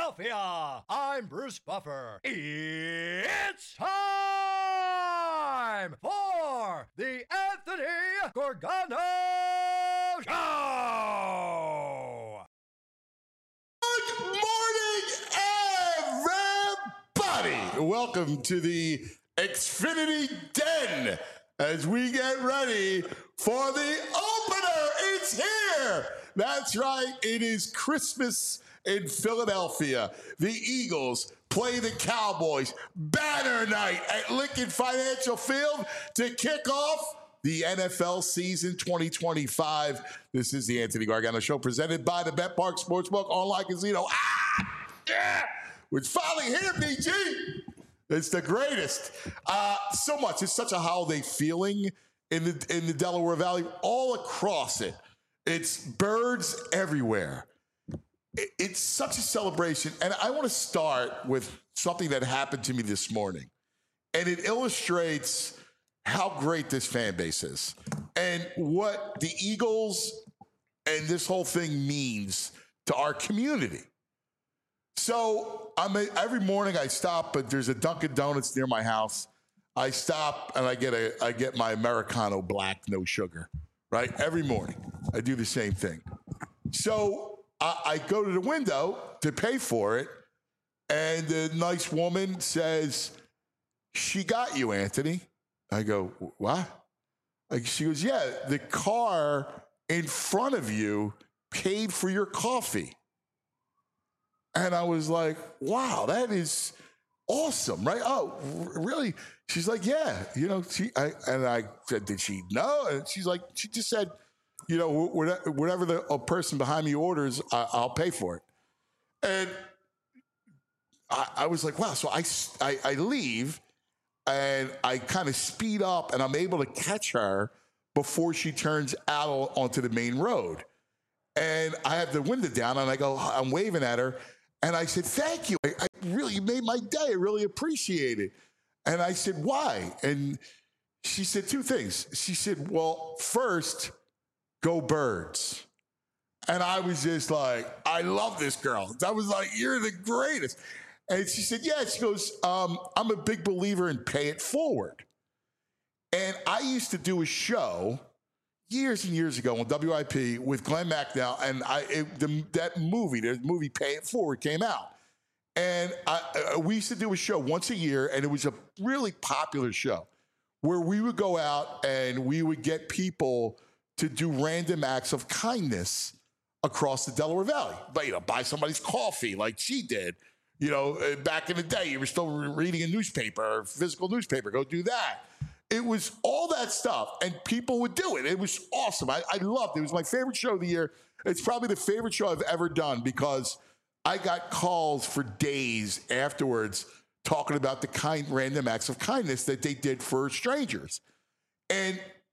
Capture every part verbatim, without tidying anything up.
Philadelphia. I'm Bruce Buffer. It's time for the Anthony Gorgano Show. Good morning, everybody. Welcome to the Xfinity Den as we get ready for the opener. It's here. That's right. It is Christmas in Philadelphia. The Eagles play the Cowboys. Banner night at Lincoln Financial Field to kick off the N F L season twenty twenty-five. This is the Anthony Gargano Show presented by the BetPark Sportsbook Online Casino. Ah, yeah, it's finally here, B G. It's the greatest. Uh, so much. It's such a holiday feeling in the in the Delaware Valley, all across it. It's birds everywhere. It, it's such a celebration. And I want to start with something that happened to me this morning. And it illustrates how great this fan base is and what the Eagles and this whole thing means to our community. So I'm a, every morning I stop, but there's a Dunkin' Donuts near my house. I stop and I get a I get my Americano black, no sugar, right? Every morning I do the same thing. So I, I go to the window to pay for it, and the nice woman says, "She got you, Anthony." I go, "What?" Like, she goes, "Yeah, the car in front of you paid for your coffee." And I was like, "Wow, that is awesome, right?" "Oh, r- really?" She's like, "Yeah, you know." She I, and I said, "Did she know?" And she's like, "She just said, you know, wh- whatever the a person behind me orders, I, I'll pay for it." And I, I was like, "Wow!" So I I, I leave. And I kind of speed up, and I'm able to catch her before she turns out onto the main road. And I have the window down, and I go, I'm waving at her. And I said, "Thank you. I, I really made my day. I really appreciate it." And I said, "Why?" And she said two things. She said, "Well, first, go Birds." And I was just like, I love this girl. I was like, "You're the greatest." And she said, "Yeah." She goes, um, "I'm a big believer in pay it forward." And I used to do a show years and years ago on W I P with Glenn McNeil, and I it, the, that movie, the movie Pay It Forward, came out. And I, uh, we used to do a show once a year, and it was a really popular show where we would go out and we would get people to do random acts of kindness across the Delaware Valley. But, you know, buy somebody's coffee like she did. You know, back in the day, you were still reading a newspaper, a physical newspaper. Go do that. It was all that stuff, and people would do it. It was awesome. I, I loved it. It was my favorite show of the year. It's probably the favorite show I've ever done because I got calls for days afterwards talking about the kind, random acts of kindness that they did for strangers. And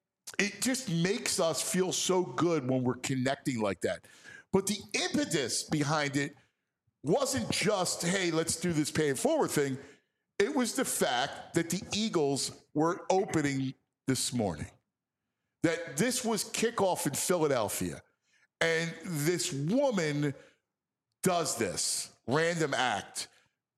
it just makes us feel so good when we're connecting like that. But the impetus behind it wasn't just, hey, let's do this pay it forward thing. It was the fact that the Eagles were opening this morning, that this was kickoff in Philadelphia. And this woman does this random act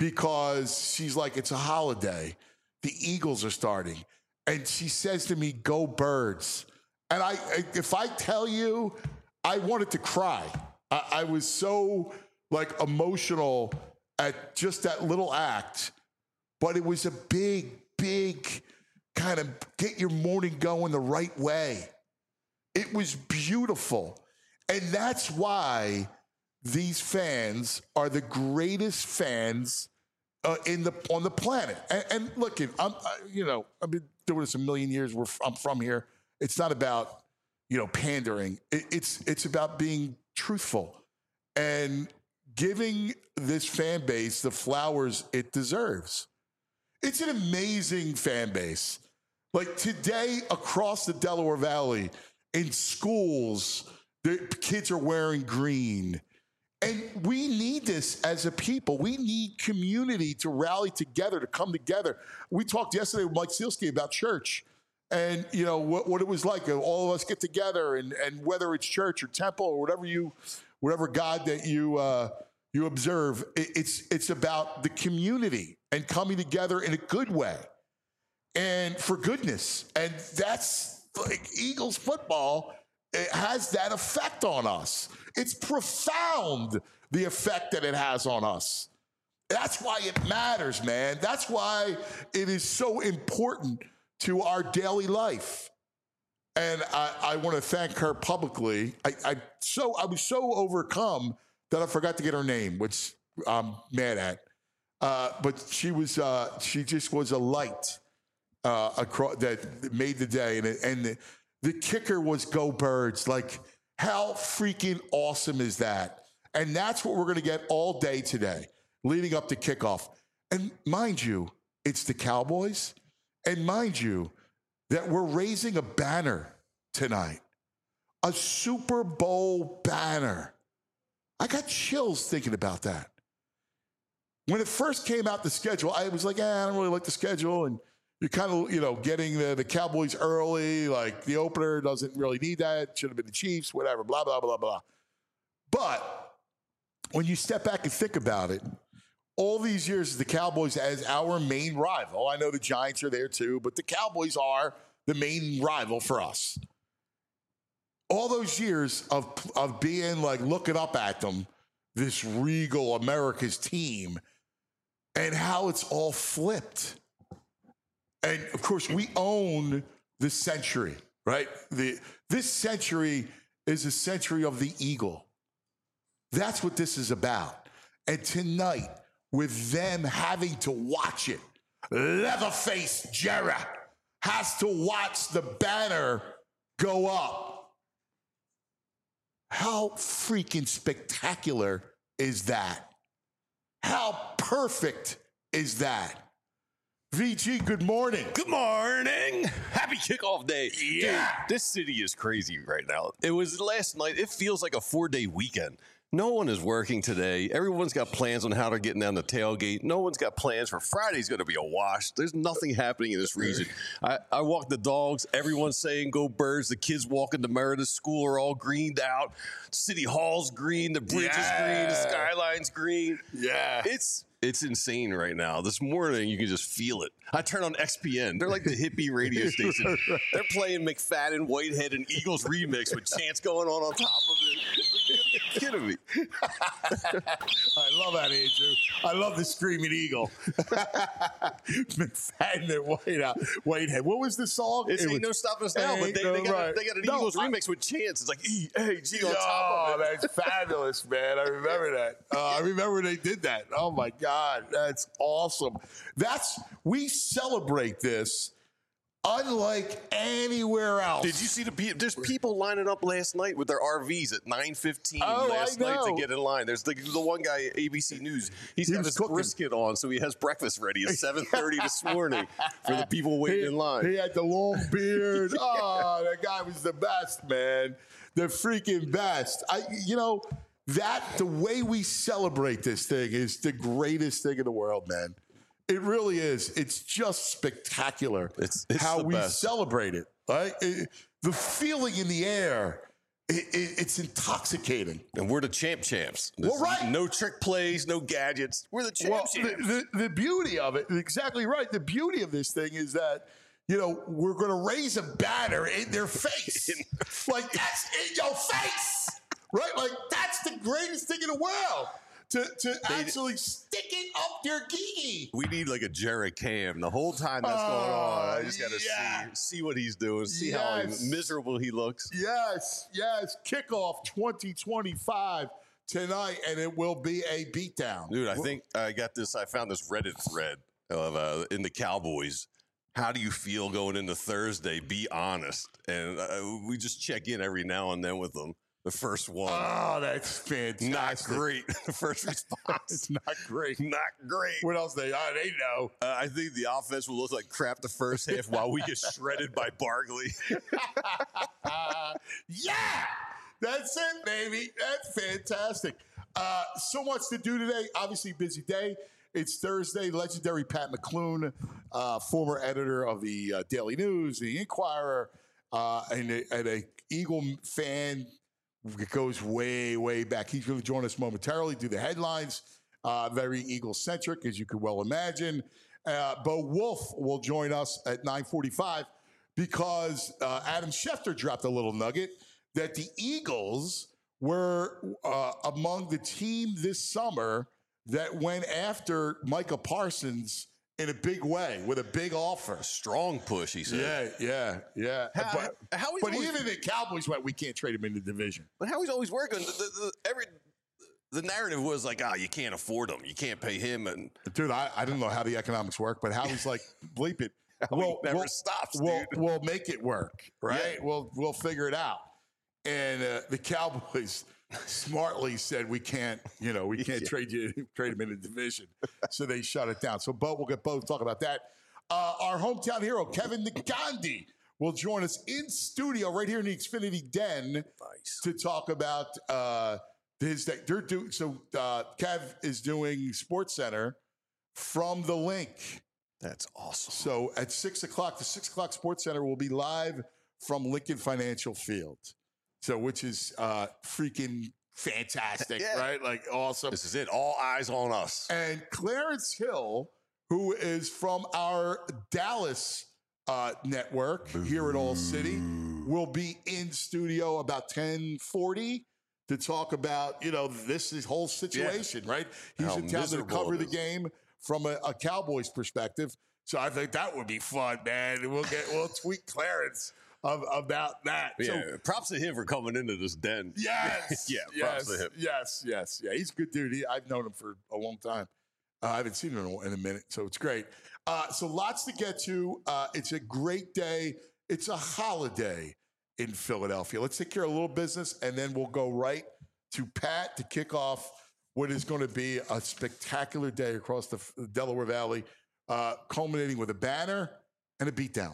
because she's like, it's a holiday. The Eagles are starting. And she says to me, "Go Birds." And I, if I tell you, I wanted to cry. I, I was so like emotional at just that little act, but it was a big, big kind of get your morning going the right way. It was beautiful. And that's why these fans are the greatest fans uh, in the on the planet. And, and look, I'm, I, you know, I've been doing this a million years. We're, I'm from here. It's not about, you know, pandering. It, it's it's about being truthful and giving this fan base the flowers it deserves. It's an amazing fan base. Like today, across the Delaware Valley, in schools, the kids are wearing green. And we need this as a people. We need community to rally together, to come together. We talked yesterday with Mike Sealski about church and, you know, what, what it was like. All of us get together, and, and whether it's church or temple or whatever you, whatever God that you uh, you observe, it's it's about the community and coming together in a good way and for goodness. And that's like Eagles football. It has that effect on us. It's profound, the effect that it has on us. That's why it matters, man. That's why it is so important to our daily life. And I, I want to thank her publicly. I, I so I was so overcome that I forgot to get her name, which I'm mad at. Uh, but she was, uh, she just was a light uh, across that made the day. And, and the, the kicker was Go Birds. Like, how freaking awesome is that? And that's what we're going to get all day today, leading up to kickoff. And mind you, it's the Cowboys. And mind you, that we're raising a banner tonight, a Super Bowl banner. I got chills thinking about that. When it first came out, the schedule, I was like, eh, I don't really like the schedule. And you're kind of, you know, getting the, the Cowboys early, like the opener doesn't really need that. Should have been the Chiefs, whatever, blah, blah, blah, blah. But when you step back and think about it, all these years, the Cowboys as our main rival. I know the Giants are there too, but the Cowboys are the main rival for us. All those years of, of being like looking up at them, this regal America's team, and how it's all flipped. And of course, we own the century, right? The this century is a century of the Eagle. That's what this is about. And tonight, with them having to watch it, Leatherface Jarrett has to watch the banner go up. How freaking spectacular is that? How perfect is that? V G, good morning. Good morning. Happy kickoff day. Yeah. Dude, this city is crazy right now. It was last night. It feels like a four-day weekend. No one is working today. Everyone's got plans on how they're getting down the tailgate. No one's got plans for Friday's going to be a wash. There's nothing happening in this region. I, I walk the dogs. Everyone's saying go Birds. The kids walking to Meredith School are all greened out. City Hall's green. The bridge Yeah. is green. The skyline's green. Yeah. It's it's insane right now. This morning, you can just feel it. I turn on X P N. They're like the hippie radio station. They're playing McFadden, Whitehead, and Eagles remix with chants going on on top of it. You're kidding me. I love that, Andrew. I love the Screaming Eagle. McFadden and Whitehead. Whitehead. What was the song? It's It Ain't was- No Stopping Us Now, but they, Ain't they, no got, right. they got an No, Eagles I- remix with chants. It's like E A G on Oh, top of it. that's fabulous, man. I remember that. Uh, I remember they did that. Oh, my God. That's awesome. That's, we celebrate this unlike anywhere else. Did you see the people? There's people lining up last night with their R Vs at nine fifteen Oh, last I night to know. get in line. There's the, the one guy at A B C News. He's He got was his cooking. brisket on, so he has breakfast ready at seven thirty this morning for the people waiting He, in line. he had the long beard. Oh, that guy was the best, man. The freaking best. I, you know, that the way we celebrate this thing is the greatest thing in the world, man. It really is. It's just spectacular. It's- it's how the we best. celebrate it. Right? It- the feeling in the air. It, it, it's intoxicating. And we're the champ champs. Well, There's right. No trick plays, no gadgets. We're the champ Well, champs. the, the, the beauty of it, exactly right. The beauty of this thing is that, you know, we're going to raise a banner in their face. Like, that's in your face. Right? Like, that's the greatest thing in the world. To, to actually stick it up their gee. We need like a Jerry Cam the whole time that's going on. I just got to yeah. see see what he's doing, see how Yes. miserable he looks. Yes, yes. Kickoff twenty twenty-five tonight, and it will be a beatdown. Dude, I think I got this. I found this Reddit thread of uh, in the Cowboys. How do you feel going into Thursday? Be honest. And uh, we just check in every now and then with them. The first one. Oh, that's fantastic. Not great. The first response. It's not great. Not great. What else they? Oh, they know. Uh, I think the offense will look like crap the first half while we get shredded by Barkley. Yeah, that's it, baby. That's fantastic. Uh, so much to do today. Obviously, busy day. It's Thursday. Legendary Pat McClune, uh, former editor of the uh, Daily News, the Inquirer, uh, and, a, and a Eagle fan it goes way, way back. He's going to join us momentarily, do the headlines. Uh, very Eagle-centric, as you could well imagine. Uh, Bo Wolf will join us at nine forty-five because uh, Adam Schefter dropped a little nugget that the Eagles were uh, among the team this summer that went after Micah Parsons in a big way with a big offer. A strong push, he said. Yeah, yeah, yeah. How, but how he's but always, even the Cowboys went, we can't trade him in the division. But how he's always working. The, the, the, every the narrative was like, ah, oh, you can't afford him. You can't pay him. And dude, I, I don't know how the economics work, but Howie's like, bleep it. We'll, never we'll, stops, we'll, dude. We'll make it work, right? Yeah. We'll we'll figure it out. And uh, the Cowboys smartly said we can't, you know, we can't yeah. trade you, trade him in the division. So they shut it down. So Bo, we'll get both talk about that. Uh, our hometown hero, Kevin Nagandi, will join us in studio right here in the Xfinity Den nice. to talk about uh, his. They're doing so. Uh, Kev is doing Sports Center from the link. That's awesome. So at six o'clock, the six o'clock Sports Center will be live from Lincoln Financial Field. So, which is uh, freaking fantastic, yeah. right? Like, awesome. This is it. All eyes on us. And Clarence Hill, who is from our Dallas uh, network Boo. here at All City, will be in studio about ten forty to talk about, you know, this, this whole situation, yeah. right? He's How in town to cover the game from a, a Cowboys perspective. So I think that would be fun, man. We'll get we'll tweet Clarence Of, about that. Yeah, so, props to him for coming into this den. Yes. yeah, yes, props to him. Yes, yes. Yeah, he's a good dude. He, I've known him for a long time. Uh, I haven't seen him in a, in a minute, so it's great. Uh, so lots to get to. Uh, it's a great day. It's a holiday in Philadelphia. Let's take care of a little business, and then we'll go right to Pat to kick off what is going to be a spectacular day across the, the Delaware Valley, uh, culminating with a banner and a beatdown.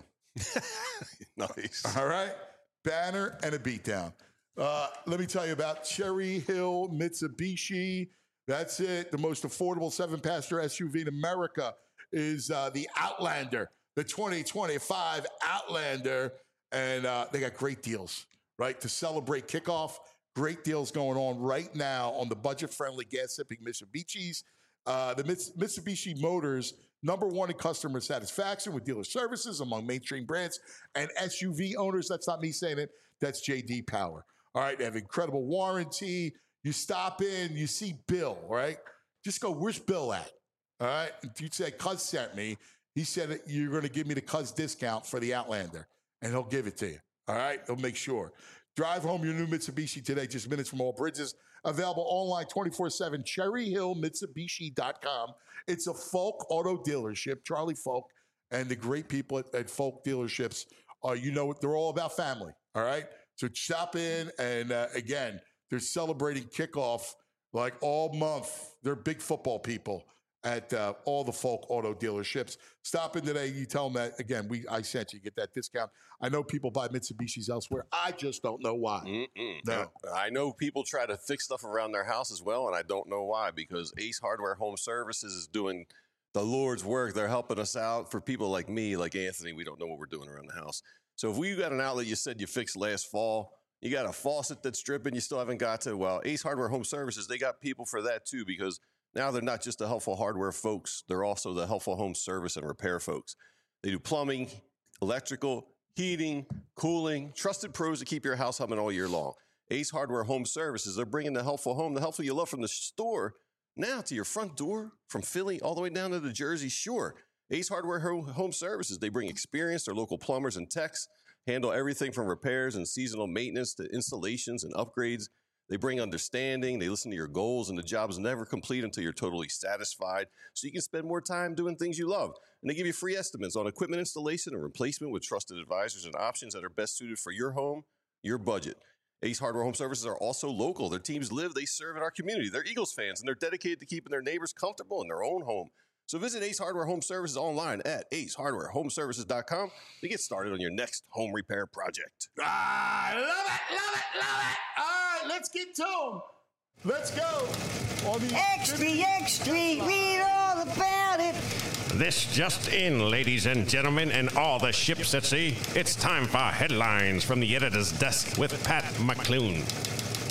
Nice. All right. Banner and a beatdown. Uh, let me tell you about Cherry Hill Mitsubishi. That's it. The most affordable seven-passenger S U V in America is uh, the Outlander, the twenty twenty-five Outlander. And uh, they got great deals, right? To celebrate kickoff, great deals going on right now on the budget-friendly gas-sipping Mitsubishis. Uh, the Mits- Mitsubishi Motors, number one in customer satisfaction with dealer services among mainstream brands and S U V owners. That's not me saying it. That's J D Power. All right, they have incredible warranty. You stop in, you see Bill, right? Just go, where's Bill at? All right? You say, Cuz sent me. He said, you're going to give me the Cuz discount for the Outlander, and he'll give it to you. All right? He'll make sure. Drive home your new Mitsubishi today, just minutes from all bridges. Available online twenty-four seven, cherry hill mitsubishi dot com. It's a Folk auto dealership, Charlie Folk, and the great people at, at Folk dealerships, uh, you know, they're all about family, all right? So stop in, and uh, again, they're celebrating kickoff like all month. They're big football people at uh, all the Folk auto dealerships. Stop in today. You tell them that, again, we I sent you. Get that discount. I know people buy Mitsubishis elsewhere. I just don't know why. Mm-mm. No. I know people try to fix stuff around their house as well, and I don't know why, because Ace Hardware Home Services is doing the Lord's work. They're helping us out. For people like me, like Anthony, we don't know what we're doing around the house. So if we got an outlet you said you fixed last fall, you got a faucet that's dripping, you still haven't got to, well, Ace Hardware Home Services, they got people for that too, because now they're not just the helpful hardware folks, they're also the helpful home service and repair folks. They do plumbing, electrical, heating, cooling, trusted pros to keep your house humming all year long. Ace Hardware Home Services, they're bringing the helpful home, the helpful you love from the store, now to your front door, from Philly all the way down to the Jersey Shore. Ace Hardware Home Services, they bring experience, their local plumbers and techs, handle everything from repairs and seasonal maintenance to installations and upgrades. They bring understanding, they listen to your goals, and the job is never complete until you're totally satisfied, so you can spend more time doing things you love. And they give you free estimates on equipment installation and replacement with trusted advisors and options that are best suited for your home, your budget. Ace Hardware Home Services are also local. Their teams live, they serve in our community. They're Eagles fans, and they're dedicated to keeping their neighbors comfortable in their own home. So visit Ace Hardware Home Services online at ace hardware home services dot com to get started on your next home repair project. Ah, love it, love it, love it. All right, let's get to them. Let's go. On the extra, extra, read all about it. This just in, ladies and gentlemen, and all the ships at sea. It's time for headlines from the editor's desk with Pat McClune.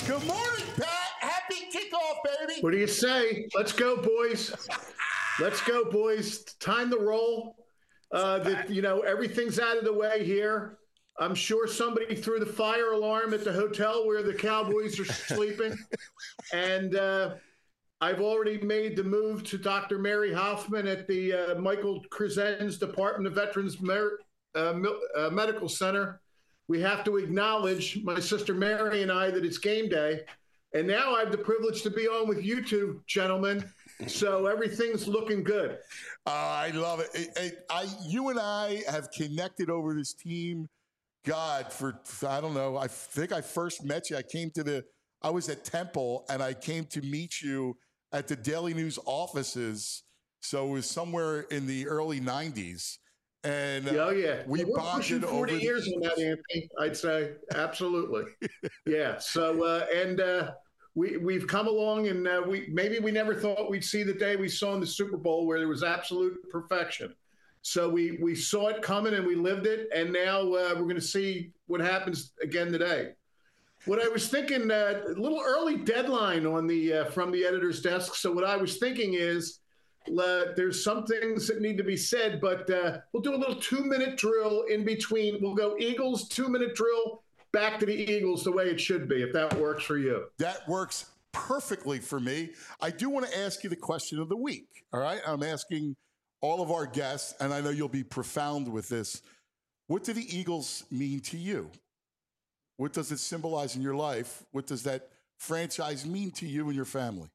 Good morning, Pat. Happy kickoff, baby. What do you say? Let's go, boys. Let's go, boys. Time to roll. Uh, the, you know, everything's out of the way here. I'm sure somebody threw the fire alarm at the hotel where the Cowboys are sleeping. And uh, I've already made the move to Doctor Mary Hoffman at the uh, Michael Krizen's Department of Veterans Mer- uh, uh, Medical Center. We have to acknowledge, my sister Mary and I, that it's game day. And now I have the privilege to be on with you two gentlemen. So everything's looking good. Uh, I love it. It, it. I, you and I have connected over this team, God, for, I don't know, I think I first met you. I came to the, I was at Temple, and I came to meet you at the Daily News offices. So it was somewhere in the early nineties. And uh, oh yeah, we We're bonded pushing forty over years the- on that, Anthony. I'd say absolutely. Yeah. So uh, and uh, we we've come along, and uh, we maybe we never thought we'd see the day we saw in the Super Bowl where there was absolute perfection. So we we saw it coming and we lived it, and now uh, we're going to see what happens again today. What I was thinking, uh, a little early deadline on the uh, from the editor's desk. So what I was thinking is. Uh, there's some things that need to be said, but uh, we'll do a little two-minute drill in between. We'll go Eagles, two-minute drill, back to the Eagles the way it should be, if that works for you. That works perfectly for me. I do want to ask you the question of the week, all right? I'm asking all of our guests, and I know you'll be profound with this. What do the Eagles mean to you? What does it symbolize in your life? What does that franchise mean to you and your family?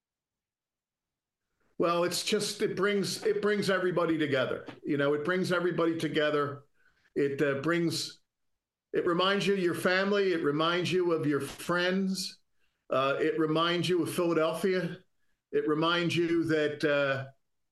Well, it's just it brings it brings everybody together. You know, it brings everybody together. It uh, brings it reminds you of your family. It reminds you of your friends. Uh, it reminds you of Philadelphia. It reminds you that uh,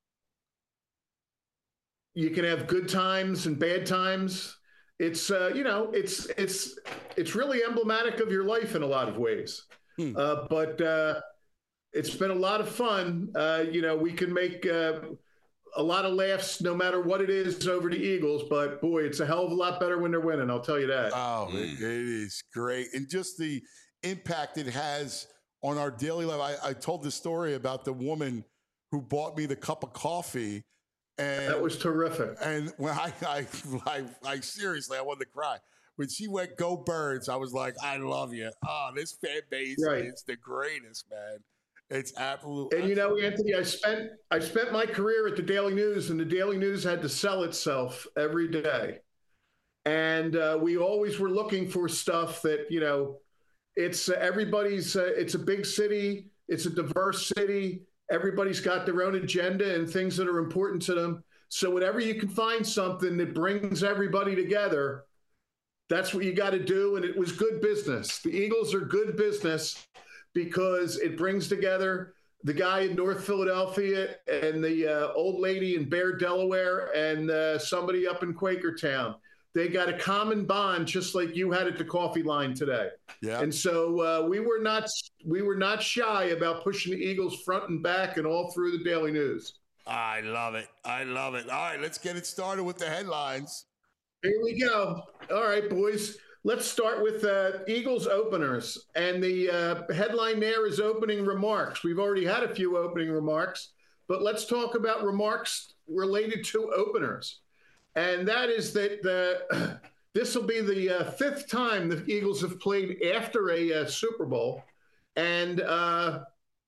you can have good times and bad times. It's uh, you know, it's it's it's really emblematic of your life in a lot of ways. Hmm. Uh, but uh, it's been a lot of fun. Uh, you know, we can make uh, a lot of laughs no matter what it is over the Eagles, but boy, it's a hell of a lot better when they're winning. I'll tell you that. Oh, mm. it, it is great. And just the impact it has on our daily life. I, I told the story about the woman who bought me the cup of coffee. And that was terrific. And when I, I, I, I seriously, I wanted to cry. When she went, "Go Birds," I was like, "I love you." Oh, this fan base right. is the greatest, man. It's absolutely. And you know, Anthony, I spent I spent my career at the Daily News, and the Daily News had to sell itself every day. And uh, we always were looking for stuff that, you know, it's uh, everybody's. Uh, it's a big city. It's a diverse city. Everybody's got their own agenda and things that are important to them. So whenever you can find something that brings everybody together, that's what you got to do. And it was good business. The Eagles are good business because it brings together the guy in North Philadelphia and the uh, old lady in Bear, Delaware, and uh, somebody up in Quakertown. They got a common bond, just like you had at the coffee line today. Yeah. And so uh, we were not we were not shy about pushing the Eagles front and back and all through the Daily News. I love it. I love it. All right, let's get it started with the headlines. Here we go. All right, boys. Let's start with uh, Eagles openers. And the uh, headline there is opening remarks. We've already had a few opening remarks, but let's talk about remarks related to openers. And that is that uh, this will be the uh, fifth time the Eagles have played after a uh, Super Bowl. And, uh,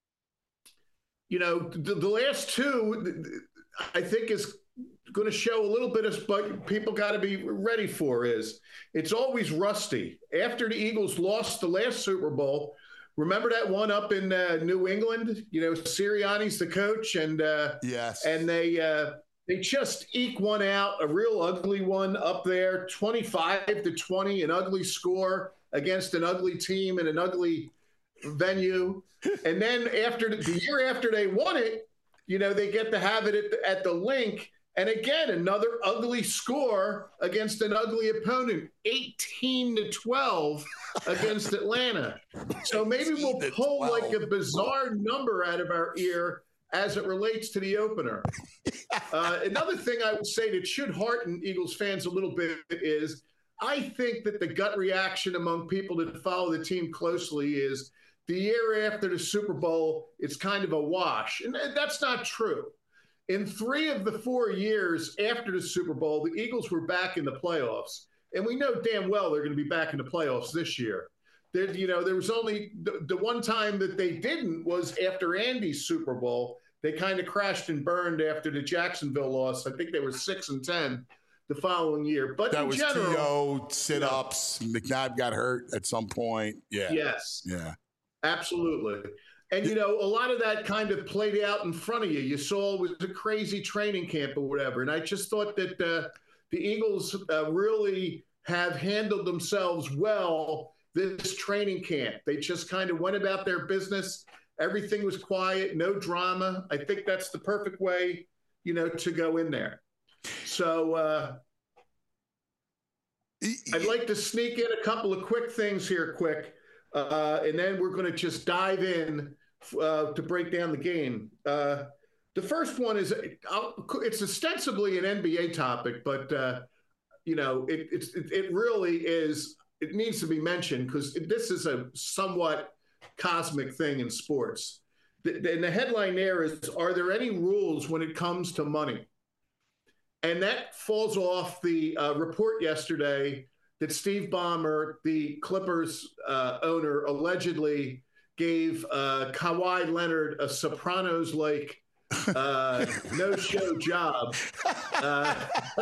you know, the, the last two, I think, is going to show a little bit of what people got to be ready for is it's always rusty. After the Eagles lost the last Super Bowl, remember that one up in uh, New England? You know, Sirianni's the coach, and uh, yes, and they uh, they just eke one out, a real ugly one up there, twenty-five to twenty, an ugly score against an ugly team in an ugly venue. And then after the, the year after they won it, you know, they get to have it at the, at the Link. And again, another ugly score against an ugly opponent, eighteen to twelve against Atlanta. So maybe we'll pull like a bizarre number out of our ear as it relates to the opener. Uh, another thing I would say that should hearten Eagles fans a little bit is I think that the gut reaction among people that follow the team closely is the year after the Super Bowl, it's kind of a wash. And that's not true. In three of the four years after the Super Bowl, the Eagles were back in the playoffs. And we know damn well they're going to be back in the playoffs this year. There, you know, there was only the, the one time that they didn't was after Andy's Super Bowl. They kind of crashed and burned after the Jacksonville loss. I think they were six and ten the following year. But that in was general, T O sit-ups. Yeah. McNabb got hurt at some point. Yeah. Yes. Yeah. Absolutely. And, you know, a lot of that kind of played out in front of you. You saw it was a crazy training camp or whatever. And I just thought that uh, the Eagles uh, really have handled themselves well this training camp. They just kind of went about their business. Everything was quiet, no drama. I think that's the perfect way, you know, to go in there. So uh, I'd like to sneak in a couple of quick things here quick. Uh, and then we're going to just dive in uh, to break down the game. Uh, the first one is I'll, it's ostensibly an N B A topic, but uh, you know it, it's it, it really is. It needs to be mentioned because this is a somewhat cosmic thing in sports. The, the, and the headline there is: are there any rules when it comes to money? And that falls off the uh, report yesterday that Steve Ballmer, the Clippers uh, owner, allegedly gave uh, Kawhi Leonard a Sopranos-like uh, no-show job uh,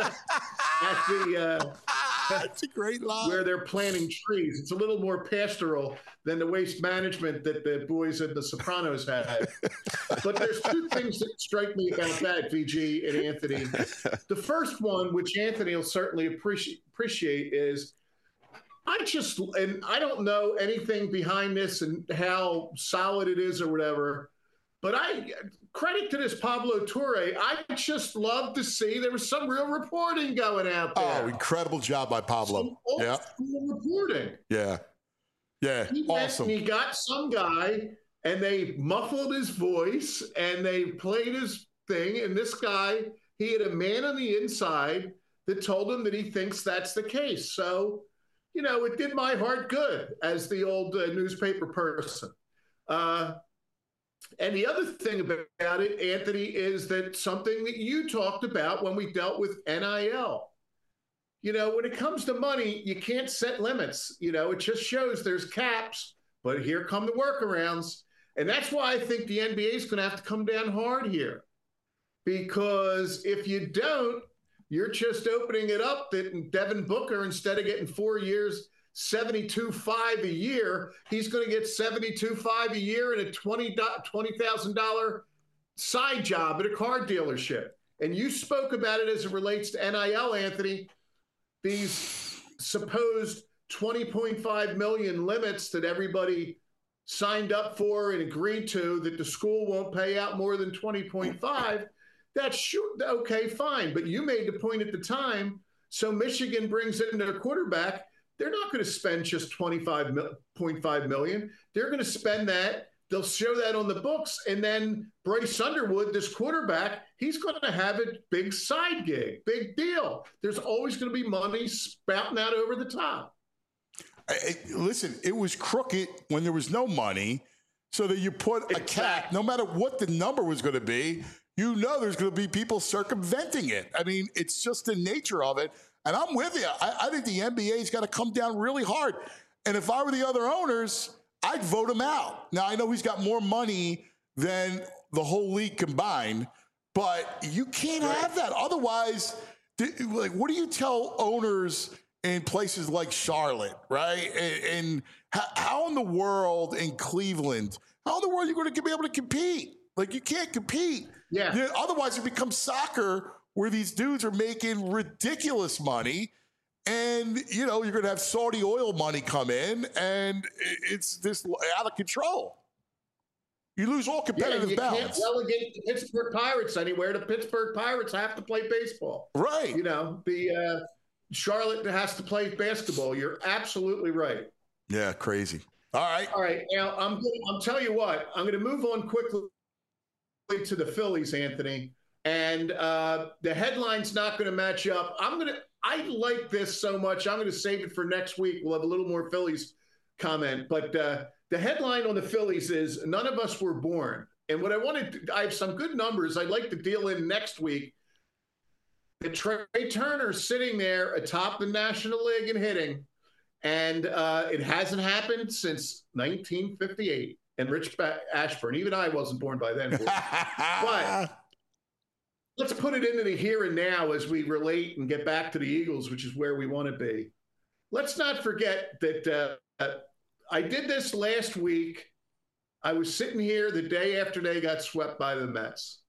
at the uh, That's a great line. Where they're planting trees. It's a little more pastoral than the waste management that the boys in The Sopranos had. But there's two things that strike me about that, V G and Anthony. The first one, which Anthony will certainly appreciate, appreciate is I just, and I don't know anything behind this and how solid it is or whatever, but I, credit to this Pablo Torre, I just love to see there was some real reporting going out there. Oh, incredible job by Pablo. Some old yeah. school reporting. Yeah. Yeah. He awesome. Went and he got some guy and they muffled his voice and they played his thing. And this guy, he had a man on the inside that told him that he thinks that's the case. So, you know, it did my heart good as the old uh, newspaper person. Uh, and the other thing about it, Anthony, is that something that you talked about when we dealt with N I L. You know, when it comes to money, you can't set limits. You know, it just shows there's caps, but here come the workarounds. And that's why I think the N B A is going to have to come down hard here. Because if you don't, you're just opening it up that Devin Booker, instead of getting four years, seventy-two five a year, he's going to get seventy-two five a year and a twenty thousand dollars side job at a car dealership. And you spoke about it as it relates to N I L, Anthony. These supposed twenty point five million limits that everybody signed up for and agreed to, that the school won't pay out more than twenty point five. That's sure, okay, fine. But you made the point at the time. So Michigan brings in their quarterback. They're not going to spend just twenty-five point five million dollars. They're going to spend that. They'll show that on the books. And then Bryce Underwood, this quarterback, he's going to have a big side gig, big deal. There's always going to be money spouting out over the top. I, I, listen, it was crooked when there was no money, so that you put a exactly. cap, no matter what the number was going to be, you know there's going to be people circumventing it. I mean, it's just the nature of it. And I'm with you. I, I think the N B A's got to come down really hard. And if I were the other owners, I'd vote him out. Now, I know he's got more money than the whole league combined, but you can't right. have that. Otherwise, like, what do you tell owners in places like Charlotte, right? And, and how, how in the world in Cleveland, how in the world are you going to be able to compete? Like, you can't compete. Yeah. You know, otherwise, it becomes soccer where these dudes are making ridiculous money. And, you know, you're going to have Saudi oil money come in, and it's this out of control. You lose all competitive yeah, you balance. You can't relegate the Pittsburgh Pirates anywhere. The Pittsburgh Pirates have to play baseball. Right. You know, the uh, Charlotte has to play basketball. You're absolutely right. Yeah, crazy. All right. All right. Now, I'm gonna, I'm telling you what, I'm going to move on quickly to the Phillies, Anthony. And uh, the headline's not going to match up. I'm going to I like this so much. I'm going to save it for next week. We'll have a little more Phillies comment. But uh, the headline on the Phillies is none of us were born. And what I wanted, to, I have some good numbers I'd like to deal in next week. The Trey Turner's sitting there atop the National League and hitting. And uh, it hasn't happened since nineteen fifty-eight. And Rich Ashburn, even I wasn't born by then. But let's put it into the here and now as we relate and get back to the Eagles, which is where we want to be. Let's not forget that uh, I did this last week. I was sitting here the day after they got swept by the Mets.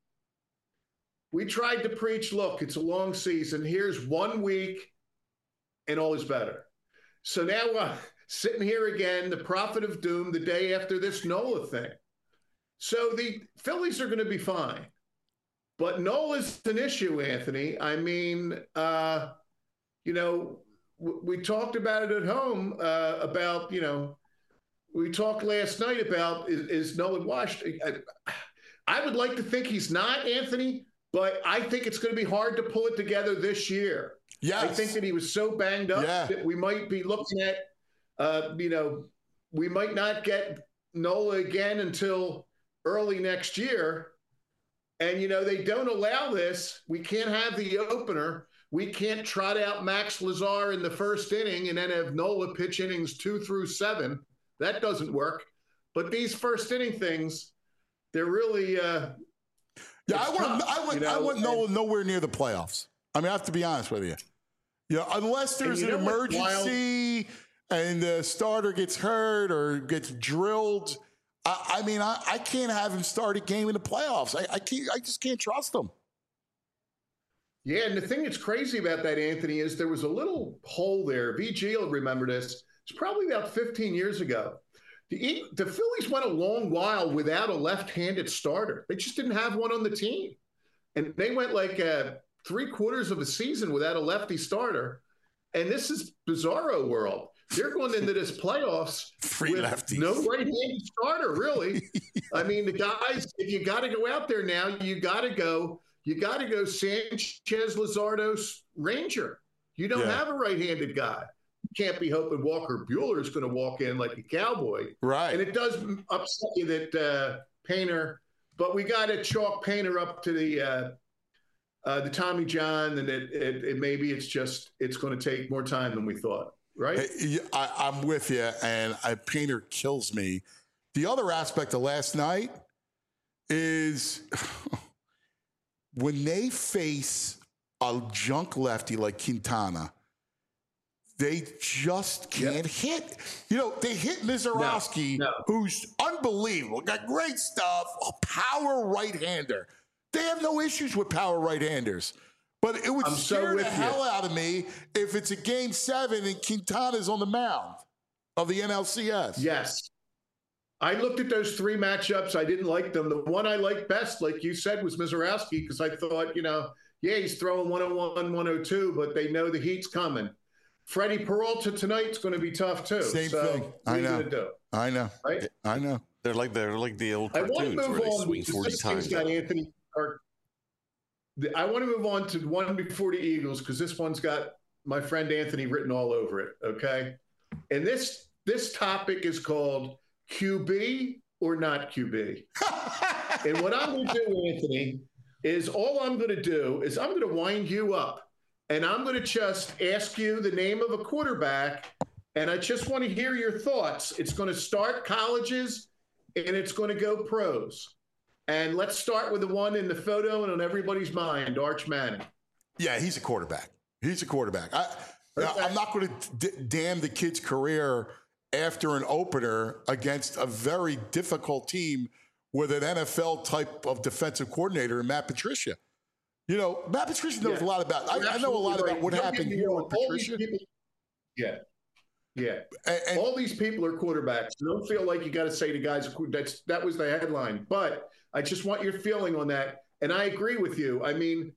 We tried to preach, look, it's a long season. Here's one week and all is better. So now uh, sitting here again, the prophet of doom, the day after this Nola thing. So the Phillies are going to be fine. But Nola's an issue, Anthony. I mean, uh, you know, w- we talked about it at home uh, about, you know, we talked last night about is, is Nola washed? I, I would like to think he's not, Anthony, but I think it's going to be hard to pull it together this year. Yes. I think that he was so banged up yeah. that we might be looking at, uh, you know, we might not get Nola again until early next year. And, you know, they don't allow this. We can't have the opener. We can't trot out Max Lazar in the first inning and then have Nola pitch innings two through seven. That doesn't work. But these first inning things, they're really uh, yeah. I want I want you know? I want Nola nowhere near the playoffs. I mean, I have to be honest with you. Yeah, you know, unless there's an emergency and the starter gets hurt or gets drilled. I, I mean, I, I can't have him start a game in the playoffs. I, I can't. I just can't trust him. Yeah, and the thing that's crazy about that, Anthony, is there was a little hole there. V G will remember this. It's probably about fifteen years ago. The, the Phillies went a long while without a left-handed starter. They just didn't have one on the team. And they went like uh, three quarters of a season without a lefty starter. And this is bizarro world. They're going into this playoffs Free with lefties. no right-handed starter, really. I mean, the guys, if you got to go out there now, you got to go, you got to go Sanchez Luzardo's Ranger. You don't Yeah. have a right-handed guy. You can't be hoping Walker Buehler is going to walk in like a cowboy. Right. And it does upset you that uh, Painter, but we got to chalk Painter up to the uh, uh, the Tommy John, and it, it, it maybe it's just it's going to take more time than we thought. Right. I, I'm with you, and I, Painter kills me. The other aspect of last night is when they face a junk lefty like Quintana, they just can't yep. hit. You know, they hit Mizorowski, no, no. who's unbelievable, got great stuff, a power right-hander. They have no issues with power right-handers. But it would I'm scare so the hell you. out of me if it's a game seven and Quintana's on the mound of the N L C S. Yes. I looked at those three matchups. I didn't like them. The one I liked best, like you said, was Mizorowski, because I thought, you know, yeah, he's throwing one oh one, one oh two, but they know the heat's coming. Freddie Peralta tonight's going to be tough, too. Same so thing. What I are you know. going to do? I know. Right? I know. They're like they're like the old I want cartoons to move where they on. swing forty This times. thing's got Anthony, or, I want to move on to one before the Eagles, because this one's got my friend Anthony written all over it, okay? And this this topic is called Q B or not Q B. And what I'm going to do, Anthony, is all I'm going to do is I'm going to wind you up, and I'm going to just ask you the name of a quarterback, and I just want to hear your thoughts. It's going to start colleges, and it's going to go pros. And let's start with the one in the photo and on everybody's mind, Arch Manning. Yeah, he's a quarterback. He's a quarterback. I, okay. I'm not going to d- damn the kid's career after an opener against a very difficult team with an N F L type of defensive coordinator in Matt Patricia. You know, Matt Patricia knows yeah. a lot about I, I know a lot right. about what Don't happened here with Patricia. People, yeah. Yeah. And, and, all these people are quarterbacks. Don't feel like you got to say to guys, that's, that was the headline. But I just want your feeling on that. And I agree with you. I mean,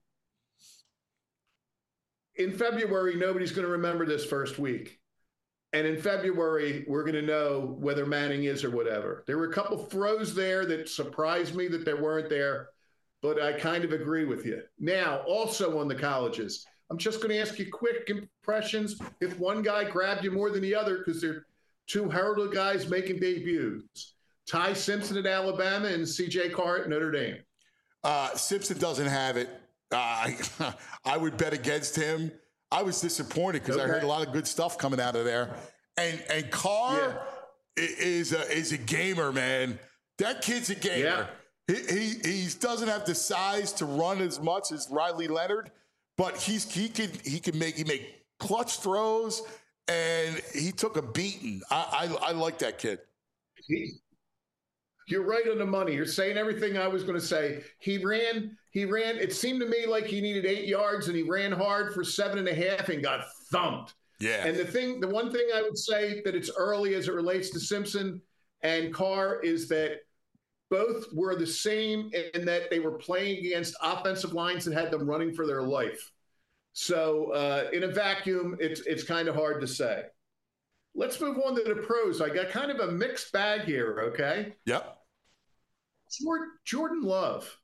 in February, nobody's going to remember this first week. And in February, we're going to know whether Manning is or whatever. There were a couple throws there that surprised me that they weren't there, but I kind of agree with you. Now, also on the colleges, I'm just going to ask you quick impressions. If one guy grabbed you more than the other, because they're two heralded guys making debuts, Ty Simpson at Alabama and C J Carr at Notre Dame. Uh, Simpson doesn't have it. Uh, I, I would bet against him. I was disappointed because okay. I heard a lot of good stuff coming out of there. And and Carr yeah. is a, is a gamer, man. That kid's a gamer. Yeah. He, he he doesn't have the size to run as much as Riley Leonard, but he's he can he can make he make clutch throws, and he took a beating. I I, I like that kid. He, you're right on the money. You're saying everything I was going to say. He ran. He ran. It seemed to me like he needed eight yards, and he ran hard for seven and a half and got thumped. Yeah. And the thing, the one thing I would say that it's early as it relates to Simpson and Carr is that both were the same in that they were playing against offensive lines that had them running for their life. So uh, in a vacuum, it's it's kind of hard to say. Let's move on to the pros. I got kind of a mixed bag here, okay? Yep. Jordan Love.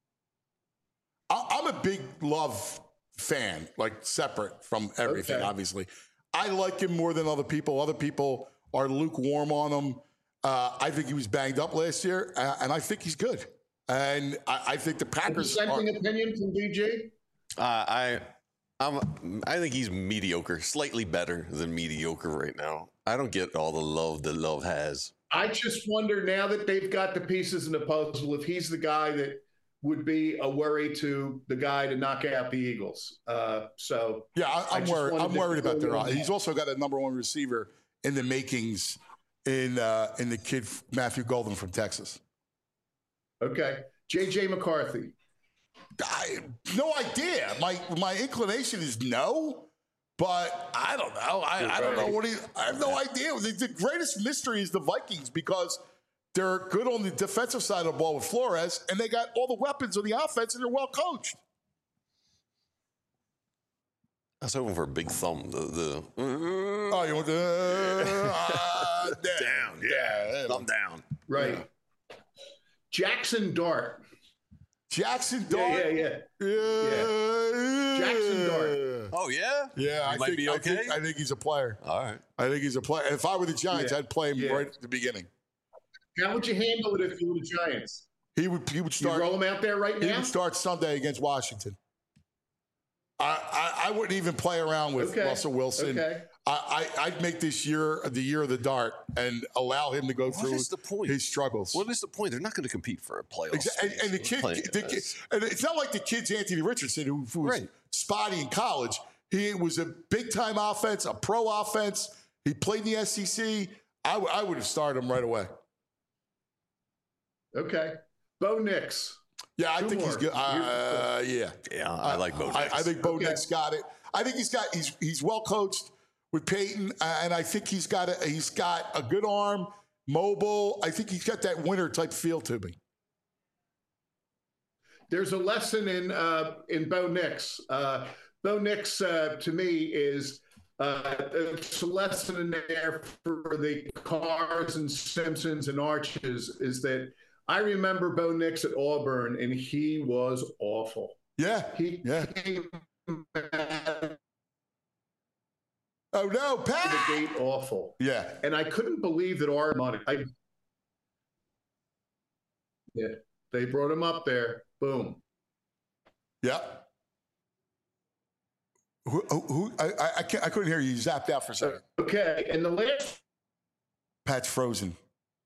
I'm a big Love fan, like separate from everything, okay. obviously. I like him more than other people. Other people are lukewarm on him. Uh, I think he was banged up last year, uh, and I think he's good. And I, I think the Packers. Dissenting opinion from D J? Uh, I, I'm, I think he's mediocre, slightly better than mediocre right now. I don't get all the love that Love has. I just wonder now that they've got the pieces in the puzzle, if he's the guy that would be a worry to the guy to knock out the Eagles. Uh, so yeah, I, I'm worried. I'm worried about their. On. He's also got a number one receiver in the makings in uh, in the kid Matthew Golden from Texas. Okay, J J McCarthy. I no idea. My my inclination is no, but I don't know. I, I don't know what he. I have no idea. The, the greatest mystery is the Vikings because they're good on the defensive side of the ball with Flores, and they got all the weapons on the offense, and they're well coached. I was hoping for a big thumb. The, the oh, you want the uh, down. down, yeah, thumb down, right? Yeah. Jackson Dart. Jackson Dart. Yeah, yeah, yeah. yeah. Jackson Dart. Oh yeah, yeah. He I might think, be okay. I think, I think he's a player. All right. I think he's a player. If I were the Giants, yeah. I'd play him yeah. right at the beginning. How would you handle it if you were the Giants? He would. He would start. You roll him out there right now. He would start Sunday against Washington. I, I, I wouldn't even play around with okay. Russell Wilson. Okay. I, I, I'd make this year the year of the dart and allow him to go what through is the point? his struggles. What is the point? They're not going to compete for a playoff. Exactly. And, and the kid, the kid, and it's not like the kid's Anthony Richardson, who, who was right. spotty in college. He was a big time offense, a pro offense. He played in the S E C. I, w- I would have started him right away. Okay. Bo Nix. Yeah, I Two think more. he's good. Uh, yeah, yeah, I like Bo Nix. I, I think Bo okay. Nix got it. I think he's got he's he's well coached with Peyton, and I think he's got a he's got a good arm, mobile. I think he's got that winner type feel to me. There's a lesson in uh, in Bo Nix. Uh, Bo Nix uh, to me is uh, it's a lesson in there for the Carrs and Simpsons and Arches is that. I remember Bo Nix at Auburn, and he was awful. Yeah, he yeah. came back oh no, Pat! The gate awful. Yeah, and I couldn't believe that our money. I, yeah, they brought him up there. Boom. Yeah. Who? Who? I I, can't, I couldn't hear you. You zapped out for a second. Okay, and the last Pat's frozen.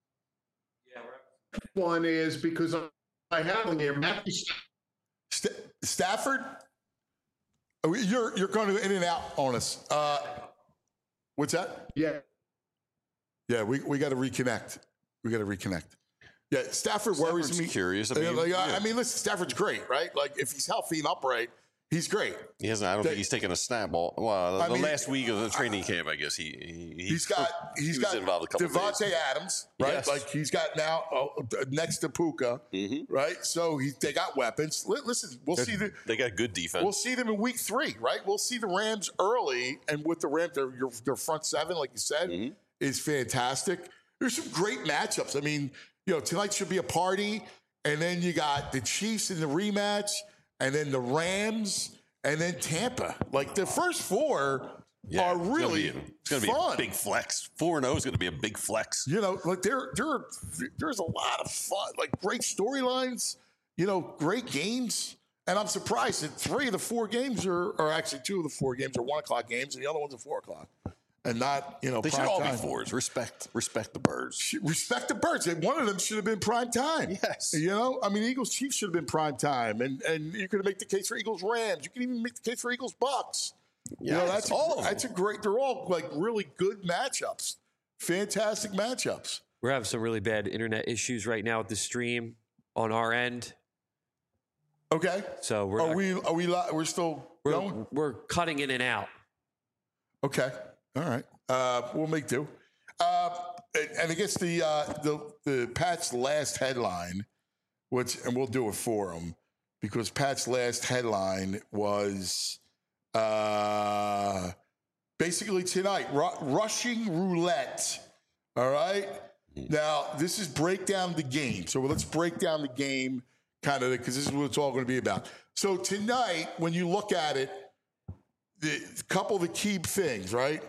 One is because I have him here, Matthew St- Stafford. Oh, you're you're going to in and out on us. Uh, what's that? Yeah, yeah. We we got to reconnect. We got to reconnect. Yeah, Stafford worries Stafford's me. Curious. I mean, like, yeah. I mean, listen, Stafford's great, right? Like if he's healthy and upright, he's great. He hasn't. I don't that, think he's taken a snap all. Well, the I mean, last week of the training camp, I guess he, he he's got he's he got Devontae Adams, right? Yes. Like he's got now oh, next to Puka, mm-hmm. right? So he they got weapons. L- listen, we'll They're, see the they got good defense. We'll see them in week three, right? We'll see the Rams early, and with the Rams, their your, their front seven, like you said, mm-hmm. is fantastic. There's some great matchups. I mean, you know, tonight should be a party, and then you got the Chiefs in the rematch, and then the Rams. and then Tampa. Like the first four Yeah, are really it's going to be fun. a big flex. four and oh is going to be a big flex. You know, like there, there, there's a lot of fun, like great storylines. You know, great games. And I'm surprised that three of the four games are, or actually two of the four games are one o'clock games, and the other one's at four o'clock, and not you know. They should prime all time. be fours. Respect, respect the birds. Respect the birds. One of them should have been prime time. Yes. You know, I mean, Eagles Chiefs should have been prime time, and and you could make the case for Eagles Rams. You can even make the case for Eagles Bucks. You know, Yes, that's all a, of that's a great. They're all like really good matchups, fantastic matchups. We're having some really bad internet issues right now with the stream on our end. Okay. So we're Are not- we? Are we? li- We're still we're, going. we're cutting in and out. Okay. All right. Uh, we'll make do. Uh, and, and I guess the uh, the the Pat's last headline, which and we'll do it for him because Pat's last headline was uh, basically tonight ru- rushing roulette. All right. Now this is break down the game. So let's break down the game kind of because this is what it's all going to be about. So tonight, when you look at it, the couple of the key things, right?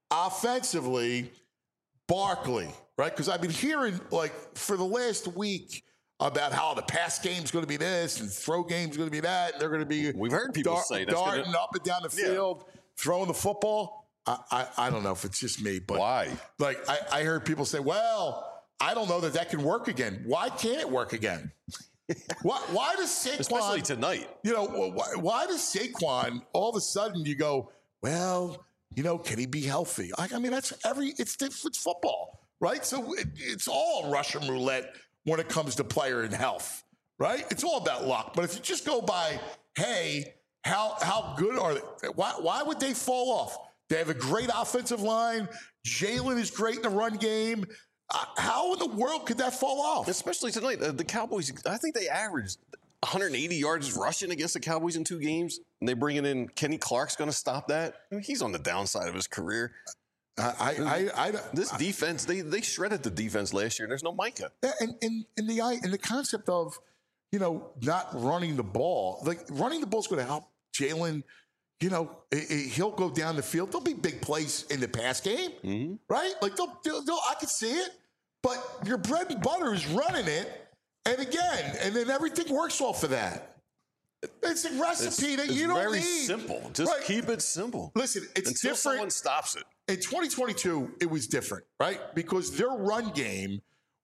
Offensively, Barkley, right? Because I've been hearing like for the last week about how the pass game's going to be this and throw game's going to be that, and they're going to be We've heard people dar- say that's darting gonna- up and down the Yeah. field, throwing the football. I, I I don't know if it's just me, but Why? Like I, I heard people say, "Well, I don't know that that can work again." Why can't it work again? why, why does Saquon? Especially tonight. You know, why, why does Saquon all of a sudden you go, well, you know, can he be healthy? I, I mean, that's every, it's, it's football, right? So it, it's all Russian roulette when it comes to player and health, right? It's all about luck. But if you just go by, hey, how how good are they? Why, why would they fall off? They have a great offensive line. Jalen is great in the run game. Uh, how in the world could that fall off? Especially tonight. Uh, the Cowboys, I think they averaged one hundred eighty yards rushing against the Cowboys in two games. And they bring it in. Kenny Clark's going to stop that. I mean, he's on the downside of his career. I, I, I, I, This defense, they they shredded the defense last year. And there's no Micah. Yeah, and, and, and the and the concept of, you know, not running the ball, like running the ball is going to help Jalen. You know, it, it, he'll go down the field. There'll be big plays in the pass game, Mm-hmm. right? Like they'll, they'll, they'll, I can see it, but your bread and butter is running it, and again, and then everything works off of that. It's a recipe It's, that it's you don't very need. simple. Just Right. keep it simple. Listen, it's Until different. someone stops it. In twenty twenty-two, it was different, right? Because their run game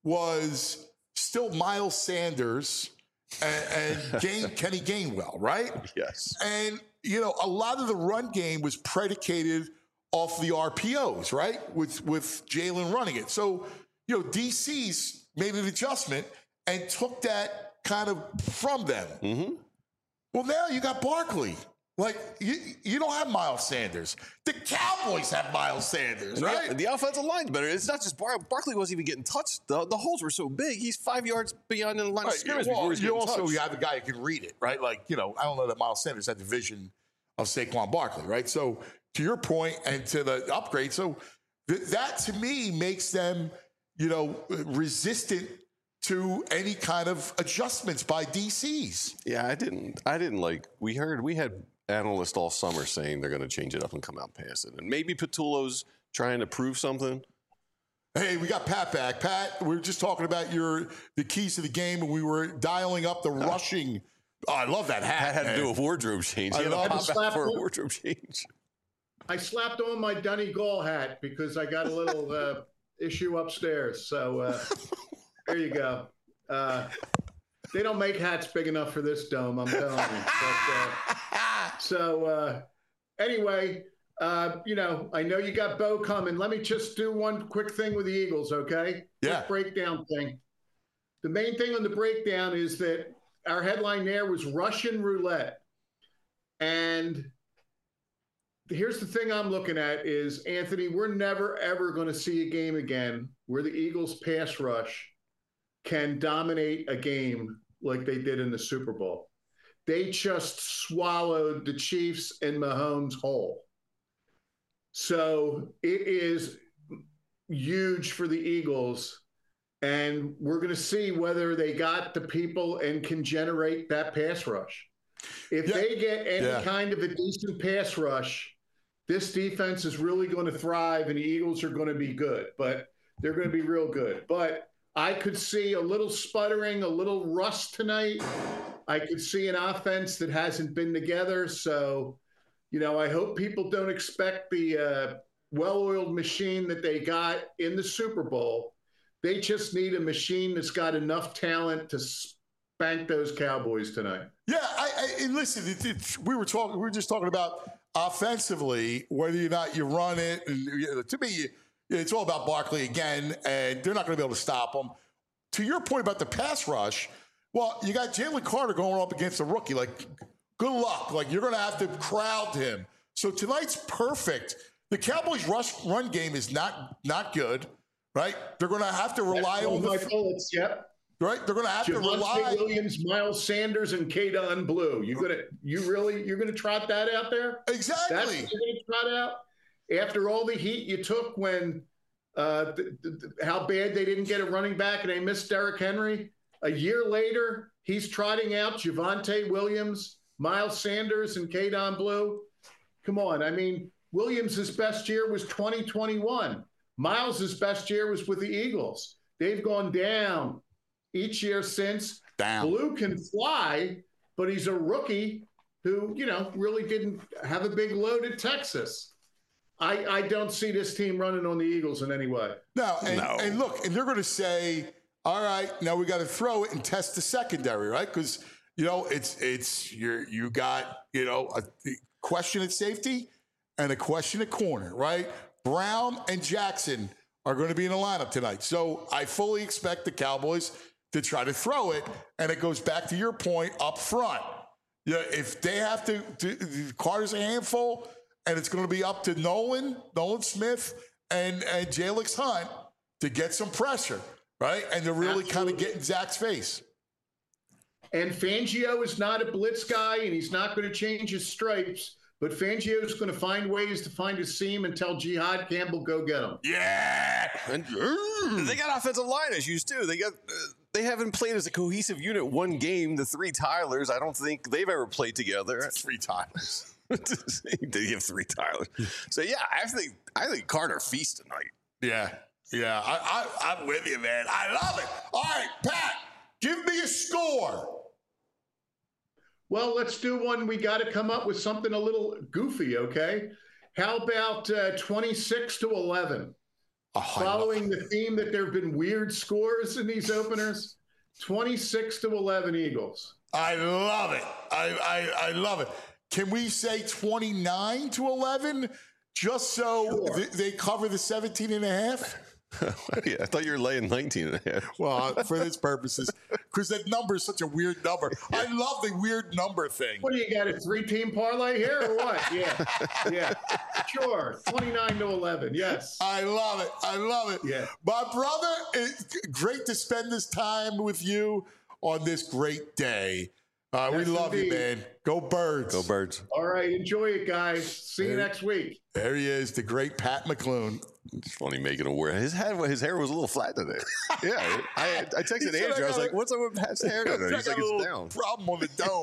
was still Miles Sanders and, and Gain, Kenny Gainwell, right? Yes. And, you know, a lot of the run game was predicated off the R P Os, right? With with Jalen running it. So, you know, D C's made an adjustment and took that kind of from them. Mm-hmm. Well, now you got Barkley. Like, you, you don't have Miles Sanders. The Cowboys have Miles Sanders, right? The, the offensive line's better. It's not just Bar- Barkley wasn't even getting touched. The, the holes were so big. He's five yards beyond the line of Right, scrimmage well, before he's you getting also touched. you have a guy who can read it, right? Like, you know, I don't know that Miles Sanders had the vision of Saquon Barkley, right? So to your point and to the upgrade, so th- that to me makes them, you know, resistant to any kind of adjustments by D Cs. Yeah, I didn't. I didn't like. We heard we had analysts all summer saying they're going to change it up and come out and pass it, and maybe Patullo's trying to prove something. Hey, we got Pat back. Pat, we were just talking about your the keys to the game, and we were dialing up the rushing. Oh, I love that hat. Pat had man. to do a wardrobe change. I He had to love pop it. out for a wardrobe change. I slapped on my Dunny Gall hat because I got a little uh, issue upstairs. So uh, there you go. Uh, they don't make hats big enough for this dome, I'm telling you. But, uh, so uh, anyway, uh, you know, I know you got Bo coming. Let me just do one quick thing with the Eagles, okay? Yeah. Quick breakdown thing. The main thing on the breakdown is that our headline there was Russian roulette. And here's the thing I'm looking at is, Anthony, we're never, ever going to see a game again where the Eagles pass rush can dominate a game like they did in the Super Bowl. They just swallowed the Chiefs and Mahomes whole. So it is huge for the Eagles. And we're going to see whether they got the people and can generate that pass rush. If Yeah. they get any Yeah. kind of a decent pass rush, this defense is really going to thrive, and the Eagles are going to be good. But they're going to be real good. But I could see a little sputtering, a little rust tonight. I could see an offense that hasn't been together. So, you know, I hope people don't expect the uh, well-oiled machine that they got in the Super Bowl. They just need a machine that's got enough talent to spank those Cowboys tonight. Yeah, I, I and listen. It, it's, we were talking. We were just talking about offensively, whether or not you run it. And, you know, to me, it's all about Barkley again, and they're not going to be able to stop him. To your point about the pass rush, well, you got Jalen Carter going up against a rookie. Like, good luck. Like, you're going to have to crowd him. So tonight's perfect. The Cowboys' rush run game is not not good, right? They're going to have to rely That's on my the bullets. Yep. right. They're going to have to Javonte rely. Williams, Miles Sanders, and Kaydon Blue. You gonna you really you're gonna trot that out there? That's Exactly. what you're gonna trot out after all the heat you took when uh, th- th- th- how bad they didn't get a running back and they missed Derrick Henry. A year later, he's trotting out Javonte Williams, Miles Sanders, and Kaydon Blue. Come on, I mean, Williams' best year was twenty twenty-one. Miles' best year was with the Eagles. They've gone down each year since. Down. Blue can fly, but he's a rookie who, you know, really didn't have a big load at Texas. I, I don't see this team running on the Eagles in any way. No, and, No. and look, and they're going to say, all right, now we got to throw it and test the secondary, right? Because, you know, it's, it's, you're, you got, you know, a question at safety and a question at corner, right? Brown and Jackson are going to be in the lineup tonight. So I fully expect the Cowboys to try to throw it. And it goes back to your point up front. Yeah, if they have to, to Carter's a handful, and it's going to be up to Nolan, Nolan Smith, and, and Jalix Hunt to get some pressure, right? And to really kind of get in Zach's face. And Fangio is not a blitz guy, and he's not going to change his stripes. But Fangio is going to find ways to find a seam and tell Jihad Campbell, go get him. Yeah. And they got offensive line issues too. They got uh, they haven't played as a cohesive unit one game. The three Tylers, I don't think they've ever played together. Three times. They have three Tylers. So yeah, I think I think Carter feast tonight. Yeah. Yeah. I, I, I'm with you, man. I love it. All right, Pat, give me a score. Well, let's do one. We got to come up with something a little goofy, okay? How about uh, twenty-six to eleven? Oh, Following the theme that there have been weird scores in these openers, twenty-six to eleven Eagles. I love it. I, I, I love it. Can we say twenty-nine to eleven just so Sure. th- they cover the seventeen and a half? Yeah, I thought you were laying nineteen and a half. Well, for this purposes, because that number is such a weird number. I love the weird number thing. What do you got, a three-team parlay here or what? Yeah, yeah, sure, twenty-nine to eleven, yes. I love it. I love it. Yeah. My brother, it's great to spend this time with you on this great day. Uh, we Yes, love you, indeed. man. Go Birds. Go Birds. All right, enjoy it, guys. See you There- next week. There he is, the great Pat McClune. It's funny making him wear his head. His hair was a little flat today. Yeah, I, I texted He said, Andrew. I was got like, a- "What's up with Pat's hair today?" He's I like, got a "It's little down." problem on the dome.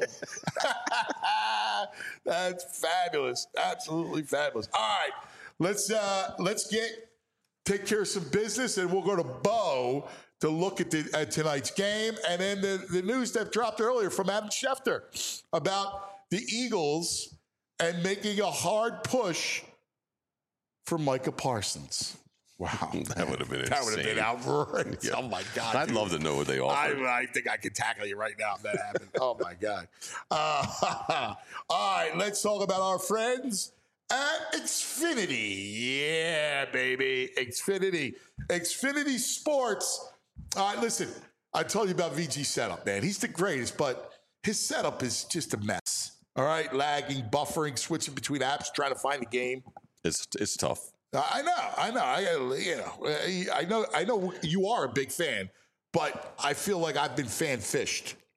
That's fabulous. Absolutely fabulous. All right, let's uh, let's get take care of some business, and we'll go to Bo to look at the at tonight's game, and then the, the news that dropped earlier from Adam Schefter about the Eagles and making a hard push for Micah Parsons. Wow, That would have been that would have been insane. outrageous. Yeah. Oh my God, I'd dude. love to know what they offer. I, I think I could tackle you right now if that happened. Oh my God. Uh, all right, let's talk about our friends at Xfinity. Yeah, baby. Xfinity. Xfinity Sports. All right, listen, I told you about V G's setup, man. He's the greatest, but his setup is just a mess. All right, lagging, buffering, switching between apps, trying to find the game. It's it's tough. I know, I know, I you know, I know, I know you are a big fan, but I feel like I've been fan fished.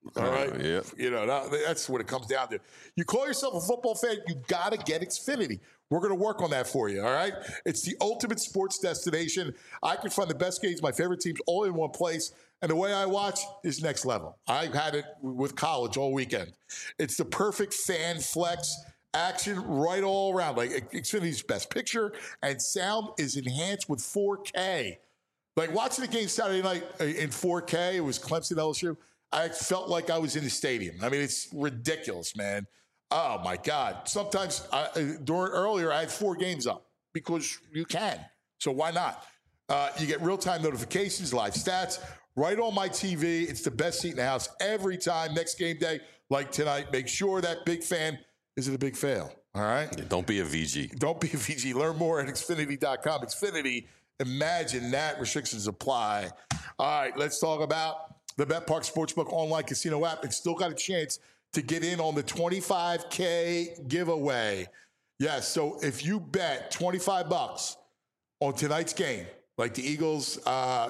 All Uh, right, yeah. you know that, that's what it comes down to. You call yourself a football fan, you got to get Xfinity. We're going to work on that for you. All right, it's the ultimate sports destination. I can find the best games, my favorite teams, all in one place. And the way I watch is next level. I've had it with college all weekend. It's the perfect fan flex action right all around. Like Xfinity's best picture and sound is enhanced with four K. Like watching the game Saturday night in four K, it was Clemson L S U. I felt like I was in the stadium. I mean, it's ridiculous, man. Oh my God! Sometimes I, during earlier, I had four games up because you can. So why not? Uh, you get real-time notifications, live stats, right on my T V. It's the best seat in the house every time. Next game day, like tonight, make sure that big fan isn't a big fail. All right. Don't be a V G. Don't be a V G. Learn more at Xfinity dot com. Xfinity. Imagine that. Restrictions apply. All right. Let's talk about the BetPark Sportsbook online casino app. It's still got a chance to get in on the twenty-five K giveaway. Yes, so if you bet twenty-five bucks on tonight's game, like the Eagles uh,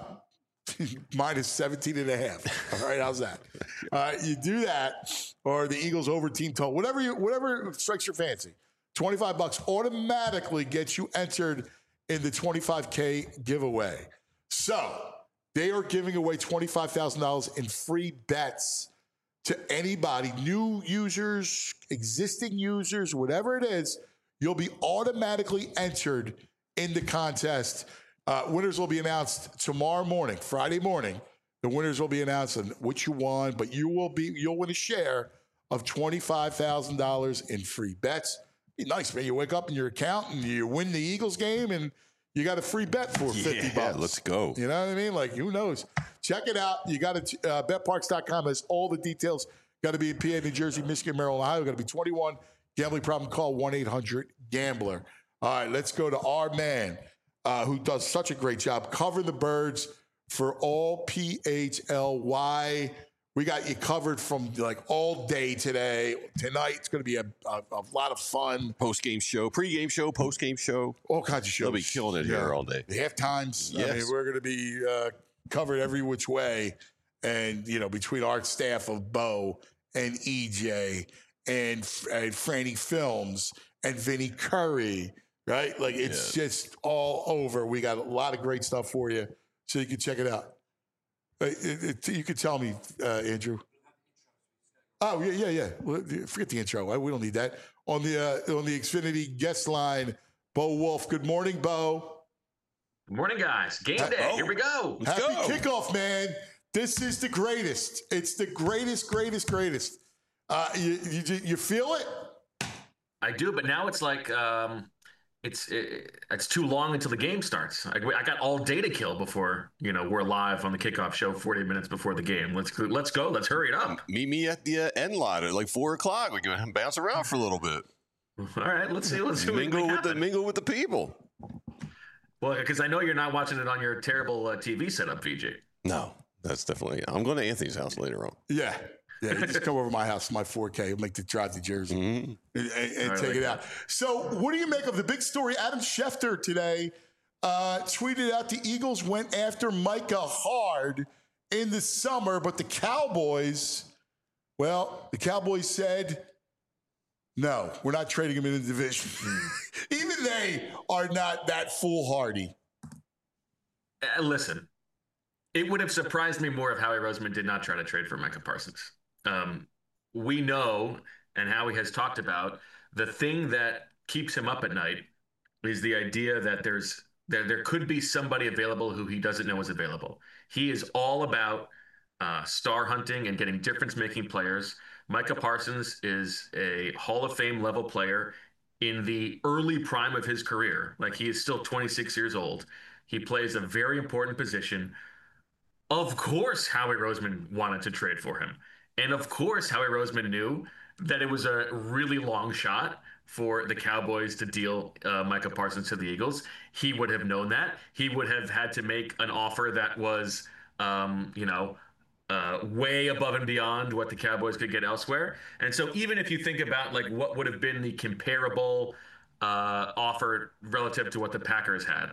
minus seventeen and a half. All right, how's that? Uh, you do that, or the Eagles over team total, whatever you, whatever strikes your fancy. twenty-five bucks automatically gets you entered in the twenty-five K giveaway. So they are giving away twenty-five thousand dollars in free bets to anybody, new users, existing users, whatever it is. You'll be automatically entered in the contest. Uh, winners will be announced tomorrow morning, Friday morning. The winners will be announced and what you won, but you will be you'll win a share of twenty-five thousand dollars in free bets. Be nice, man. You wake up in your account and you win the Eagles game and you got a free bet for fifty Yeah, bucks. let's go. You know what I mean? Like, who knows? Check it out. You got to, uh, bet parks dot com has all the details. Got to be in P A, New Jersey, Michigan, Maryland, Ohio. Got to be twenty-one. Gambling problem, call one eight hundred gambler. All right, let's go to our man uh, who does such a great job covering the birds for all P H L Y. We got you covered from like all day today. Tonight, it's going to be a, a, a lot of fun. Post game show, pre game show, post game show. All kinds of shows. They'll be killing it here all day. The half times. I Yes. mean, we're going to be uh, covered every which way. And, you know, between our staff of Bo and E J and, and Franny Films and Vinny Curry, right? Like, it's Yeah. just all over. We got a lot of great stuff for you, so you can check it out. Uh, It, it, you could tell me, uh, Andrew. Oh, yeah, yeah, yeah. Well, forget the intro. We don't need that. On the uh, on the Xfinity guest line, Bo Wolf. Good morning, Bo. Good morning, guys. Game day. Oh. Here we go. Let's Happy go. kickoff, man. This is the greatest. It's the greatest, greatest, greatest. Uh, you, you, you feel it? I do, but now it's like um, it's it, it's too long until the game starts. I, I got all day to kill before you know we're live on the kickoff show forty minutes before the game. Let's let's go. Let's hurry it up. Meet me at the uh, end lot at like four o'clock. We can bounce around for a little bit. All right. Let's see. Let's see what we mingle make with the happen. mingle with the people. Well, because I know you're not watching it on your terrible uh, T V setup, V J. No, that's definitely. I'm going to Anthony's house later on. Yeah. Yeah, you just come over to my house, my four K, make the drive to Jersey Mm-hmm. and, and- and I take like it that. out. So, what do you make of the big story? Adam Schefter today uh, tweeted out the Eagles went after Micah hard in the summer, but the Cowboys, well, the Cowboys said, no, we're not trading him in the division. Even they are not that foolhardy. Uh, listen, it would have surprised me more if Howie Roseman did not try to trade for Micah Parsons. Um, we know, and Howie has talked about, the thing that keeps him up at night is the idea that there's there, there could be somebody available who he doesn't know is available. He is all about uh, star hunting and getting difference-making players. Micah Parsons is a Hall of Fame level player in the early prime of his career. Like, he is still twenty-six years old. He plays a very important position. Of course, Howie Roseman wanted to trade for him. And of course, Howie Roseman knew that it was a really long shot for the Cowboys to deal uh, Micah Parsons to the Eagles. He would have known that. He would have had to make an offer that was, um, you know, uh, way above and beyond what the Cowboys could get elsewhere. And so even if you think about like what would have been the comparable uh, offer relative to what the Packers had,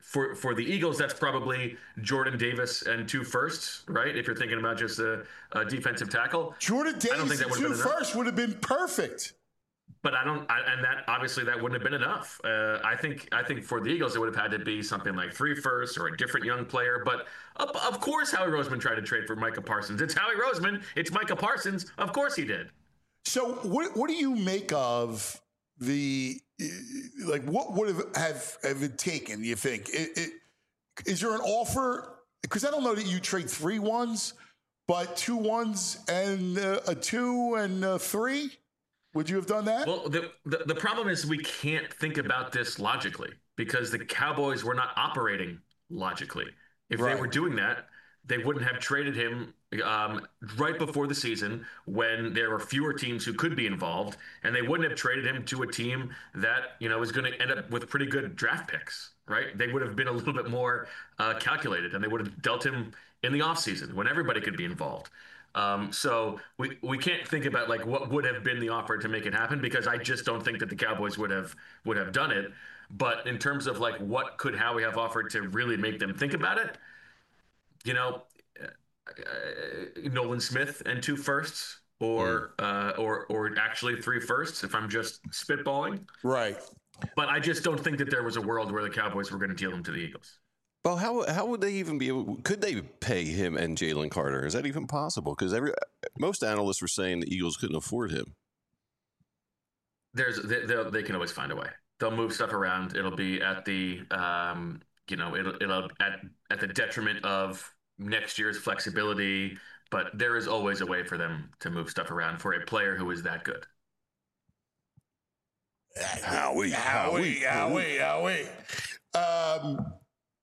for for the Eagles, that's probably Jordan Davis and two firsts, right? If you're thinking about just a, a defensive tackle, Jordan Davis and two firsts would have been perfect. But I don't, I, and that obviously that wouldn't have been enough. Uh, I think, I think for the Eagles, it would have had to be something like three firsts or a different young player. But of, of course, Howie Roseman tried to trade for Micah Parsons. It's Howie Roseman. It's Micah Parsons. Of course he did. So what what do you make of the like? What would have have, have it taken? You think it, it, is there an offer? Because I don't know that you trade three ones, but two ones and uh, a two and a three. Would you have done that? Well, the, the the problem is we can't think about this logically because the Cowboys were not operating logically. If Right. they were doing that, they wouldn't have traded him um, right before the season when there were fewer teams who could be involved, and they wouldn't have traded him to a team that you know is going to end up with pretty good draft picks. Right? They would have been a little bit more uh, calculated, and they would have dealt him in the offseason when everybody could be involved. Um, so we, we can't think about like what would have been the offer to make it happen because I just don't think that the Cowboys would have would have done it. But in terms of like what could Howie have offered to really make them think about it, you know, uh, uh, Nolan Smith and two firsts, or uh, or or actually three firsts if I'm just spitballing. Right. But I just don't think that there was a world where the Cowboys were going to deal him to the Eagles. Well, how how would they even be able? Could they pay him and Jalen Carter? Is that even possible? Because every most analysts were saying the Eagles couldn't afford him. There's they, they can always find a way. They'll move stuff around. It'll be at the um, you know it'll it'll at at the detriment of next year's flexibility. But there is always a way for them to move stuff around for a player who is that good. Howie, Howie, Howie, Howie. Um.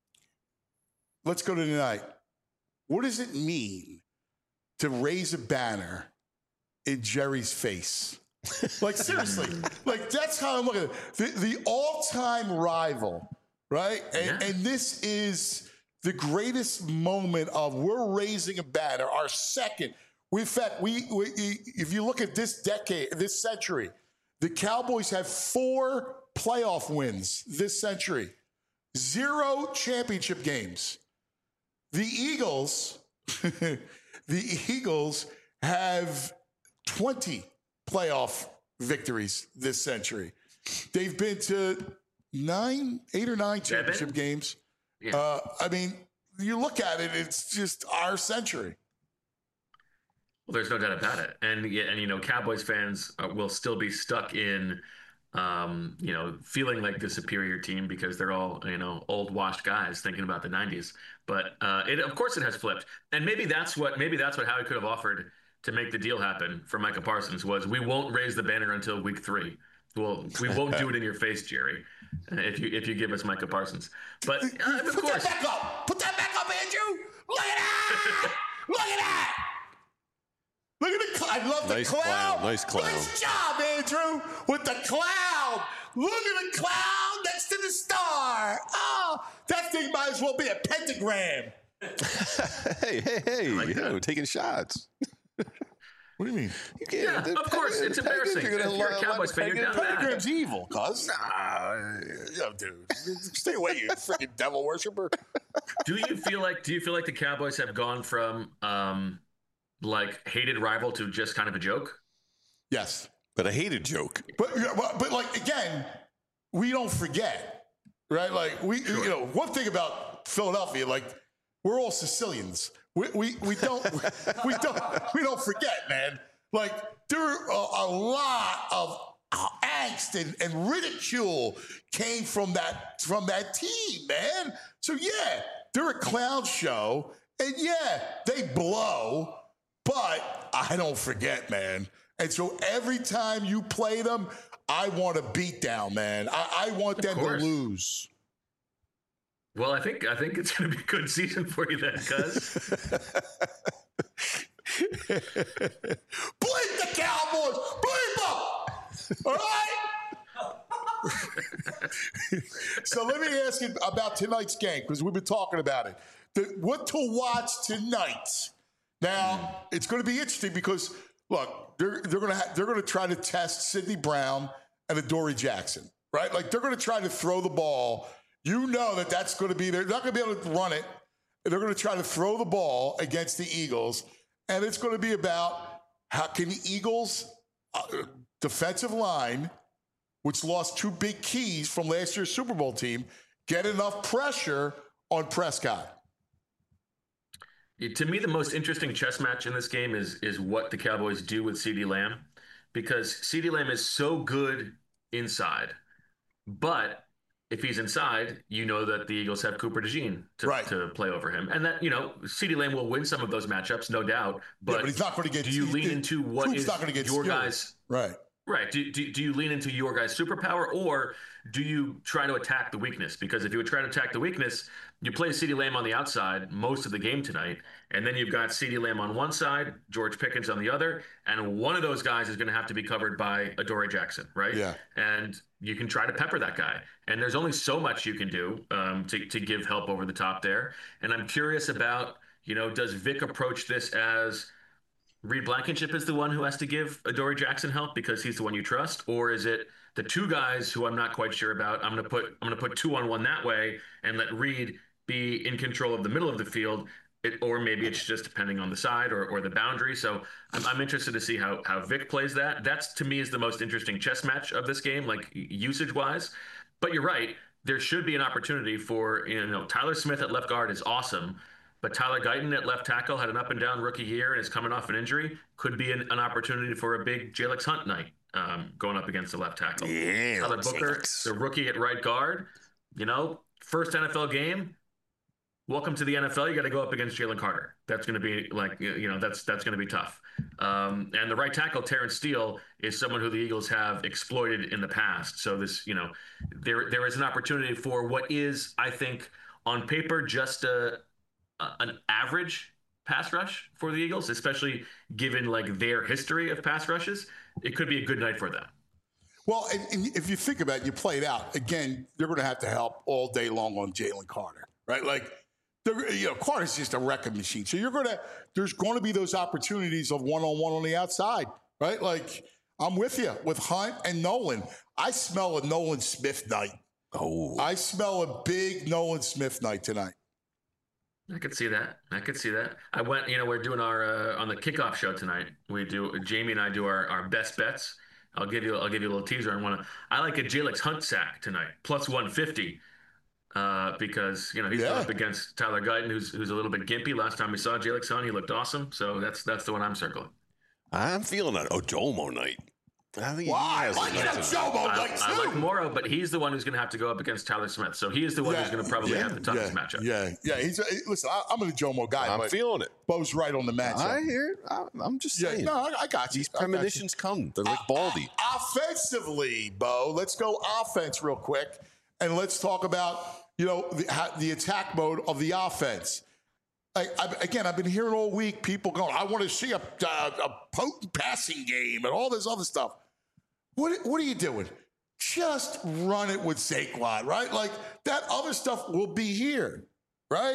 Let's go to tonight. What does it mean to raise a banner in Jerry's face? Like, seriously. Like, that's how I'm looking at it. The, the all-time rival, right? And, Yeah. and this is the greatest moment of we're raising a banner, our second. We, in fact, we, we if you look at this decade, this century, the Cowboys have four playoff wins this century, zero championship games. The Eagles, the Eagles have twenty playoff victories this century. They've been to nine, eight or nine championship Seven? games. Yeah. Uh, I mean, you look at it, it's just our century. Well, there's no doubt about it. And yeah, and you know, Cowboys fans uh, will still be stuck in, um, you know, feeling like the superior team because they're all you know old washed guys thinking about the nineties. But uh, it of course it has flipped, and maybe that's what maybe that's what Howie could have offered to make the deal happen for Micah Parsons was we won't raise the banner until week three. Well, we won't do it in your face, Jerry, uh, if you if you give us Micah Parsons. But uh, of Put course, that back up. Put that back up, Andrew. Look at that. Look at that. Look at the clown. I love the Nice clown. clown. Nice clown. Nice job, Andrew, with the clown. Look at the clown next to the star. Oh, that thing might as well be a pentagram. Hey, hey, hey! like you that. know, taking shots. What do you mean? You can't- Yeah, the of course, peg- it's the peg- embarrassing. you're gonna If you're a let- Cowboys let fan, you're peg- down bad. Pentagram's evil, cuz. Nah, yo, dude. Stay away, you freaking devil worshiper. do you feel like do you feel like the Cowboys have gone from um, like hated rival to just kind of a joke? Yes. But a hated joke. But, but, but like, again, we don't forget, right? Like, we, you know, one thing about Philadelphia, like, we're all Sicilians. We, we, we don't, we don't, we don't forget, man. Like, there are a, a lot of angst and, and ridicule came from that, from that team, man. So yeah, they're a clown show and yeah, they blow, but I don't forget, man. And so every time you play them, I want a beat down, man. I, I want them to course. lose. Well, I think I think it's going to be a good season for you then, cuz. Bleep the Cowboys! Bleep them! All right? So let me ask you about tonight's game, because we've been talking about it. The, what to watch tonight? Now, it's going to be interesting because, look, they're they're going to ha- they're going to try to test Sidney Brown and Adoree Jackson, right? Like, they're going to try to throw the ball You know that that's going to be, they're not going to be able to run it. They're going to try to throw the ball against the Eagles. And it's going to be about how can the Eagles uh, defensive line, which lost two big keys from last year's Super Bowl team, get enough pressure on Prescott. To me, the most interesting chess match in this game is is what the Cowboys do with CeeDee Lamb, because CeeDee Lamb is so good inside, but if he's inside, you know that the Eagles have Cooper DeJean to, right. to play over him, and that you know CeeDee Lamb will win some of those matchups, no doubt. But, yeah, but he's not going to get. Do you lean into what Coop's is not get your skilled. guys? Right. Right. Do, do, do you lean into your guy's superpower, or do you try to attack the weakness? Because if you would try to attack the weakness, you play CeeDee Lamb on the outside most of the game tonight, and then you've got CeeDee Lamb on one side, George Pickens on the other, and one of those guys is going to have to be covered by Adoree Jackson, right? Yeah. And you can try to pepper that guy. And there's only so much you can do um, to, to give help over the top there. And I'm curious about, you know, does Vic approach this as Reed Blankenship is the one who has to give Adoree Jackson help because he's the one you trust, or is it the two guys who I'm not quite sure about? I'm going to put I'm going to put two on one that way and let Reed be in control of the middle of the field, it, or maybe it's just depending on the side or, or the boundary. So I'm, I'm interested to see how how Vic plays that. That's to me is the most interesting chess match of this game, like usage wise. But you're right, there should be an opportunity for you know Tyler Smith at left guard is awesome. But Tyler Guyton at left tackle had an up-and-down rookie year and is coming off an injury. Could be an, an opportunity for a big Jalex Hunt night um, going up against the left tackle. Yeah, Tyler Booker, Jalex. the rookie at right guard. You know, first N F L game. Welcome to the N F L. You got to go up against Jalen Carter. That's going to be like, you know, that's that's going to be tough. Um, and the right tackle, Terrence Steele, is someone who the Eagles have exploited in the past. So this, you know, there there is an opportunity for what is, I think, on paper, just a an average pass rush for the Eagles, especially given like their history of pass rushes. It could be a good night for them. Well, and, and if you think about it, you play it out again, they're going to have to help all day long on Jalen Carter, right? Like, you know, Carter's just a wrecking machine. So you're going to, there's going to be those opportunities of one-on-one on the outside, right? Like, I'm with you with Hunt and Nolan. I smell a Nolan Smith night. Oh, I smell a big Nolan Smith night tonight. I could see that. I could see that. I went, you know, we're doing our, uh, on the kickoff show tonight. We do, Jamie and I do our, our best bets. I'll give you, I'll give you a little teaser. I want to, I like a Jalex Hunt sack tonight, plus one fifty, uh, because, you know, he's yeah. up against Tyler Guyton, who's, who's a little bit gimpy. Last time we saw Jalex Hunt, he looked awesome. So that's, that's the one I'm circling. I'm feeling an Ojomo night. I think Why? he has Why a get night a tonight. Jomo I, like I too? like Morrow, but he's the one who's going to have to go up against Tyler Smith. So he is the one Yeah, who's going to probably yeah, have the toughest yeah, matchup. Yeah, yeah. He's a, listen, I, I'm a Jomo guy. I'm but feeling it. Bo's right on the matchup. I hear it. I, I'm just yeah, saying. no, I, I got you. These I got you. premonitions come. They're like Baldy. Uh, offensively, Bo, let's go offense real quick, and let's talk about you know the, how, the attack mode of the offense. I, I, again, I've been hearing all week people going, "I want to see a, uh, a potent passing game and all this other stuff." What what are you doing? Just run it with Saquon, right? Like that other stuff will be here, right?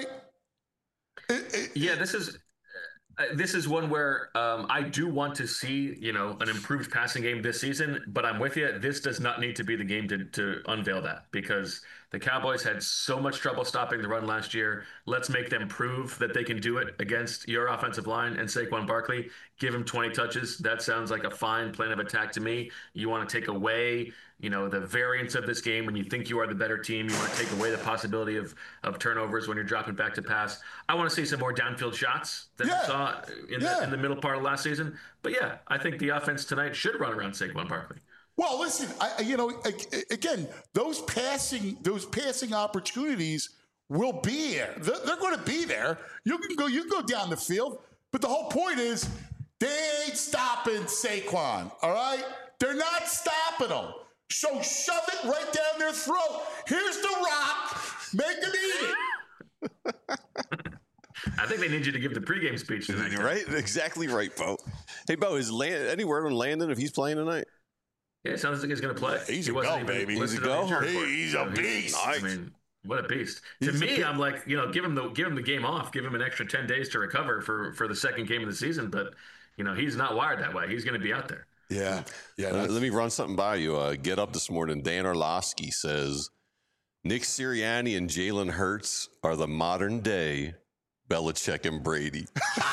It, it, Yeah, this is uh, this is one where um, I do want to see you know an improved passing game this season, but I'm with you. This does not need to be the game to to unveil that because the Cowboys had so much trouble stopping the run last year. Let's make them prove that they can do it against your offensive line and Saquon Barkley. Give him twenty touches. That sounds like a fine plan of attack to me. You want to take away, you know, the variance of this game when you think you are the better team. You want to take away the possibility of of turnovers when you're dropping back to pass. I want to see some more downfield shots than Yeah. we saw in, Yeah. the, in the middle part of last season. But yeah, I think the offense tonight should run around Saquon Barkley. Well, listen, I, you know, again, those passing those passing opportunities will be there. They're, they're going to be there. You can go, you can go down the field, but the whole point is they ain't stopping Saquon. All right, they're not stopping him. So shove it right down their throat. Here's the rock. Make them eat it. I think they need you to give the pregame speech tonight. Right? Exactly right, Bo. Hey, Bo, is Land, any word on Landon if he's playing tonight? Yeah, it sounds like he's going to play. He's he a wasn't go, even baby. listed He's a on the go. injury report. He's a So beast. I mean, what a beast. To He's a me, beast. I'm like, you know, give him the give him the game off. Give him an extra ten days to recover for for the second game of the season. But you know, he's not wired that way. He's going to be out there. Yeah, yeah. Uh, let me run something by you. Uh, Get Up this morning. Dan Orlovsky says Nick Sirianni and Jalen Hurts are the modern day Belichick and Brady.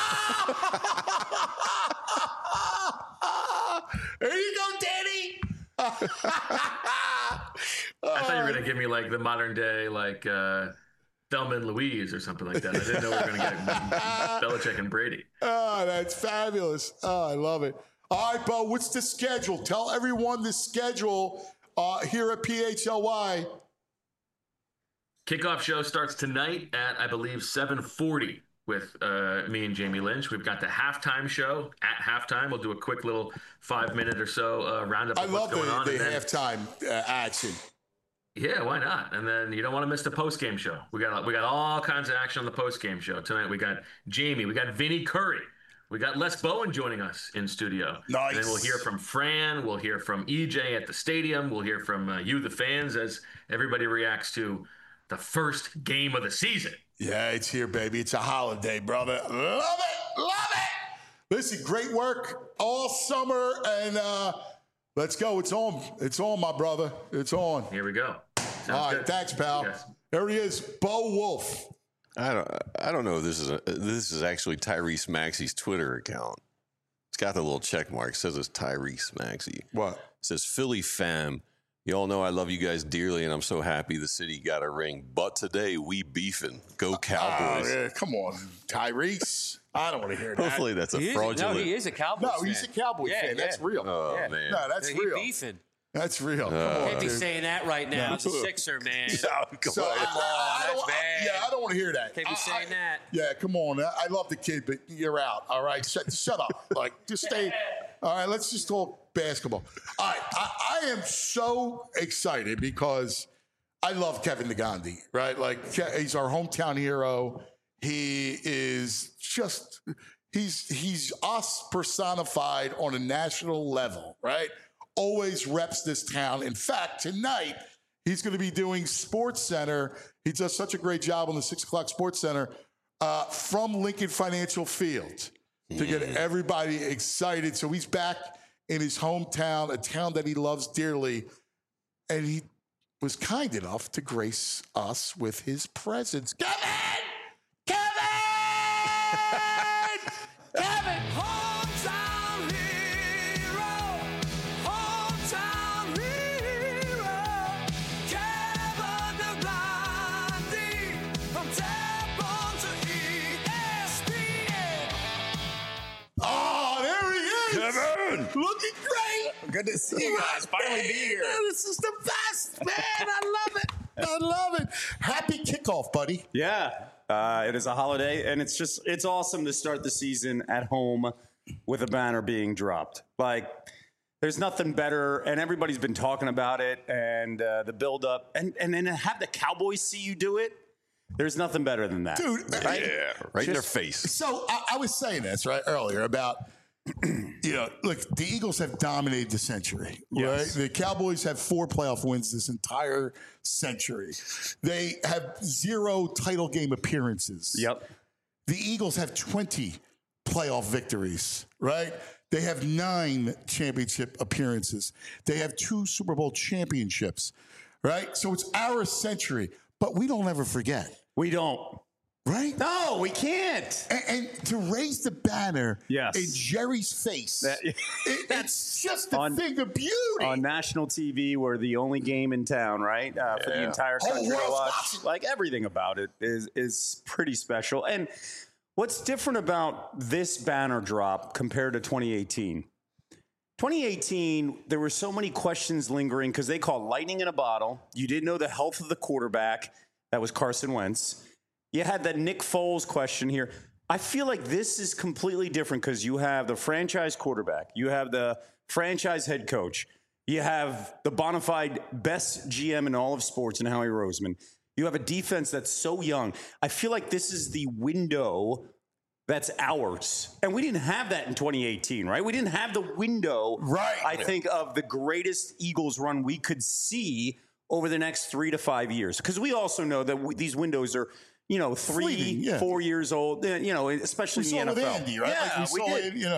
There you go, Danny. I thought you were going to give me like the modern day, like uh, Thelma and Louise or something like that. I didn't know we were going to get Belichick and Brady. Oh, that's fabulous. Oh, I love it. All right, Bo, what's the schedule? Tell everyone the schedule uh, here at P H L Y. Kickoff show starts tonight at, I believe, seven forty with uh, me and Jamie Lynch. We've got the halftime show at halftime. We'll do a quick little five-minute or so uh, roundup I of love what's going the, on. the and then, halftime uh, action. Yeah, why not? And then you don't want to miss the post-game show. We got we got all kinds of action on the post-game show. Tonight we got Jamie. We got Vinny Curry. We got Les Bowen joining us in studio. Nice. And then we'll hear from Fran. We'll hear from E J at the stadium. We'll hear from uh, you, the fans, as everybody reacts to the first game of the season. Yeah, it's here, baby. It's a holiday, brother. Love it. Love it. Listen, great work all summer. And uh, let's go. It's on. It's on, my brother. It's on. Here we go. Sounds all right. good. Thanks, pal. Yes. There he is, Bo Wolf. I don't. I don't know if this is a, this is actually Tyrese Maxey's Twitter account. It's got the little check mark. It says it's Tyrese Maxey. What? It says Philly fam. You all know I love you guys dearly, and I'm so happy the city got a ring. But today we beefing. Go Cowboys! Oh, yeah. Come on, Tyrese. I don't want to hear that. Hopefully that's a He is, fraudulent. no, he is a Cowboys No, he's a fan. Cowboy Yeah, fan. yeah. That's real. Oh Yeah. man. No, that's He real. beefing. That's real. Come Uh, on, Can't be dude. saying that right now. No. It's a Sixer, man. So I, on, I that's don't, bad. yeah, I don't want to hear that. Can't be I- saying I- that. Yeah, come on. I I love the kid, but you're out. All right, shut, shut up. Like, just stay. All right, let's just talk basketball. All right, I, I am so excited because I love Kevin Nagandi, right? Like, Ke- he's our hometown hero. He is just he's he's us personified on a national level, right? Always reps this town. In fact, tonight he's going to be doing Sports Center. He does such a great job on the six o'clock Sports Center uh, from Lincoln Financial Field to get everybody excited. So he's back in his hometown, a town that he loves dearly, and he was kind enough to grace us with his presence. Kevin! Kevin! Kevin! Hometown hero, hometown hero, Kevin Nagandi, from Tapon to E S P N. Oh, there he is! Kevin! Looking great! Good to see you guys. Finally be here. This is the best, man! I love it! I love it! Happy kickoff, buddy. Yeah, uh, it is a holiday, and it's just it's awesome to start the season at home with a banner being dropped. Like, there's nothing better, and everybody's been talking about it, and uh, the build up, and and then have the Cowboys see you do it. There's nothing better than that, Dude, Right? Yeah, right in their Just- face. So I, I was saying this right earlier about, you know, look, the Eagles have dominated the century, Yes. right? The Cowboys have four playoff wins this entire century. They have zero title game appearances. Yep. The Eagles have twenty playoff victories, right? They have nine championship appearances. They have two Super Bowl championships, right? So it's our century, but we don't ever forget, We don't. right? No, we can't. And, and to raise the banner Yes. in Jerry's face, That- it, it's just a On- thing of beauty. On national T V, we're the only game in town, right? Uh, for the entire Whole country to world's watch. watching. Like, everything about it is is pretty special. And what's different about this banner drop compared to twenty eighteen? twenty eighteen, there were so many questions lingering because they called lightning in a bottle. You didn't know the health of the quarterback. That was Carson Wentz. You had that Nick Foles question here. I feel like this is completely different because you have the franchise quarterback. You have the franchise head coach. You have the bona fide best G M in all of sports in Howie Roseman. You have a defense that's so young. I feel like this is the window that's ours. And we didn't have that in twenty eighteen, right? We didn't have the window, Right. I think, of the greatest Eagles run we could see over the next three to five years. Because we also know that we, these windows are, you know, three, Fleeting, yeah. four years old, eh, you know, we especially saw in it the with N F L. Andy, right? Yeah, like we we saw did. it, you know,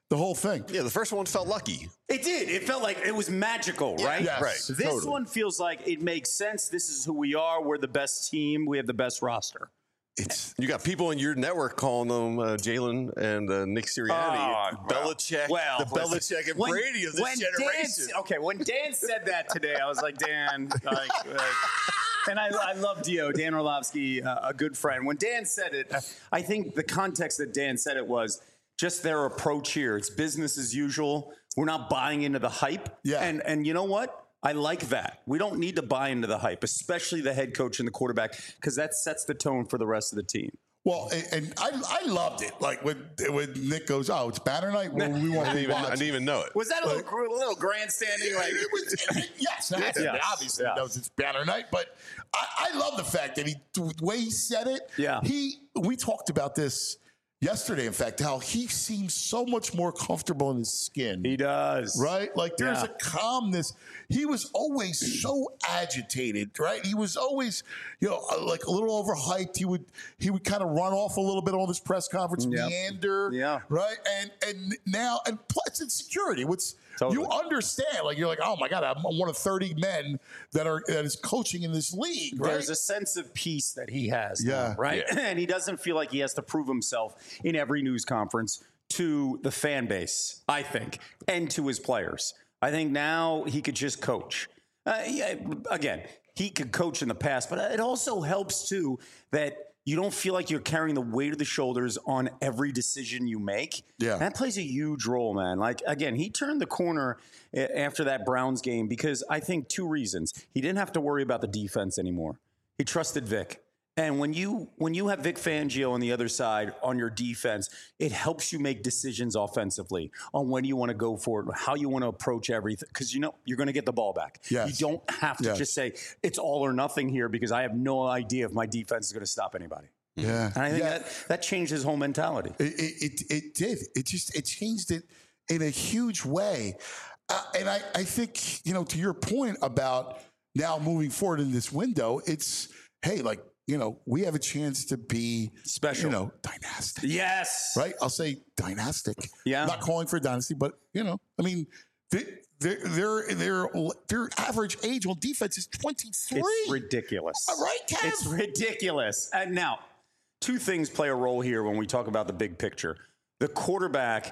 the whole thing. Yeah, the first one felt lucky. It did. It felt like it was magical, right? Yes, Right. This totally. one feels like it makes sense. This is who we are. We're the best team. We have the best roster. It's You got people in your network calling them uh, Jalen and uh, Nick Sirianni, Oh, Belichick, well, the listen, Belichick and when- Brady of this when Dan generation. s- okay, when Dan said that today, I was like, Dan, like, uh, and I, I love Dio, Dan Orlovsky, uh, a good friend. When Dan said it, uh, I think the context that Dan said it was just their approach here. It's business as usual. We're not buying into the hype. Yeah. And and you know what? I like that. We don't need to buy into the hype, especially the head coach and the quarterback, because that sets the tone for the rest of the team. well, and, and I I loved it. Like when when Nick goes, oh, it's banner night. Well, we want I to didn't, even, I watch. didn't even know it. Was that a little, gr- a little grandstanding? Like, It was, yes, it has to be. Yes, Obviously, yeah. he knows it's banner night. But I, I love the fact that he, the way he said it. Yeah. He. We talked about this yesterday. In fact, how he seems so much more comfortable in his skin. he does. Right? Like there's Yeah. a calmness. He was always so agitated, right? He was always, you know, uh, like a little overhyped. He would he would kind of run off a little bit on his press conference, Yep. meander. Yeah. Right? And and now and plus insecurity, which Totally. you understand. Like you're like, oh my God, I'm one of thirty men that are that is coaching in this league, right? There's a sense of peace that he has, now, Yeah. right? And he doesn't feel like he has to prove himself in every news conference to the fan base, I think, and to his players. I think now he could just coach. Uh, yeah, again, he could coach in the past, but it also helps too that you don't feel like you're carrying the weight of the shoulders on every decision you make. Yeah. That plays a huge role, man. Like, again, he turned the corner a- after that Browns game because I think two reasons. He didn't have to worry about the defense anymore. He trusted Vic. And when you when you have Vic Fangio on the other side on your defense, it helps you make decisions offensively on when you want to go for it, how you want to approach everything, because you know you're going to get the ball back. Yes. You don't have to Yes. just say it's all or nothing here because I have no idea if my defense is going to stop anybody. yeah. And I think yeah. that that changed his whole mentality. It, it, it, it did. It just it changed it in a huge way. Uh, and I, I think, you know, to your point about now moving forward in this window, it's, hey, like, you know, we have a chance to be Special. you know, dynastic. Yes. Right? I'll say dynastic. Yeah. I'm not calling for a dynasty, but, you know, I mean, they, their their their their average age on defense is twenty-three. It's ridiculous. All right, Kev? It's ridiculous. And now, two things play a role here when we talk about the big picture. The quarterback,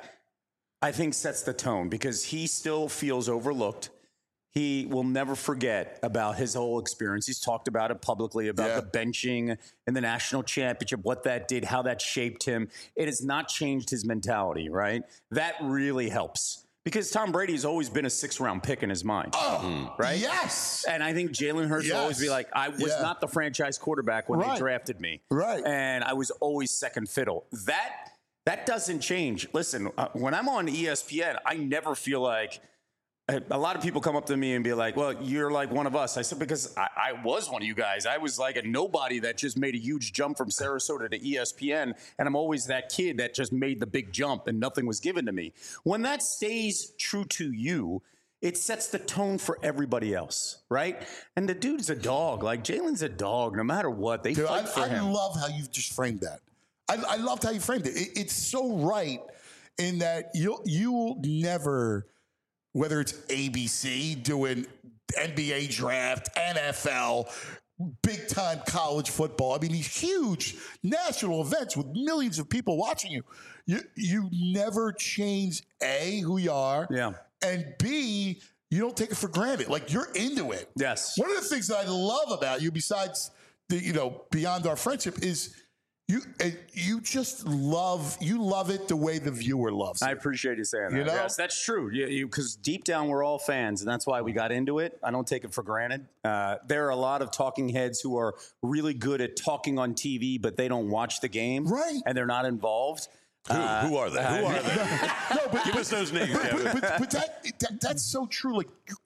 I think, sets the tone because he still feels overlooked. He will never forget about his whole experience. He's talked about it publicly, about Yeah. the benching and the national championship, what that did, how that shaped him. It has not changed his mentality, right? That really helps. Because Tom Brady has always been a six-round pick in his mind. Oh, right? Yes. And I think Jalen Hurts will always Yes. be like, I was Yeah. not the franchise quarterback when Right. they drafted me. Right. And I was always second fiddle. That that doesn't change. Listen, uh, when I'm on E S P N, I never feel like a a lot of people come up to me and be like, well, you're like one of us. I said, because I, I was one of you guys. I was like a nobody that just made a huge jump from Sarasota to E S P N. And I'm always that kid that just made the big jump and nothing was given to me. When that stays true to you, it sets the tone for everybody else, right? And the dude's a dog. Like Jalen's a dog, no matter what. They Dude, fight I, for I him. love how you've just framed that. I, I loved how you framed it. it. It's so right in that you you will never, whether it's A B C doing N B A draft, N F L, big time college football. I mean, these huge national events with millions of people watching you. You you never change A, who you are, Yeah. and B, you don't take it for granted. Like you're into it. Yes. One of the things that I love about you, besides the, you know, beyond our friendship, is you uh, you just love you love it the way the viewer loves it. I appreciate you saying that. You know? Yes, that's true. You because deep down we're all fans, and that's why we got into it. I don't take it for granted. Uh, there are a lot of talking heads who are really good at talking on T V, but they don't watch the game, Right. And they're not involved. Who, who are they? Who are they? no, but, Give us those names, but, Kevin. but, but, but that, that that's so true. Like you,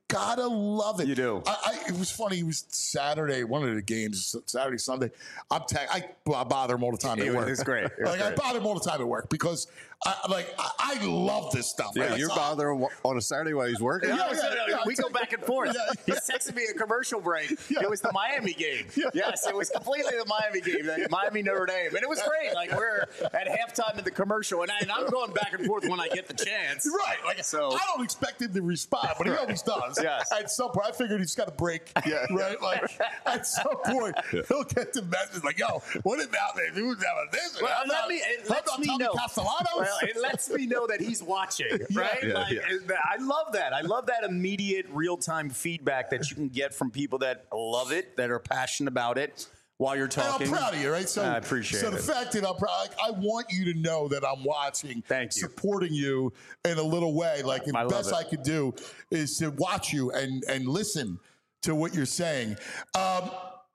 gotta love it. You do. I, I, it was funny. It was Saturday, one of the games, Saturday, Sunday. I'm ta- I, I bother him all the time at It was- work. it's great. It was like I great. bother him all the time at work because I like I, I love this stuff. Yeah, right? you're So- bothering him on a Saturday while he's working. No, Yeah, no, yeah, no, yeah, we yeah. go back and forth. Yeah. He's texting me a commercial break. It was the Miami game. Yes, it was completely the Miami game, the Miami Notre Dame, and it was great. Like we're at halftime in the commercial, and, I, and I'm going back and forth when I get the chance. Right. Like, So- I don't expect him to respond, but he always does. Yes. At some point, I figured he's got a break. Yeah. Right. Like at some point, he'll get the message like, "Yo, what about this? Who's about this? Well, How let about- me. It how lets about me Tommy know. Castellanos?" Well, it lets me know that he's watching, right? Yeah, like, yeah. I love that. I love that immediate, real-time feedback that you can get from people that love it, that are passionate about it, while you're talking. And I'm proud of you, right? So I appreciate so it. the fact that I'm proud, like, I want you to know that I'm watching, Thank you. supporting you in a little way. Like the I love best it. I could do is to watch you and and listen to what you're saying. Um,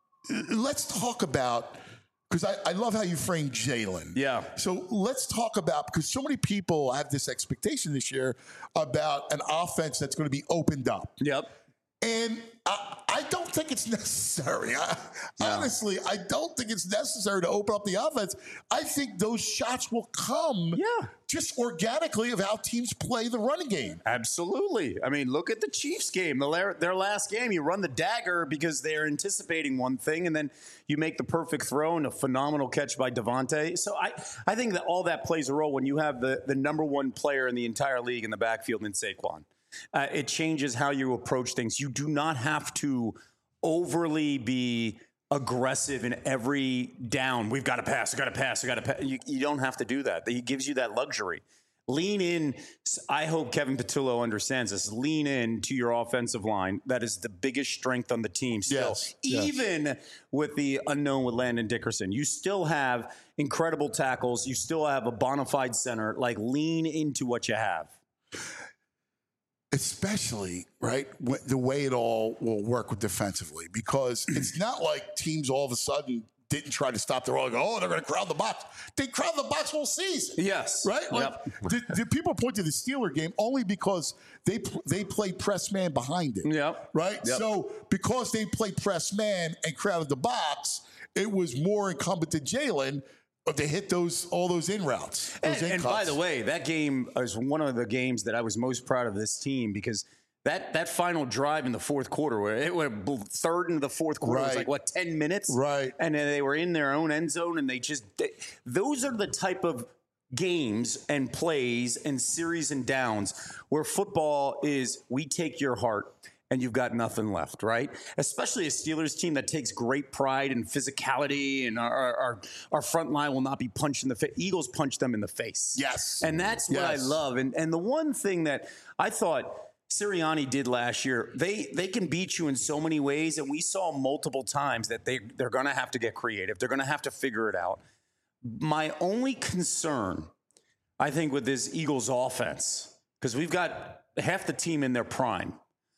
let's talk about. Because I, I love how you frame Jalen. Yeah. So let's talk about, because so many people have this expectation this year about an offense that's going to be opened up. Yep. And I, I don't think it's necessary. I, Honestly, I don't think it's necessary to open up the offense. I think those shots will come Yeah. just organically of how teams play the running game. Absolutely. I mean, look at the Chiefs game. The, la- their last game, you run the dagger because they're anticipating one thing, and then you make the perfect throw and a phenomenal catch by Devontae. So I, I think that all that plays a role when you have the, the number one player in the entire league in the backfield in Saquon. Uh, it changes how you approach things. You do not have to overly be aggressive in every down. We've got to pass. I got to pass. I got to pass. You, you don't have to do that. He gives you that luxury. Lean in. I hope Kevin Patullo understands this. Lean in to your offensive line. That is the biggest strength on the team still. Yes, yes. Even with the unknown with Landon Dickerson, you still have incredible tackles. You still have a bona fide center. Like, lean into what you have. Especially, right, wh- the way it all will work with defensively, because it's not like teams all of a sudden didn't try to stop their own. Oh, they're going to crowd the box. They crowd the box whole season. Yes. Right? Like, did, did people point to the Steeler game only because they pl- they played press man behind it? Yep. Right? Yep. So because they played press man and crowded the box, it was more incumbent to Jalen to hit those all those in routes. Those And, in and by cuts. the way, that game is one of the games that I was most proud of this team because that that final drive in the fourth quarter, where it went third into the fourth quarter, was Right. like what ten minutes, Right. And then they were in their own end zone, and they just they, those are the type of games and plays and series and downs where football is we take your heart and you've got nothing left, right? Especially a Steelers team that takes great pride in physicality, and our our, our front line will not be punched in the face. Eagles punch them in the face. Yes. And that's what Yes. I love. And and the one thing that I thought Sirianni did last year, they they can beat you in so many ways, and we saw multiple times that they, they're going to have to get creative. They're going to have to figure it out. My only concern, I think, with this Eagles offense, because we've got half the team in their prime,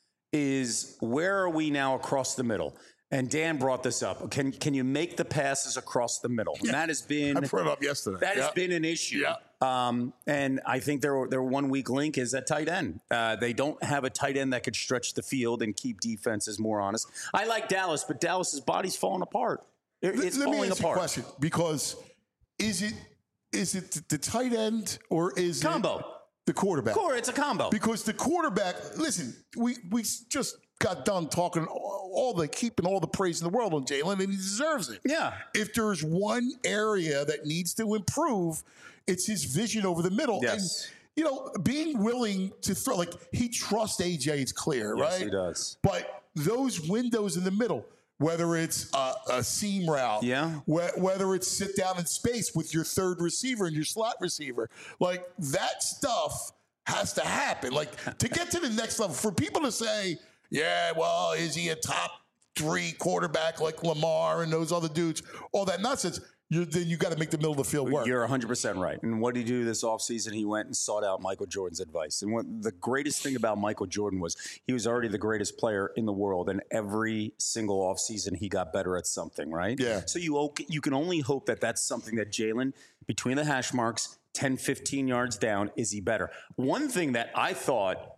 is where are we now across the middle? And Dan brought this up. Can can you make the passes across the middle? And that has been I brought it up yesterday. that has Yeah. been an issue. Yeah. Um, and I think their their one weak link is at tight end. Uh, they don't have a tight end that could stretch the field and keep defenses more honest. I like Dallas, but Dallas's body's falling apart. It- It's Let me falling ask you a apart. question, because is it is it the, the tight end or is Combo. it the quarterback? Core, it's a combo. Because the quarterback, listen, we we just got done talking all, all the keeping all the praise in the world on Jalen, and he deserves it. Yeah. If there's one area that needs to improve, it's his vision over the middle. Yes. And, you know, being willing to throw, like, he trusts A J, it's clear, Yes, right? he does. But those windows in the middle, whether it's a, a seam route, Yeah. wh- whether it's sit down in space with your third receiver and your slot receiver, like, that stuff has to happen. Like, to get to the next level, for people to say, yeah, well, is he a top three quarterback like Lamar and those other dudes? All that nonsense. You're, then you got to make the middle of the field work. You're one hundred percent right. And what did he do this offseason? He went and sought out Michael Jordan's advice. And what the greatest thing about Michael Jordan was he was already the greatest player in the world. And every single offseason, he got better at something, right? Yeah. So you, o- you can only hope that that's something that Jalen, between the hash marks, ten, fifteen yards down, is he better? One thing that I thought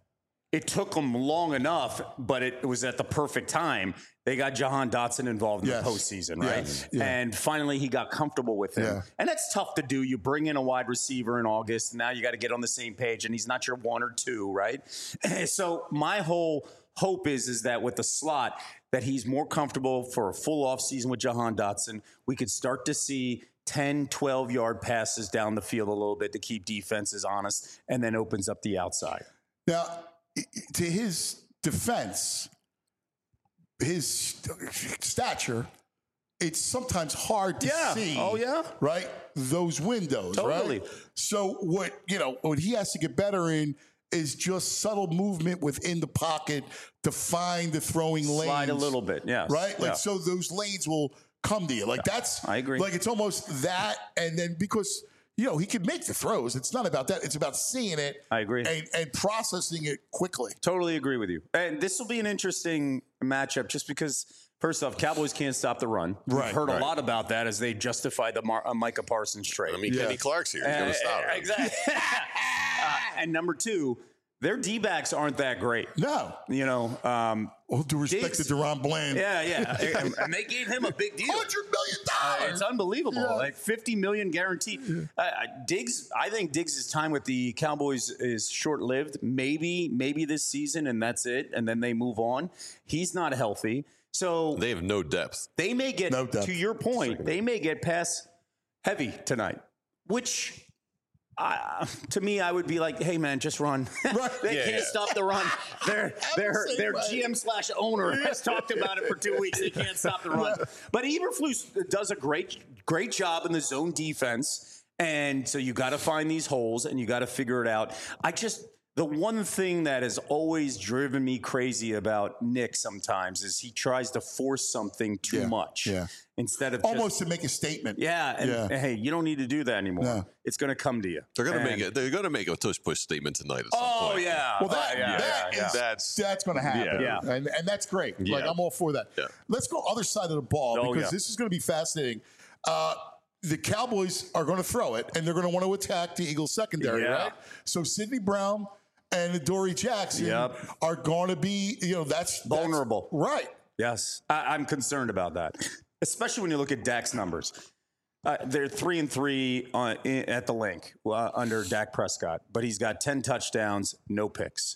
it took them long enough, but it was at the perfect time. They got Jahan Dotson involved in Yes. the postseason, right? Yes. Yeah. And finally, he got comfortable with him. Yeah. And that's tough to do. You bring in a wide receiver in August, and now you got to get on the same page, and he's not your one or two, right? So my whole hope is, is that with the slot, that he's more comfortable for a full offseason with Jahan Dotson. We could start to see ten, twelve-yard passes down the field a little bit to keep defenses honest, and then opens up the outside. Now, i- to his defense, his stature, it's sometimes hard to Yeah. see. Oh, yeah? Right? Those windows, Totally. right? So what, you know, what he has to get better in is just subtle movement within the pocket to find the throwing lanes. Slide a little bit, yes. Right? Like, Yeah. so those lanes will come to you. Like, that's, I agree. Like, it's almost that. And then because, you know, he can make the throws. It's not about that. It's about seeing it. I agree. And, and processing it quickly. Totally agree with you. And this will be an interesting matchup just because, first off, Cowboys can't stop the run. We've Right, heard right. a lot about that as they justify the Mar- uh, Micah Parsons trade. I mean, Yeah. Kenny Clark's here. He's going Uh, to stop it. Exactly. uh, and number two, their D-backs aren't that great. No. You know, um, All due respect Diggs- to Deron Bland. yeah, yeah. and, and they gave him a big deal. one hundred million Uh, dollars. it's unbelievable. Yeah. Like fifty million guaranteed. Uh, uh, Diggs, I think Diggs' time with the Cowboys is short lived. Maybe, maybe this season, and that's it. And then they move on. He's not healthy. So They have no depth. they may get, No depth. to your point, they may get pass heavy tonight, which uh, to me, I would be like, hey, man, just run. Right. They Yeah, can't yeah. stop the run. Their, their, the same their way. G M slash owner has talked about it for two weeks. They can't stop the run. But Eberflus does a great, great job in the zone defense. And so you got to find these holes and you got to figure it out. I just, the one thing that has always driven me crazy about Nick sometimes is he tries to force something too Yeah, much yeah. instead of Almost just, to make a statement. yeah. And Yeah. hey, you don't need to do that anymore. No. It's going to come to you. They're going to And- make it. They're going to make a tush push statement tonight. At some Oh point. yeah. Well, that, Oh, yeah, that yeah, is- yeah. That's- that's going to happen. Yeah. And, and that's great. Like, Yeah. I'm all for that. Yeah. Let's go other side of the ball Oh, because yeah. this is going to be fascinating. Uh, the Cowboys are going to throw it, and they're going to want to attack the Eagles secondary, Yeah. right? So Sidney Brown and Adoree Jackson Yep. are going to be, you know, that's, that's Vulnerable. right? Yes, I, I'm concerned about that, especially when you look at Dak's numbers. Uh, they're three and three on, in, at the link uh, under Dak Prescott, but he's got ten touchdowns, no picks.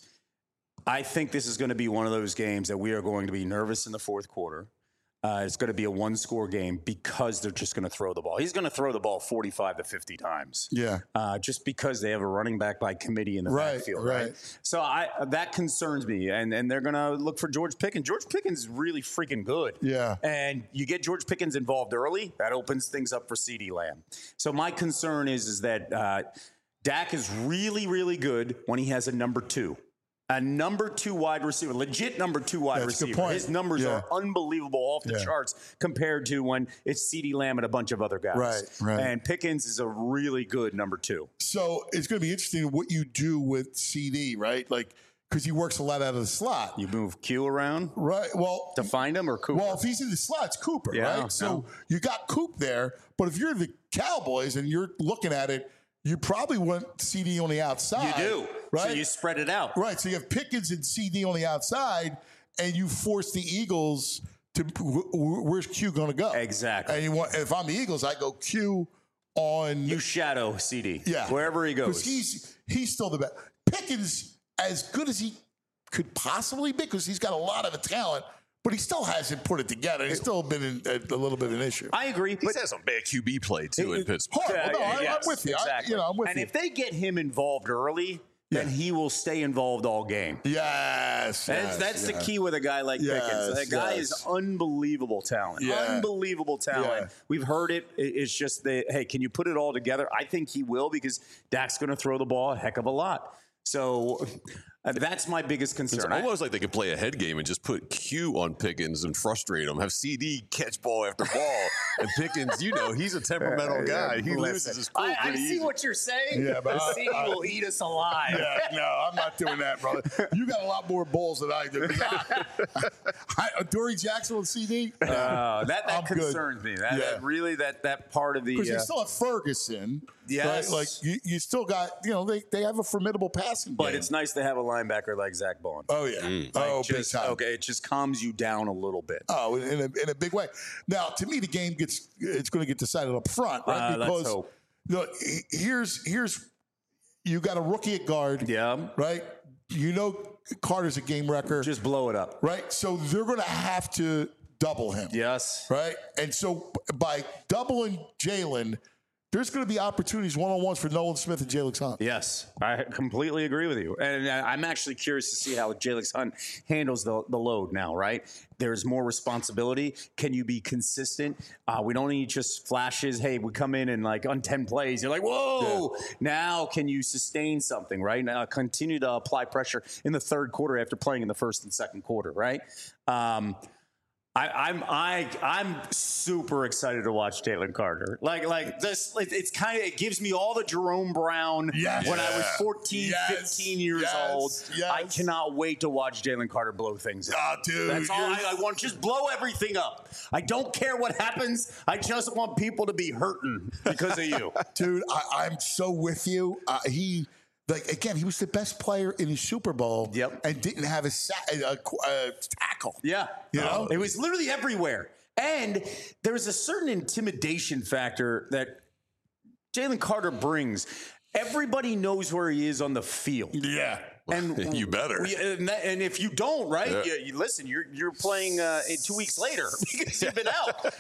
I think this is going to be one of those games that we are going to be nervous in the fourth quarter. Uh, it's going to be a one-score game because they're just going to throw the ball. He's going to throw the ball forty-five to fifty times. Yeah. Uh, just because they have a running back by committee in the Right, backfield, right? right. So I that concerns me, and and they're going to look for George Pickens. George Pickens is really freaking good. Yeah. And you get George Pickens involved early, that opens things up for CeeDee Lamb. So my concern is is that uh, Dak is really really good when he has a number two. A number two wide receiver, legit number two wide That's a good receiver. point. His numbers Yeah. are unbelievable off the Yeah. charts compared to when it's CeeDee Lamb and a bunch of other guys. Right, right. And Pickens is a really good number two. So it's going to be interesting what you do with C D, right? Like, because he works a lot out of the slot. You move Q around Right. Well, to find him or Cooper? Well, if he's in the slot, it's Cooper, Yeah, right? So no. you got Coop there, but if you're the Cowboys and you're looking at it, you probably want C D on the outside. You do. right? So you spread it out. right. So you have Pickens and C D on the outside, and you force the Eagles to wh- wh- where's Q going to go? Exactly. And you want if I'm the Eagles, I go Q on You shadow C D. yeah Wherever he goes. because he's he's still the best. Pickens as good as he could possibly be because he's got a lot of the talent. But he still hasn't put it together. He's still been in, a, a little bit of an issue. I agree. He's But had some bad Q B play too in Pittsburgh. Horrible. No, I, yes, I'm with you. I, Exactly. you know, I'm with and you. if they get him involved early, then Yeah. he will stay involved all game. yes, That's, yes, that's the yes. key with a guy like Yes, Pickens. That guy yes. is unbelievable talent. Yeah. Unbelievable talent. Yeah. We've heard it. It- It's just that, hey, can you put it all together? I think he will because Dak's going to throw the ball a heck of a lot. So uh, that's my biggest It's concern. I- almost like they could play a head game and just put Q on Pickens and frustrate him. Have C D catch ball after ball, and Pickens, you know, he's a temperamental guy. He loses his cool I, I pretty see easy. what you're saying. Yeah, but I- C D will eat us alive. Yeah, no, I'm not doing that, brother. You got a lot more balls than I do. I, Adoree Jackson with C D Uh, that that I'm good. concerns me. That, Yeah. that really that that part of the because uh, you still have Ferguson. Yes. right? Like you, you still got you know they, they have a formidable passing but game. it's nice to have a linebacker like Zach Bond. Oh yeah. Like, Oh, big just, time. okay, it just calms you down a little bit. Oh, in a, in a big way. Now, to me, the game gets it's going to get decided up front, right? Uh, let's hope. Look, he- here's here's you got a rookie at guard, Yeah. right? You know Carter's a game wrecker, Just blow it up. right? So they're going to have to double him, Yes. right? And so by doubling Jalen, there's going to be opportunities one on ones for Nolan Smith and Jalen Hunt. Yes, I completely agree with you. And I- I'm actually curious to see how Jalen Hunt handles the, the load now, right? There's more responsibility. Can you be consistent? Uh, we don't need just flashes. Hey, we come in and like on ten plays, you're like, whoa. Yeah. Now, can you sustain something, right? Now, continue to apply pressure in the third quarter after playing in the first and second quarter, right? Um, I, I'm I I'm super excited to watch Jalen Carter. Like like this, it, it's kind of it gives me all the Jerome Brown Yes. when I was Yeah. fourteen, Yes. fifteen years Yes. old. Yes. I cannot wait to watch Jalen Carter blow things up. Oh, dude, That's all you're- I, I want. Just blow everything up. I don't care what happens. I just want people to be hurting because of you. Dude, I, I'm so with you. Uh, he, like, again, he was the best player in his Super Bowl. Yep. And didn't have a, sa- a, a, a tackle. Yeah. You know? It was literally everywhere. And there's a certain intimidation factor that Jalen Carter brings. Everybody knows where he is on the field. Yeah. And You better. we- and, that- and if you don't, right? Yeah. You, you listen. You're you're playing uh, in two weeks later because you've been out.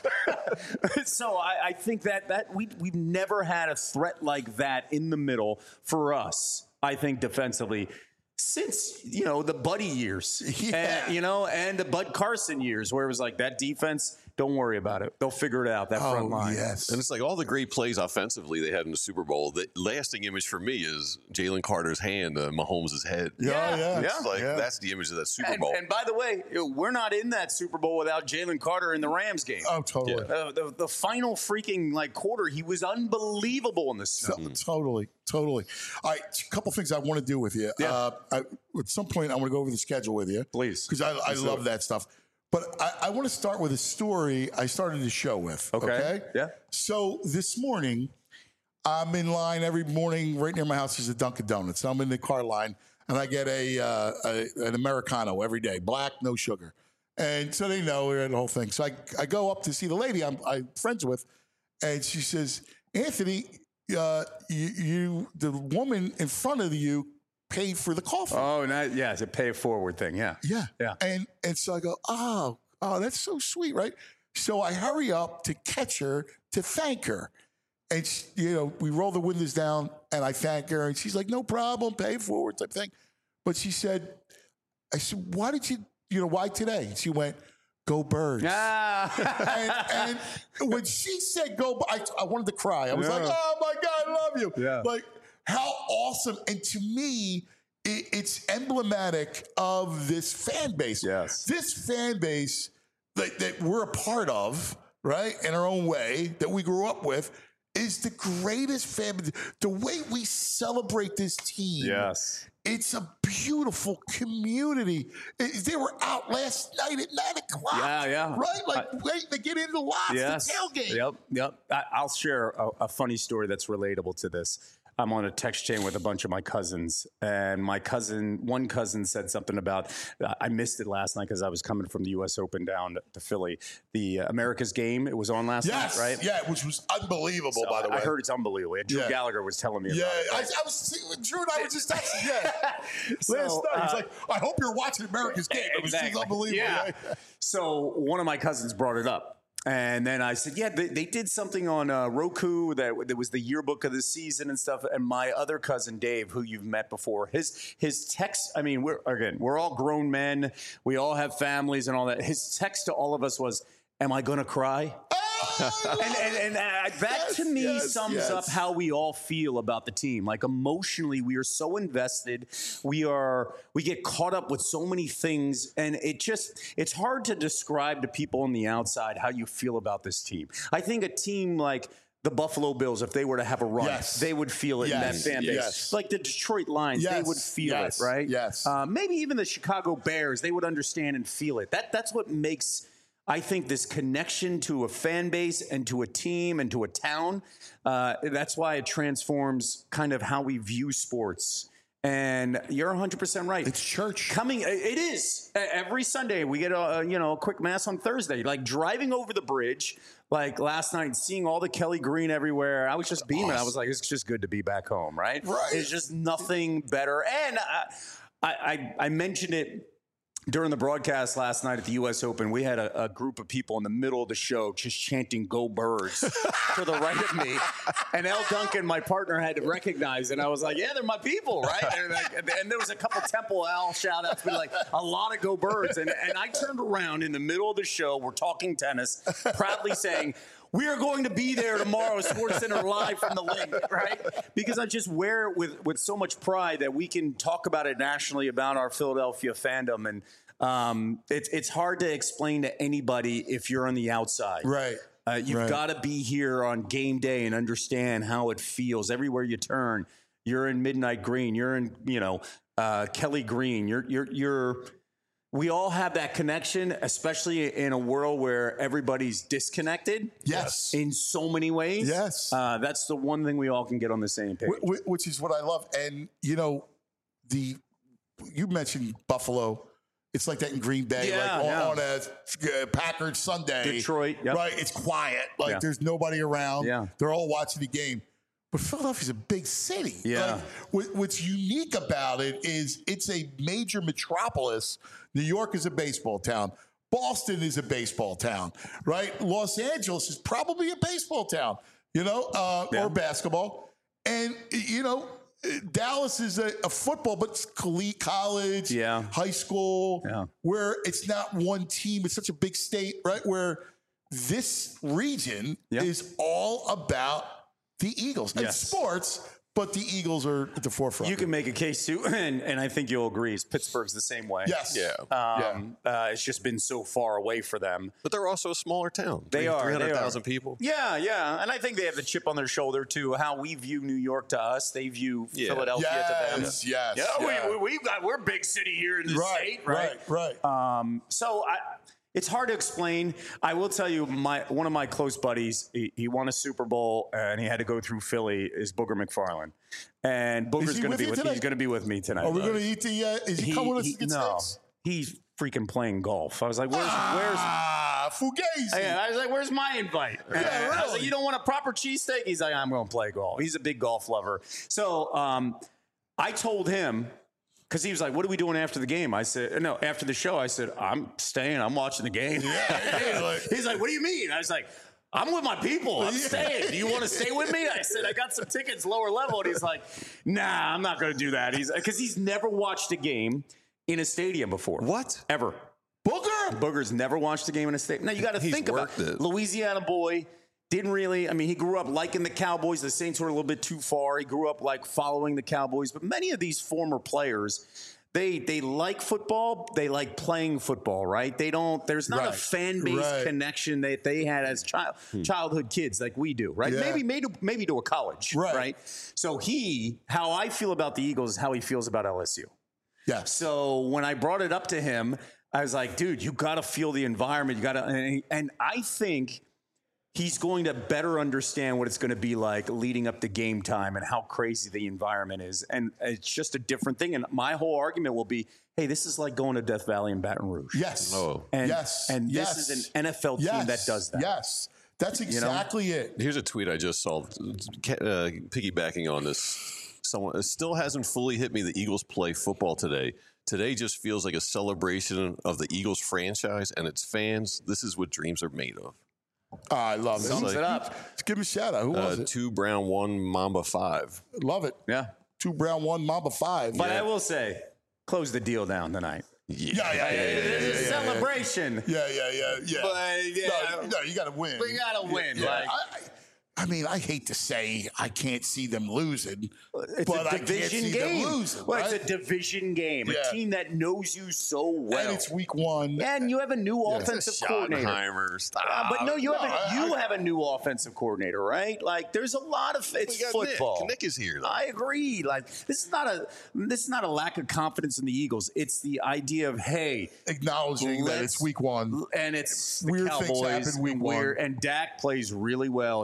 So I, I think that that we we've never had a threat like that in the middle for us. I think defensively. Since, you know, the Buddy years, Yeah. and, you know, and the Bud Carson years where it was like that defense, don't worry about it. They'll figure it out, that front Oh, line. yes. And it's like all the great plays offensively they had in the Super Bowl. The lasting image for me is Jalen Carter's hand on Mahomes' head. Yeah, yeah. It's like yeah. that's the image of that Super And, Bowl. and by the way, we're not in that Super Bowl without Jalen Carter in the Rams game. Oh, totally. Uh, the, the final freaking like quarter, he was unbelievable in the So- snow. Totally, totally. All right, a couple things I want to do with you. Yeah. Uh, I, at some point, I want to go over the schedule with you. Please. Because I, I Let's do love it. that stuff. But I, I want to start with a story I started the show with. Okay. Okay. Yeah. So this morning, I'm in line every morning. Right near my house is a Dunkin' Donuts. I'm in the car line, and I get a, uh, a an Americano every day, black, no sugar. And so they know the whole thing. So I, I go up to see the lady I'm, I'm friends with, and she says, Anthony, uh, you, you the woman in front of you paid for the coffee. Oh, not, yeah, it's a pay it forward thing. Yeah. Yeah. Yeah. And and so I go, oh, oh, that's so sweet, right? So I hurry up to catch her to thank her. And, she, you know, we roll the windows down and I thank her. And she's like, no problem, pay it forward type thing. But she said, I said, why did you, you know, why today? And she went, go Birds. Ah. and, and when she said go, I, I wanted to cry. I was Yeah. like, oh my God, I love you. Yeah. Like, how awesome. And to me, it, it's emblematic of this fan base. Yes. This fan base that, that we're a part of, right, in our own way, that we grew up with, is the greatest fan base. The way we celebrate this team. Yes. It's a beautiful community. It- they were out last night at nine o'clock. Yeah, yeah. Right? Like, waiting to get into the lots, Yes. the tailgate. Yep, yep. I, I'll share a, a funny story that's relatable to this. I'm on a text chain with a bunch of my cousins, and my cousin, one cousin said something about, uh, I missed it last night because I was coming from the U S Open down to Philly. The uh, America's Game, it was on last Yes, night, right? yeah, which was unbelievable, So by the I way. heard it's unbelievable. Drew Yeah. Gallagher was telling me Yeah, about I, it. I was Drew and I were just texting. Yeah, So, last night he's uh, like, "I hope you're watching America's Game." It was just Exactly. unbelievable. Yeah. Yeah. So one of my cousins brought it up. And then I said, yeah, they, they did something on uh, Roku that, that was the yearbook of the season and stuff. And my other cousin, Dave, who you've met before, his his text, I mean, we're again, we're all grown men. We all have families and all that. His text to all of us was, am I going to cry? Oh, And, and, and uh, that to me yes, sums yes. up how we all feel about the team. Like emotionally, we are so invested. We are we get caught up with so many things, and it just it's hard to describe to people on the outside how you feel about this team. I think a team like the Buffalo Bills, if they were to have a run, Yes. they would feel it Yes, in that fan base. yes. Like the Detroit Lions, they Yes, would feel yes, it, right? yes. Uh, maybe even the Chicago Bears, they would understand and feel it. That that's what makes. I think this connection to a fan base and to a team and to a town, uh, that's why it transforms kind of how we view sports And you're one hundred percent right. It's church. Coming, it is. Every Sunday, we get a, you know, a quick mass on Thursday. Like driving over the bridge, like last night, seeing all the Kelly Green everywhere. I was just beaming. I was like, it's just good to be back home, right? Right. It's just nothing better. And I, I, I, I mentioned it during the broadcast last night at the U S Open. We had a, a group of people in the middle of the show just chanting "Go Birds" to the right of me, and L. Duncan, my partner, had to recognize, and I was like, "Yeah, they're my people, right?" And, like, and there was a couple Temple Al shout outs, but like a lot of "Go Birds," and and I turned around in the middle of the show. We're talking tennis, proudly saying, "We are going to be there tomorrow, Sports Center live from the link," right? Because I just wear it with, with so much pride that we can talk about it nationally about our Philadelphia fandom. And um, it's it's hard to explain to anybody if you're on the outside. Right. Uh, you've Right. got to be here on game day and understand how it feels. Everywhere you turn, you're in Midnight Green. You're in, you know, uh, Kelly Green. You're you're you're. We all have that connection, especially in a world where everybody's disconnected. Yes. In so many ways. Yes. Uh, that's the one thing we all can get on the same page. Wh- wh- Which is what I love. And, you know, the you mentioned Buffalo. It's like that in Green Bay, Yeah, like on, yeah. on a uh, Packers Sunday. Detroit, yep. Right? It's quiet. Like Yeah. there's nobody around. Yeah. They're all watching the game. But Philadelphia's a big city. Yeah. Like, what, what's unique about it is it's a major metropolis. New York is a baseball town. Boston is a baseball town, right? Los Angeles is probably a baseball town, you know, uh, Yeah. or basketball. And, you know, Dallas is a, a football, but it's college, college, Yeah. high school, Yeah. where it's not one team. It's such a big state, right? Where this region Yeah. is all about the Eagles. And Yes. sports, but the Eagles are at the forefront. You can make a case too, and, and I think you'll agree. is Pittsburgh's the same way. Yes. Yeah. Um, uh, it's just been so far away for them. But they're also a smaller town. They are, they three hundred thousand are. people. Yeah, yeah. And I think they have the chip on their shoulder, too. How we view New York to us, they view Yeah. Philadelphia to them. Yes, yes. Yeah, yeah. We, we, we've got, we're a big city here in the right, state, right? right, right. Um, so I, it's hard to explain. I will tell you, my one of my close buddies, he, he won a Super Bowl and he had to go through Philly. Is Booger McFarland, and Booger's he going to with be you with. tonight? He's going to be with me tonight. Are we going to eat the? Uh, is he, He- coming with us he- to get no, steaks? he's freaking playing golf. I was like, where's Ah, Fugazi. where's? Yeah, I was like, where's my invite? Yeah, I was like, really? you don't want a proper cheesesteak? He's like, I'm going to play golf. He's a big golf lover. So um, I told him. Because he was like, what are we doing after the game? I said, no, after the show, I said, I'm staying. I'm watching the game. yeah, like- He's like, what do you mean? I was like, I'm with my people. I'm staying. Do you want to stay with me? I said, I got some tickets lower level. And he's like, nah, I'm not going to do that. He's Because he's never watched a game in a stadium before. What? Ever. Booger. Booger's never watched a game in a stadium. Now, you got to He's think about worked it. Louisiana boy. Didn't really, I mean, he grew up liking the Cowboys. The Saints were a little bit too far. He grew up like following the Cowboys. But many of these former players, they they like football. They like playing football, right? They don't, there's not a Right. fan base Right. connection that they had as child, childhood kids like we do, right? Yeah. Maybe, maybe, maybe to a college, Right. right? So he, how I feel about the Eagles is how he feels about L S U. Yes. So when I brought it up to him, I was like, dude, you got to feel the environment. You got to, and, he- and I think he's going to better understand what it's going to be like leading up to game time and how crazy the environment is. And it's just a different thing. And my whole argument will be, hey, this is like going to Death Valley and Baton Rouge. Yes. Oh. And, yes. And this yes. is an N F L team yes. that does that. Yes. That's exactly it. Here's a tweet I just saw, uh, piggybacking on this. Someone it still hasn't fully hit me. The Eagles play football today. Today just feels like a celebration of the Eagles franchise and its fans. This is what dreams are made of. Oh, I love it. Sums like- it up. Let's give him a shout out. Who was Uh, it? two brown, one Mamba five. Love it. Yeah. Two brown, one Mamba five. But I will say, close the deal down tonight. Yeah, Yeah, yeah, yeah, yeah, yeah, It's a yeah, yeah, celebration. Yeah, yeah, yeah, yeah. But, yeah. No, no, you got to win. We gotta win, Yeah. like- I, I, I mean, I hate to say I can't see them losing, It's but a I can't division see game. them losing. Well, right? it's a division game. Yeah. A team that knows you so well. And it's week one. And you have a new Yeah. offensive coordinator. Schottenheimer, stop. Uh, but no, you No, have a, I- you I- have a new offensive coordinator, right? Like, there's a lot of it's We got football. Nick. Nick is here, though. I agree. Like, this is not a this is not a lack of confidence in the Eagles. It's the idea of hey, Acknowledging that let's- it's week one. and it's the Weird things Cowboys. happen week and one. we're- and Dak plays really well at the link.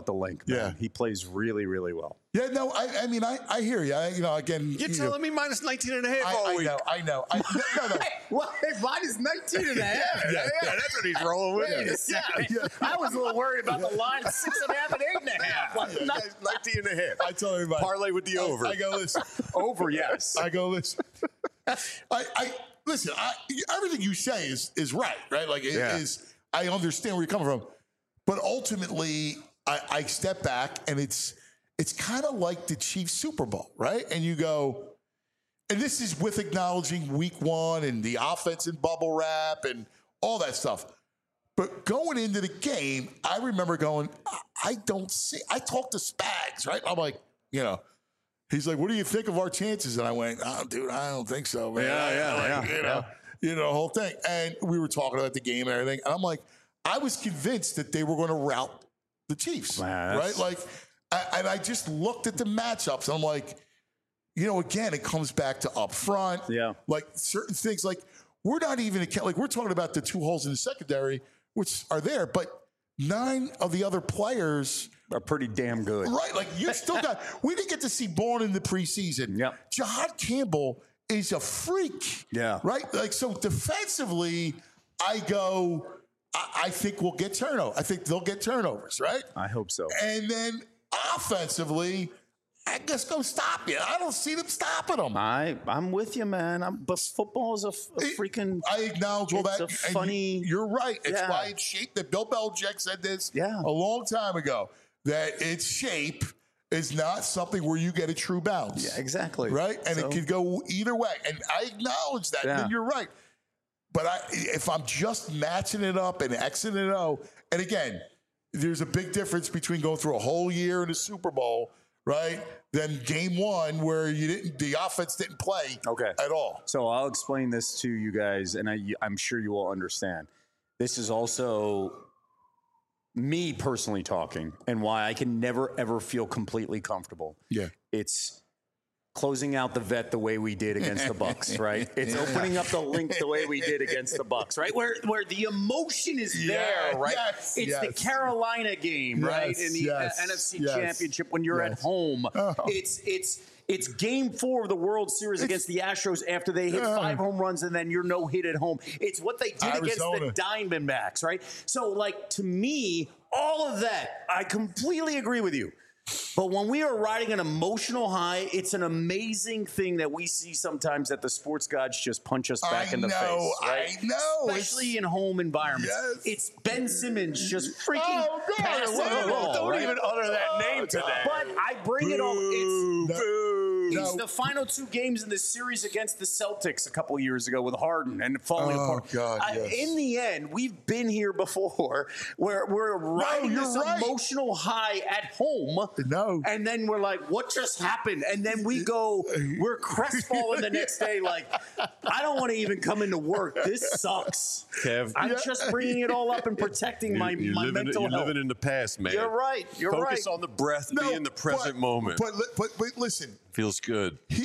man. Yeah. He plays really, really well. Yeah, no, I, I mean, I, I hear you. I, you know, again, You're you telling know, me minus nineteen and a half I, all I week. know, I know. I, no, no, no. What? Mine is nineteen and a half. Yeah, yeah, that's what he's rolling with. Wait a second. Yeah. I was a little worried about the line six and a half and eight and a half. Yeah. Not nineteen and a half. I tell everybody. Parlay with the over. I, I go, listen. over, yes. I go, listen. I, I listen. I, everything you say is is right, right? Like it Yeah. is. I understand where you're coming from, but ultimately, I, I step back, and it's it's kind of like the Chiefs Super Bowl, right? And you go, and this is with acknowledging Week One and the offense and bubble wrap and all that stuff. But going into the game, I remember going, I, I don't see. I talked to Spags, right? I'm like, you know. He's like, what do you think of our chances? And I went, oh, dude, I don't think so, man. Yeah, yeah, Like, yeah, you know, you know, the whole thing. And we were talking about the game and everything. And I'm like, I was convinced that they were going to rout the Chiefs, Man, right? Like, I, and I just looked at the matchups. And I'm like, you know, again, it comes back to up front. Yeah. Like certain things, like we're not even, like we're talking about the two holes in the secondary, which are there, but nine of the other players are pretty damn good. Right. Like you still got, we didn't get to see Bourne in the preseason. Yep. Jahad Campbell is a freak. Yeah. Right. Like, so defensively, I go, I, I think we'll get turnover. I think they'll get turnovers. Right. I hope so. And then offensively, I guess go stop you. I don't see them stopping them. I, I'm with you, man. I'm, but football is a, f- a freaking. I acknowledge all it's that. a and funny. You're right. It's Yeah. why it's shaped. That Bill Belichick said this Yeah. a long time ago. That its shape is not something where you get a true bounce. Yeah, exactly. Right? And So- it could go either way. And I acknowledge that. Yeah. And you're right. But I, if I'm just matching it up and Xing it out, and again, there's a big difference between going through a whole year in a Super Bowl, right? Then game one where you didn't, the offense didn't play Okay. at all. So I'll explain this to you guys, and I, I'm sure you will understand. This is also me personally talking, and why I can never ever feel completely comfortable. Yeah. It's closing out the vet the way we did against the Bucks, right? It's opening up the link the way we did against the Bucks, right? Where where the emotion is Yeah, there, right? yes, it's the yes. Carolina game, right? Yes, In the yes, uh, N F C yes, Championship when you're at yes. home. Oh. It's it's it's game four of the World Series against the Astros after they hit Yeah. five home runs and then you're no hit at home. It's what they did Arizona. against the Diamondbacks, right? So, like, to me, all of that, I completely agree with you. But when we are riding an emotional high, it's an amazing thing that we see sometimes that the sports gods just punch us back I in the know, face. Right? I know. Especially It's- in home environments. Yes. It's Ben Simmons just freaking Oh, God, passing whoa, the ball. Don't right? even utter that name today. But I bring it all. It's No. it's No. the final two games in the series against the Celtics a couple of years ago with Harden and falling Oh, apart. God, I- yes. in the end, we've been here before where we're riding you're this right. emotional high at home. No. And then we're like, what just happened? And then we go, we're crestfallen the next day. Like, I don't want to even come into work. This sucks. Kev, I'm just bringing it all up and protecting my, you're, my living, mental you're health. living in the past, man. You're right. You're Focus right. on the breath. be in the present but, moment. But, li- but but listen, Feels good. he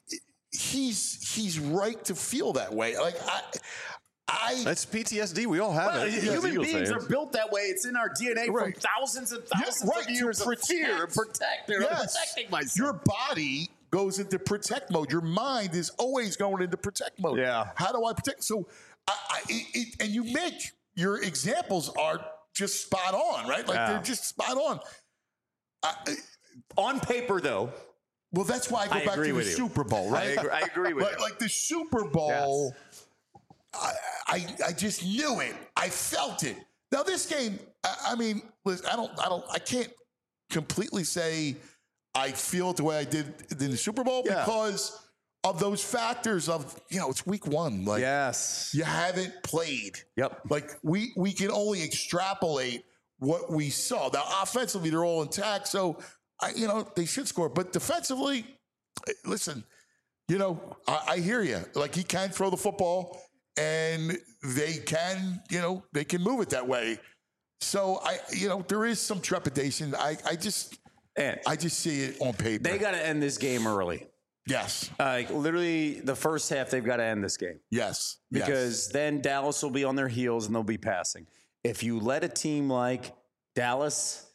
he's he's right to feel that way. Like I I That's P T S D. We all have Well, it. as human Eagles beings fans. are built that way. It's in our D N A Right. from thousands and thousands right, of to years of fear and protect. You know, Yes. protecting myself. Your body goes into protect mode. Your mind is always going into protect mode. Yeah. How do I protect? So, I, I it, it, and you make your examples are just spot on, right? Like Yeah. they're just spot on. I, On paper, though, well, that's why I go I back agree to the with you. Super Bowl, I right? agree, I agree with Like, you. like the Super Bowl, I, I I just knew it. I felt it. Now this game, I, I mean, listen, I don't, I don't, I can't completely say I feel it the way I did in the Super Bowl Yeah. because of those factors of, you know, it's week one. Like yes. you haven't played. Yep. Like we we can only extrapolate what we saw. Now offensively, they're all intact, so I, you know they should score. But defensively, eh, listen, you know I, I hear you. Like he can throw the football, and they can, you know, they can move it that way. So I, you know, there is some trepidation. I I just And I just see it on paper. they got to end this game early. yes, Like literally, the first half, they've got to end this game yes, because then Dallas will be on their heels and they'll be passing. If you let a team like Dallas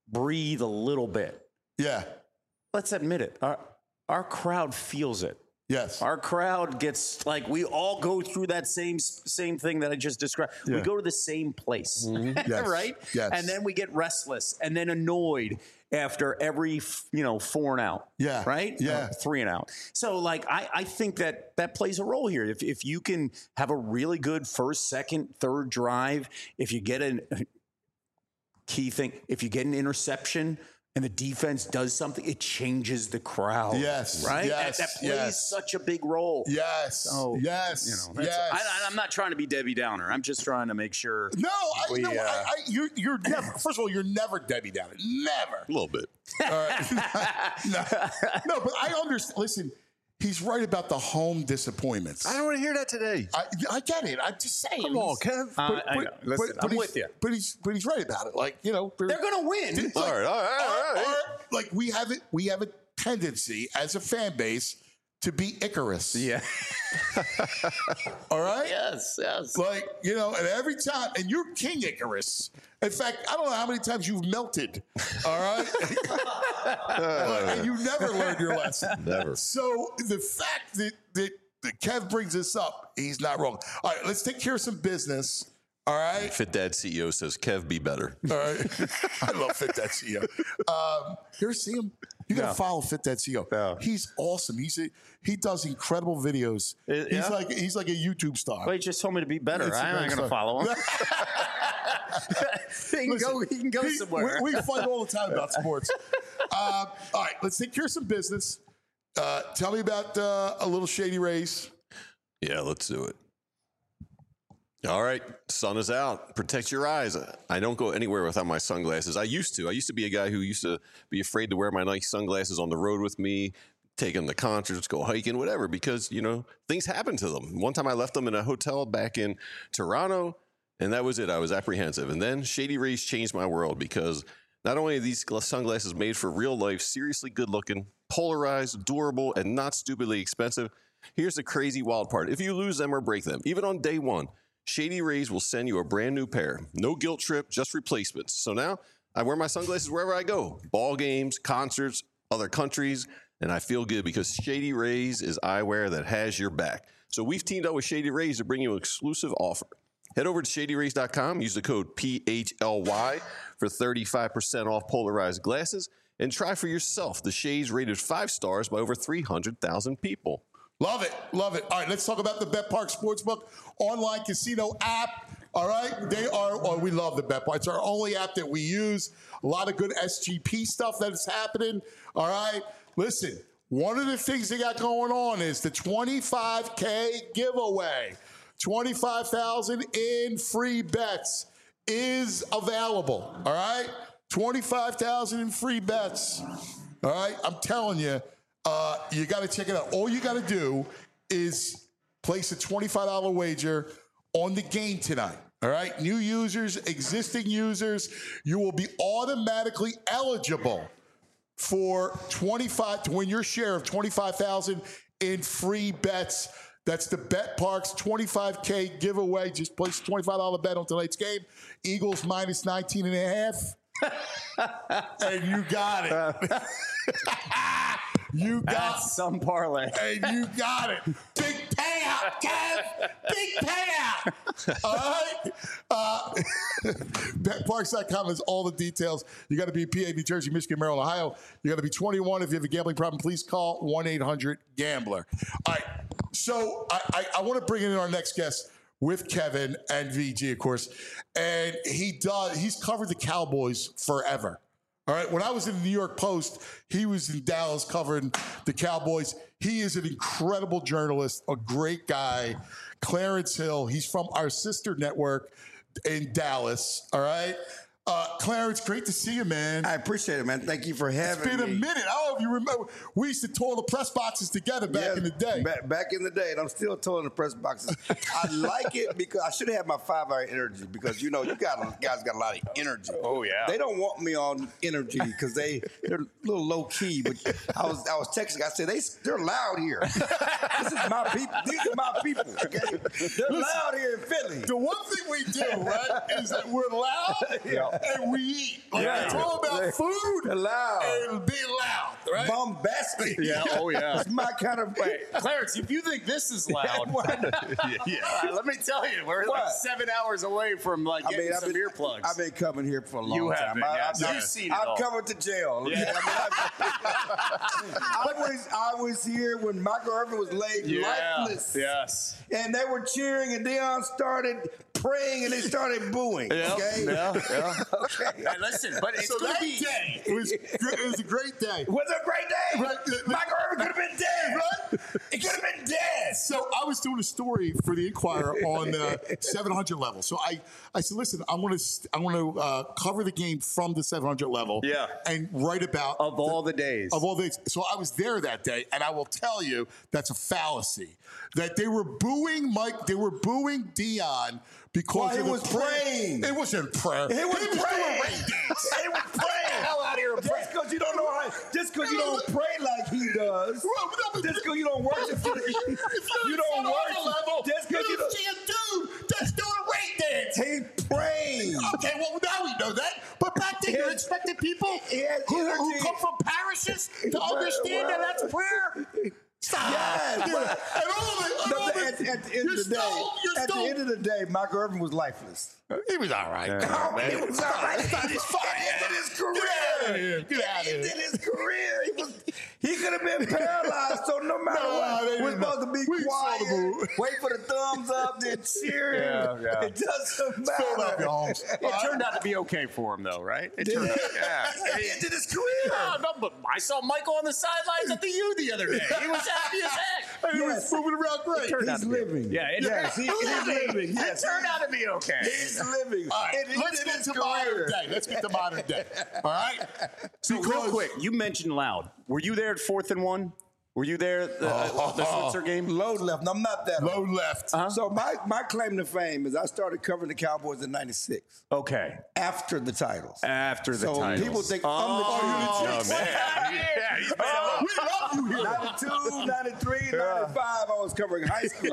breathe a little bit. Yeah. Let's admit it. Our, our crowd feels it. Yes. Our crowd gets, like, we all go through that same same thing that I just described. Yeah. We go to the same place, Mm-hmm. Yes. right? Yes. And then we get restless and then annoyed after every, you know, four and out. Yeah. Right? Yeah. Uh, three and out. So, like, I, I think that that plays a role here. If, if you can have a really good first, second, third drive, if you get a key thing, if you get an interception, and the defense does something, it changes the crowd. Yes, right. yes, that, that plays yes. such a big role. Yes, So, yes, You know, that's- yes. I, I'm not trying to be Debbie Downer. I'm just trying to make sure. No, I, we, no, uh, I, I, you're, you're never. First of all, you're never Debbie Downer. Never. A little bit. All right. no, no, but I understand. Listen, he's right about the home disappointments. I don't want to hear that today. I, I get it. I'm just saying. Come on, Kev. Uh, I know. Listen, I'm he's- with you. But he's but he's right about it. Like, you know, They're going to win. All right, all right, all right. our- our- like we have it. We have a tendency as a fan base to be Icarus. Yeah. All right. Yes. Yes. Like, you know, and every time, and you're King Icarus. In fact, I don't know how many times you've melted. All right. And you never learned your lesson. Never. So the fact that, that, that Kev brings this up, he's not wrong. All right, let's take care of some business. All right. Fit Dad C E O says, Kev, be better. All right. I love Fit Dad C E O. Um, you ever see him? You got to No. follow Fit Dad C E O. No. He's awesome. He's a, he does incredible videos. Uh, he's yeah? like he's like a YouTube star. Well, he just told me to be better. It's a I'm not great going to stuff. follow him. he can Listen, go. He can go he- somewhere. We, we fight all the time about sports. Uh, all right, let's take care of some business. Uh, tell me about uh, a little Shady Rays. Yeah, let's do it. All right, sun is out. Protect your eyes. I don't go anywhere without my sunglasses. I used to. I used to be a guy who used to be afraid to wear my nice sunglasses on the road with me, take them to concerts, go hiking, whatever, because, you know, things happen to them. One time I left them in a hotel back in Toronto, and that was it. I was apprehensive. And then Shady Rays changed my world because not only are these sunglasses made for real life, seriously good looking, polarized, durable, and not stupidly expensive, here's the crazy wild part. If you lose them or break them, even on day one, Shady Rays will send you a brand new pair. No guilt trip, just replacements. So now I wear my sunglasses wherever I go. Ball games, concerts, other countries, and I feel good because Shady Rays is eyewear that has your back. So we've teamed up with Shady Rays to bring you an exclusive offer. Head over to shady rays dot com, use the code P H L Y for thirty-five percent off polarized glasses, and try for yourself the shades rated five stars by over three hundred thousand people. Love it. Love it. All right, let's talk about the BetPark Sportsbook online casino app. All right, they are, oh, we love the BetPark. It's our only app that we use. A lot of good S G P stuff that is happening. All right, listen, one of the things they got going on is the twenty-five K giveaway. twenty-five thousand in free bets is available. All right, twenty-five thousand in free bets. All right, I'm telling you. Uh, you got to check it out. All you got to do is place a twenty-five dollars wager on the game tonight. All right. New users, existing users, you will be automatically eligible for twenty-five to win your share of twenty-five thousand in free bets. That's the BetParks twenty-five K giveaway. Just place a twenty-five dollars bet on tonight's game. Eagles minus nineteen and a half. And you got it. You got That's some parlay. And you got it. Big payout, Kev. Big payout. All right. Uh, bet parks dot com has all the details. You got to be P A, New Jersey, Michigan, Maryland, Ohio. You got to be twenty-one. If you have a gambling problem, please call one eight hundred gambler. All right. So I, I, I want to bring in our next guest with Kevin and V G, of course. And he does. He's covered the Cowboys forever. All right. When I was in the New York Post, he was in Dallas covering the Cowboys. He is an incredible journalist, a great guy. Clarence Hill. He's from our sister network in Dallas. All right. Uh, Clarence, great to see you, man. I appreciate it, man. Thank you for having me. It's been a minute. I don't know if you remember. We used to tour the press boxes together back Yes, in the day. Back, back in the day, and I'm still touring the press boxes. I like it because I should have had my five-hour energy because, you know, you got guys got a lot of energy. Oh, yeah. They don't want me on energy because they, they're a little low-key. But I was I was texting. I said, they, they're loud here. This is my people. These are my people, okay? They're Listen, loud here in Philly. The one thing we do, right, is that we're loud, Yeah. and we eat. Like, Yeah. It's all about food Loud. and being loud, right? Bombastic. Yeah, oh yeah. That's my kind of. Wait, Clarence, if you think this is loud, yeah. all right, let me tell you, we're like What? seven hours away from like I getting mean, I've some been, earplugs. I've been coming here for a long You have time. been, I, yes. I've, You've seen it I've all. covered to jail. Yeah. I, mean, I, I was I was here when Michael Irvin was laid yeah. lifeless. Yes. And they were cheering, and Deion started praying, and they started booing. Yeah. Okay. Yeah. Yeah. Okay. Hey, listen, but it's So gonna that be. day, it was, it was a great day. Was it a great day? Right. Michael Irvin could have been dead. Right? It could have been dead. So I was doing a story for the Inquirer on the seven hundred level. So I, I said, listen, I want to, I want to uh, cover the game from the seven hundred level. Yeah. And write about Of all the days. Of all the days. So I was there that day, and I will tell you that's a fallacy. That they were booing Mike, they were booing Deion because Well, of he the was prayer. praying. It wasn't prayer. He was doing praying. rain dance. He was praying. hell out of here and pray. Just because you don't know how, just because you don't pray like he does, Well, no, but- just because you don't worship, If you're you don't on worship. our level, Just because you you don't don't. see a dude that's doing rain dance. He's praying. Okay, well now we know that. But back then, you He- expected people he had who, who energy. come from parishes to Well, understand that well. that's prayer. Stop. Yes, Yeah. but- And all the, and But all at, the, at the end you're of the day, still, you're at the still, end of the day, Michael Irvin was lifeless. he was all right. Oh, he was all right. It's not his fault. It ended his career. Get out of here. Get out of It here. ended his career. He was. He could have been paralyzed. So no matter No, what, they we're didn't know. supposed to be We saw the quiet, move. wait for the thumbs up, then cheer. Yeah, yeah. It doesn't matter. Philadelphia Holmes. It turned out to be okay for him, though, right? It turned out, yeah. It ended his career. No, no, but I saw Michael on the sidelines at the U the other day. He was happy as heck. And he was Yes. moving around great. Turned out He's to be- living. Yeah, it, Yes, he- he's living. It Yes. turned out to be okay. He's living. All right, It let's ended get his to career. modern day. Let's get to modern day. All right? So real Because- quick, you mentioned Loud. Were you there at fourth and one? Were you there at the, uh, the Switzer game? Low left. No, I'm not that. Low left. Uh-huh. So my, my claim to fame is I started covering the Cowboys in ninety-six Okay. after the titles. After the so titles. people think oh, I'm the oh, truth. man. Yeah, he's been up. We love you here. ninety-two, ninety-three, ninety-five, I was covering high school.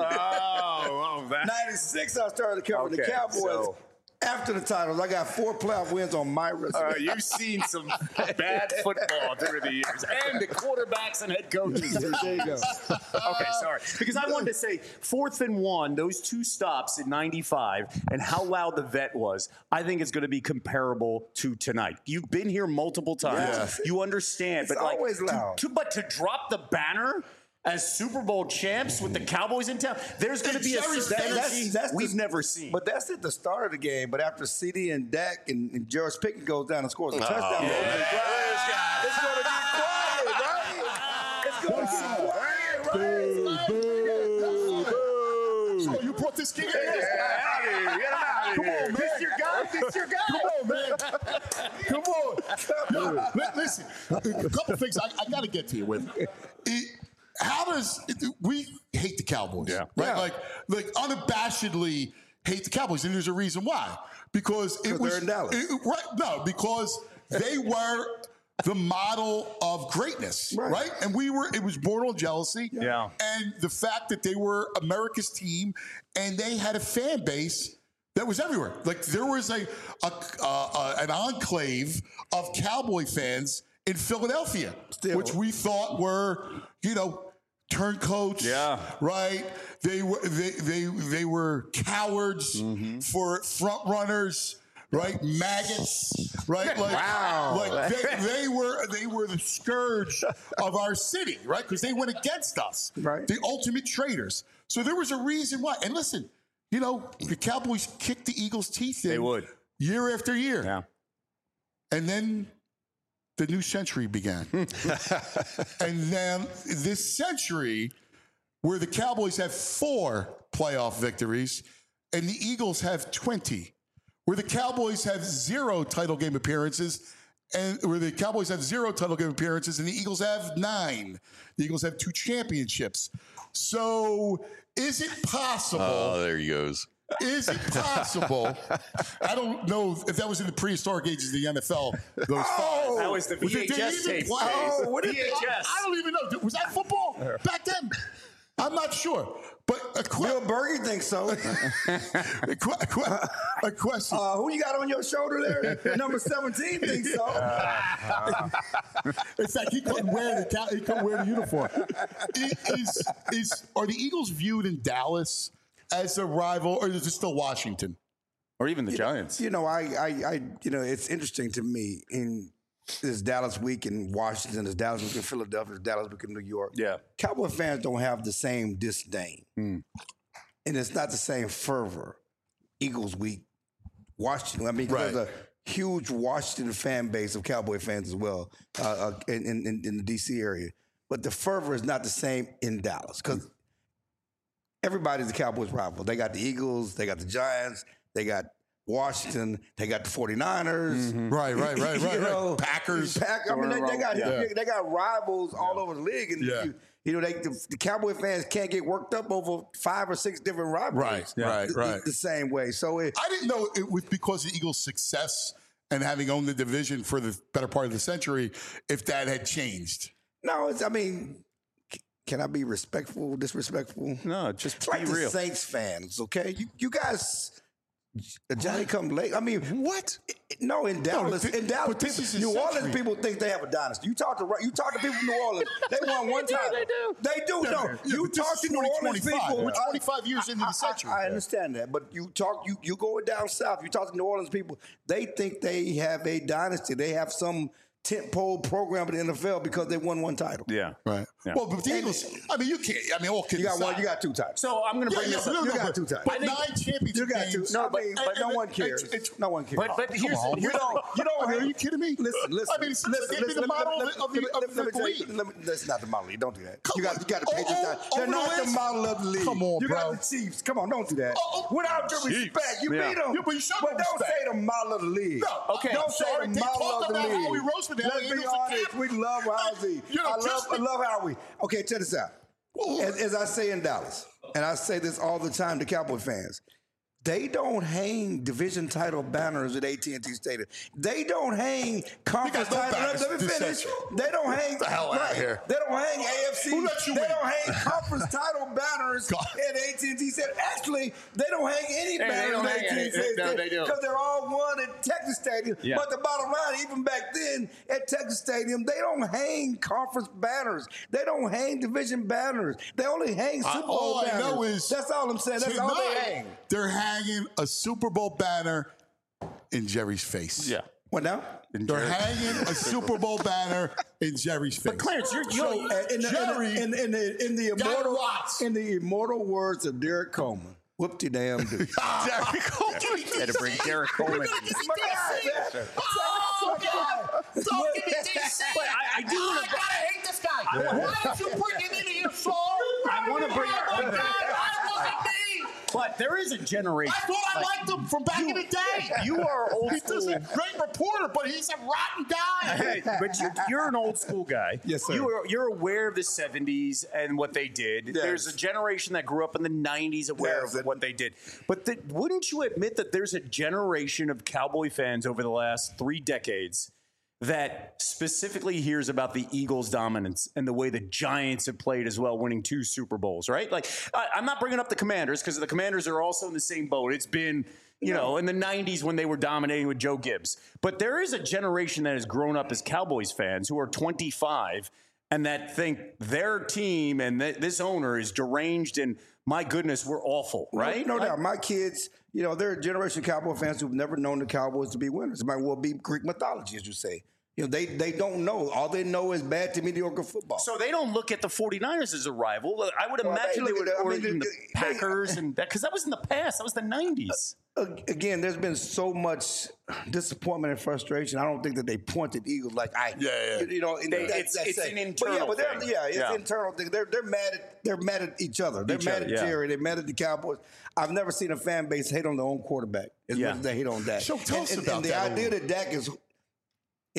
Oh, oh, that. ninety-six, I started covering the Okay, Cowboys. so- After the titles, I got four playoff wins on my resume. All right, you've seen some bad football through the years, and the quarterbacks and head coaches. There you go. Okay, sorry. Because I wanted to say fourth and one, those two stops in ninety-five, and how loud the vet was, I think it's going to be comparable to tonight. You've been here multiple times. Yes. You understand. It's but like, always to- loud. To, but to drop the banner as Super Bowl champs with the Cowboys in town, there's going to be a Jerry, certain that's- energy that's the- we've never seen. But that's at the start of the game. But after C D and Dak and, and George Pickens goes down and scores a touchdown, yeah. it's going to be quiet, right? It's going to be quiet, right? So you brought this king in here. Get him out of here. Get him out of Come here. on, man. This your guy? This your guy? Come on, man. Come on. Yo, li- listen, a couple things I, I got to get to you with. It, how does it, we hate the Cowboys? Yeah. Right. Yeah. Like, like unabashedly hate the Cowboys, and there's a reason why. Because it 'Cause was they're in Dallas. it- right. No, because they were the model of greatness, right. Right. And we were. It was born on jealousy. Yeah. And the fact that they were America's team, and they had a fan base that was everywhere. Like there was a, a uh, uh, an enclave of Cowboy fans in Philadelphia, Still. which we thought were, you know, turncoats. Yeah. Right. They were they they they were cowards for front runners. Right, maggots. Right, like, Wow. like they, they were they were the scourge of our city. Right, because they went against us. Right. The ultimate traitors. So there was a reason why. And listen, you know, the Cowboys kicked the Eagles' teeth in. They would. Year after year. Yeah. And then the new century began. And then this century, where the Cowboys have four playoff victories and the Eagles have twenty, where the Cowboys have zero title game appearances, and where the Cowboys have zero title game appearances and the Eagles have nine. The Eagles have two championships. So is it possible? Oh, there he goes. Is it possible? I don't know if that was in the prehistoric ages of the N F L. Those Oh, That was the Was V it- H did S they even tape. play? Oh, what did V H S. I don't even know. Was that football back then? I'm not sure. But a que- Bill Berge thinks so. a, que- a que- a question. Uh, who you got on your shoulder there? Number seventeen thinks so. It's like he couldn't wear the ca- he couldn't wear the uniform. Is, is are the Eagles viewed in Dallas as a rival, or is it still Washington, or even the Giants? You know, I, I, I, you know, it's interesting to me in this Dallas week in Washington, this Dallas week in Philadelphia, this Dallas week in New York. Yeah, Cowboy fans don't have the same disdain, mm. and it's not the same fervor. Eagles week, Washington. I mean, Right. there's a huge Washington fan base of Cowboy fans as well uh, uh, in, in in the D C area, but the fervor is not the same in Dallas because everybody's the Cowboys rival. They got the Eagles, they got the Giants, they got Washington, they got the 49ers. Mm-hmm. Right, right, right, right, you know, right. Packers. Pack, I mean, they, they got Yeah. they, they got rivals all over the league, and Yeah. you, you know, they, the, the Cowboy fans can't get worked up over five or six different rivalries. Right, right, the, right. The, the same way. So it, I didn't know it was because of the Eagles' success and having owned the division for the better part of the century, if that had changed. no, it's, I mean, c- can I be respectful, disrespectful? No, just It's like be the real. Saints fans, okay? You, you guys, Johnny come late. I mean, what? No, in Dallas, thi- in Dallas, but this is people, a New Orleans century. people think they have a dynasty. You talk to you talk to people from New Orleans, they won one time. They do. They do. Yeah, No, yeah, you but this talk is to New Orleans twenty twenty-five. people. We're twenty-five years into the I- I- century. I, understand that, but you talk, you you go down south. You talk to New Orleans people. They think they have a dynasty. They have some tentpole program in the N F L because they won one title. Yeah, Right. Yeah. Well, but the Eagles, I mean, you can't, I mean, all kids You got one. aside. You got two titles. So I'm going to Yeah, bring yeah, this no, up. no, You got but- two titles. But I think- nine championship You got two. games. No, but, but And- no and- one and- cares. it's- No one cares. But but Come here's on. here's You don't. You don't. Are you kidding me? Listen, listen. I mean, it's- listen, it can't be the listen, model let me- of the- of let me- the- of let me the tell you- league. let me- That's not the model league. Don't do that. Come You got on. you got to Oh, pay this oh, down. They're over not the the list? model of the league. Come on, you bro. got the Chiefs. Come on, don't do that. Oh, oh, Without your Chiefs. respect, you Yeah. beat them. Yeah, but you showed But them don't respect. say the model of the league. No, okay, Don't I'm say sorry. the They model talked of the about league. Howie Roseman. How Let's he be was a honest. captain. We love Howie. You know, I love just I be- love Howie. Okay, check this out. As, as I say in Dallas, and I say this all the time to Cowboy fans, they don't hang division title banners at A T and T Stadium. They don't hang conference no title. banners Let me this finish. century. They don't hang. the hell outta right. here. They don't hang A F C. Who let you they win? don't hang conference title banners God. at A T and T Stadium. Actually, they don't hang any they banners don't at hang A T and T any. Stadium No, they don't. because they're all one at Texas Stadium. Yeah. But the bottom line, even back then at Texas Stadium, they don't hang conference banners. They don't hang division banners. They only hang I- Super Bowl all I banners. know is That's all I'm saying. That's all they tonight, hang. they're hanging a Super Bowl banner in Jerry's face. yeah. What now? They're hanging a Super Bowl banner in Jerry's face. But Clarence, you're, So, you're uh, in, the, Jerry- in, the, in, the, in the immortal Watts. in the immortal words of Derek Coleman, whoop-de damn do. Derek Coleman. had to bring Derek Coleman. Oh, God. Don't give me D C. But I, I do I want to. gotta hate this guy. Why don't you bring him into your show? I wanna bring- Oh my God! I look at me. But there is a generation. I thought I liked him from back in the day. You are old He's just school. a great reporter, but he's a rotten guy. Hey, but you, you're an old school guy. Yes, sir. You are, you're aware of the seventies and what they did. Yes. There's a generation that grew up in the nineties aware Yes. of what they did. But the, wouldn't you admit that there's a generation of Cowboy fans over the last three decades that specifically hears about the Eagles' dominance and the way the Giants have played as well, winning two Super Bowls, right? Like, I, I'm not bringing up the Commanders because the Commanders are also in the same boat. It's been, you know, in the nineties when they were dominating with Joe Gibbs. But there is a generation that has grown up as Cowboys fans who are twenty-five and that think their team and th- this owner is deranged and, my goodness, we're awful, right? No, no Like- doubt. My kids, you know, they're a generation of Cowboy fans who've never known the Cowboys to be winners. It might well be Greek mythology, as you say. You know, they they don't know. All they know is bad to mediocre football. So they don't look at the 49ers as a rival. I would Well, imagine they they, look would, at- I or mean, even they- the they- Packers and that, because that was in the past. That was the nineties. Again, there's been so much disappointment and frustration. I don't think that they pointed Eagles like I. Yeah, yeah. You know, and They- that- it's- that's it's it. an But yeah, internal but they're, thing. yeah, it's Yeah. an internal thing. They're they're mad at they're mad at each other. They're Each mad other, at yeah. Jerry. They're mad at the Cowboys. I've never seen a fan base hate on their own quarterback as Yeah. much as they hate on Dak. So tell and, us and, about and the that a idea that Dak is, and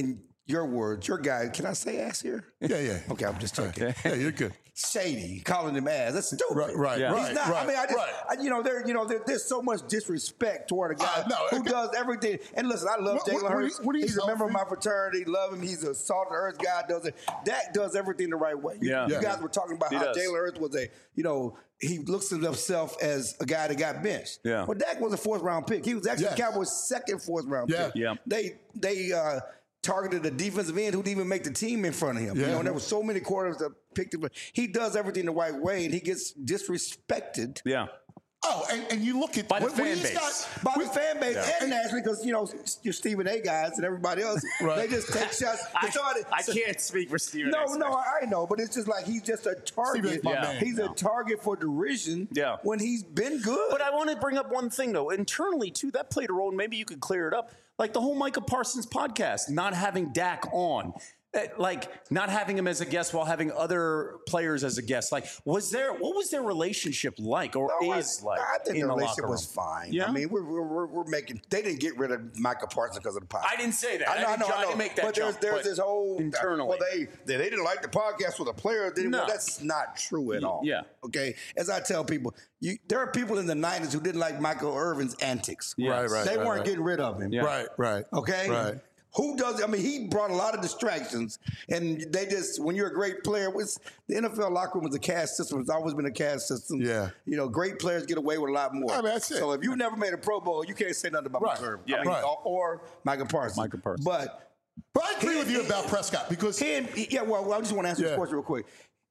your words, your guy. Can I say ass here? Yeah, yeah. Okay, I'm just joking. Yeah, you're good. Shady, calling him ass. That's stupid. Right, right, Yeah. right. He's not. right, I mean, I just, right. I, you know, there, you know, there, there's so much disrespect toward a guy Uh, no, who okay. does everything. And listen, I love What- Jalen what- what Hurts. do you- what do you He's a member of selfie? my fraternity. Love him. He's a salt of the earth guy. Does it. Dak does everything the right way. You, Yeah. you Yeah. guys were talking about He how does. Jalen Hurts was a, you know, he looks at himself as a guy that got benched. Yeah. Well, Dak was a fourth round pick. He was actually Yes. the Cowboys' second fourth round Yeah. pick. Yeah. They they uh, targeted a defensive end who didn't even make the team in front of him. You Yeah. know, and there were so many quarters that picked him. He does everything the right way, and he gets disrespected. Yeah. Oh, and, and you look at By the what- what fan he's base. got- By we- the fan base Yeah. and nationally, because you know your Stephen A. guys and everybody else, Right. they just take shots. I, Somebody- I can't speak for Stephen No, A. no, I know, but it's just like he's just a target. Stephen A's my Yeah. man. He's a target for derision. Yeah. when he's been good. But I want to bring up one thing though. Internally too, that played a role, and maybe you could clear it up. Like the whole Micah Parsons podcast, not having Dak on. Uh, Like not having him as a guest while having other players as a guest. Like, was there what was their relationship like, or No, I- is like? I think in the the relationship locker was room? fine. Yeah? I mean, we're, we're, we're, we're making. They didn't get rid of Micah Parsons because of the podcast. I didn't say that. I know, I I know, didn't try I know. to make that but there's, jump, there's but this whole internally. Well, they, they they didn't like the podcast with the players. Didn't, No. well, that's not true at all. yeah. Okay. As I tell people, you, there are people in the nineties who didn't like Michael Irvin's antics. Yes. Right, right. They right, weren't right. getting rid of him. Yeah. Right, right. Okay. Right. Who does? I mean, he brought a lot of distractions, and they just when you're a great player, it's, the N F L locker room is a caste system. It's always been a caste system. Yeah. You know, great players get away with a lot more. I mean, that's it. So if you never made a Pro Bowl, you can't say nothing about Right. Michael Irvin. Yeah. I mean, Right. or, or Michael Parsons. Michael Parsons. But But I agree He- with you he- about Prescott because he and, yeah, well, well, I just want to answer Yeah. this question real quick.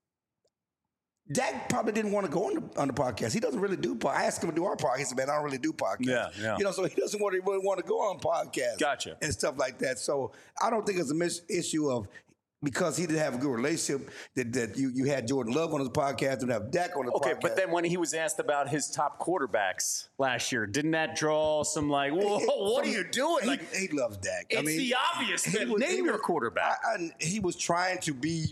Dak probably didn't want to go on the, on the podcast. He doesn't really do podcasts. I asked him to do our podcast. He said, man, I don't really do podcasts. Yeah, yeah. You know, so he doesn't want to, really want to go on podcasts. Gotcha. And stuff like that. So I don't think it's a mis- issue of because he didn't have a good relationship that, that you, you had Jordan Love on his podcast and have Dak on the Okay, podcast. but then when he was asked about his top quarterbacks last year, didn't that draw some like, whoa, what are you doing? He, Like, he loves Dak. it's I mean, the obvious. he Name was- he your was- quarterback. I, I, he was trying to be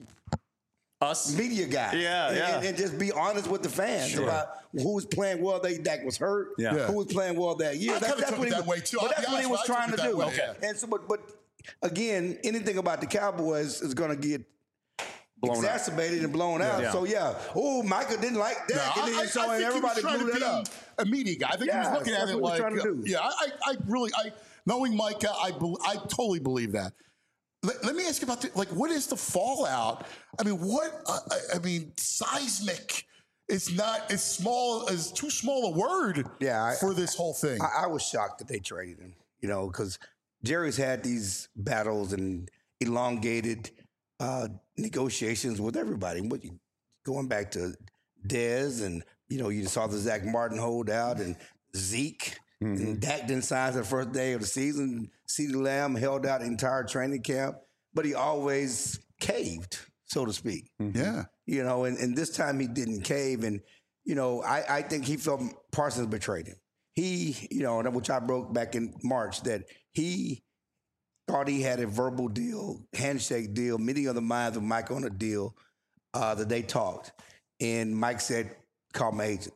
Us. media guy. Yeah, and, yeah. And, and just be honest with the fans Sure. about who was playing well. They Dak was hurt. Yeah. Yeah. Who was playing well that year. I That's, kinda that's took what it he that was, way, too. But I'll that's be what he was honest, I trying took to it that do. way, Okay. yeah. And so, but but again, anything about the Cowboys is going to get Blown out. exacerbated and blown out. Yeah. So yeah, oh, Micah didn't like No, Dak, I, and I, then so I and think everybody he was trying blew to that be up. a media guy. I think he Yes, was looking at that's it what he was like, trying to do. yeah, I, I I really, I knowing Micah, I, bel- I totally believe that. Let, let me ask you about the, like, what is the fallout? I mean, what? Uh, I, I mean, seismic. It's not as small as too small a word. Yeah, I- for this whole thing. I, I was shocked that they traded him, you know, because Jerry's had these battles and elongated uh, negotiations with everybody. What you- Going back to Dez, and you know, you saw the Zach Martin holdout, and Zeke, and Dak didn't sign to the first day of the season. CeeDee Lamb held out the entire training camp, but he always caved, so to speak. yeah. You know, and, and this time he didn't cave. And, you know, I, I think he felt Parsons betrayed him. He, you know, which I broke back in March, that he thought he had a verbal deal, handshake deal, meeting of the minds with Mike on a deal uh, that they talked. And Mike said, call my agent.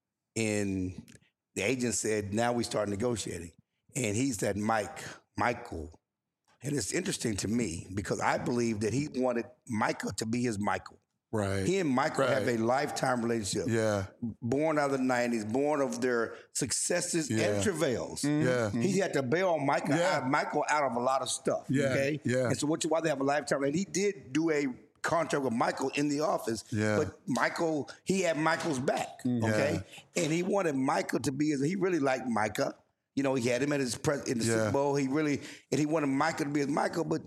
And the agent said, now we start negotiating. And he said, Mike, Michael. And it's interesting to me because I believe that he wanted Micah to be his Michael. Right. He and Michael have Right. a lifetime relationship. Yeah. Born out of the nineties, born of their successes Yeah. and travails. Yeah. He had to bail Michael, Yeah. out, Michael out of a lot of stuff. Yeah, Okay. yeah. And so, which is why they have a lifetime. And he did do a contract with Michael in the office. Yeah. But Michael, he had Michael's back. Okay. And he wanted Michael to be his. He really liked Micah. You know, he had him at his pres- in the Yeah. Super Bowl. He really and he wanted Michael to be his Michael, but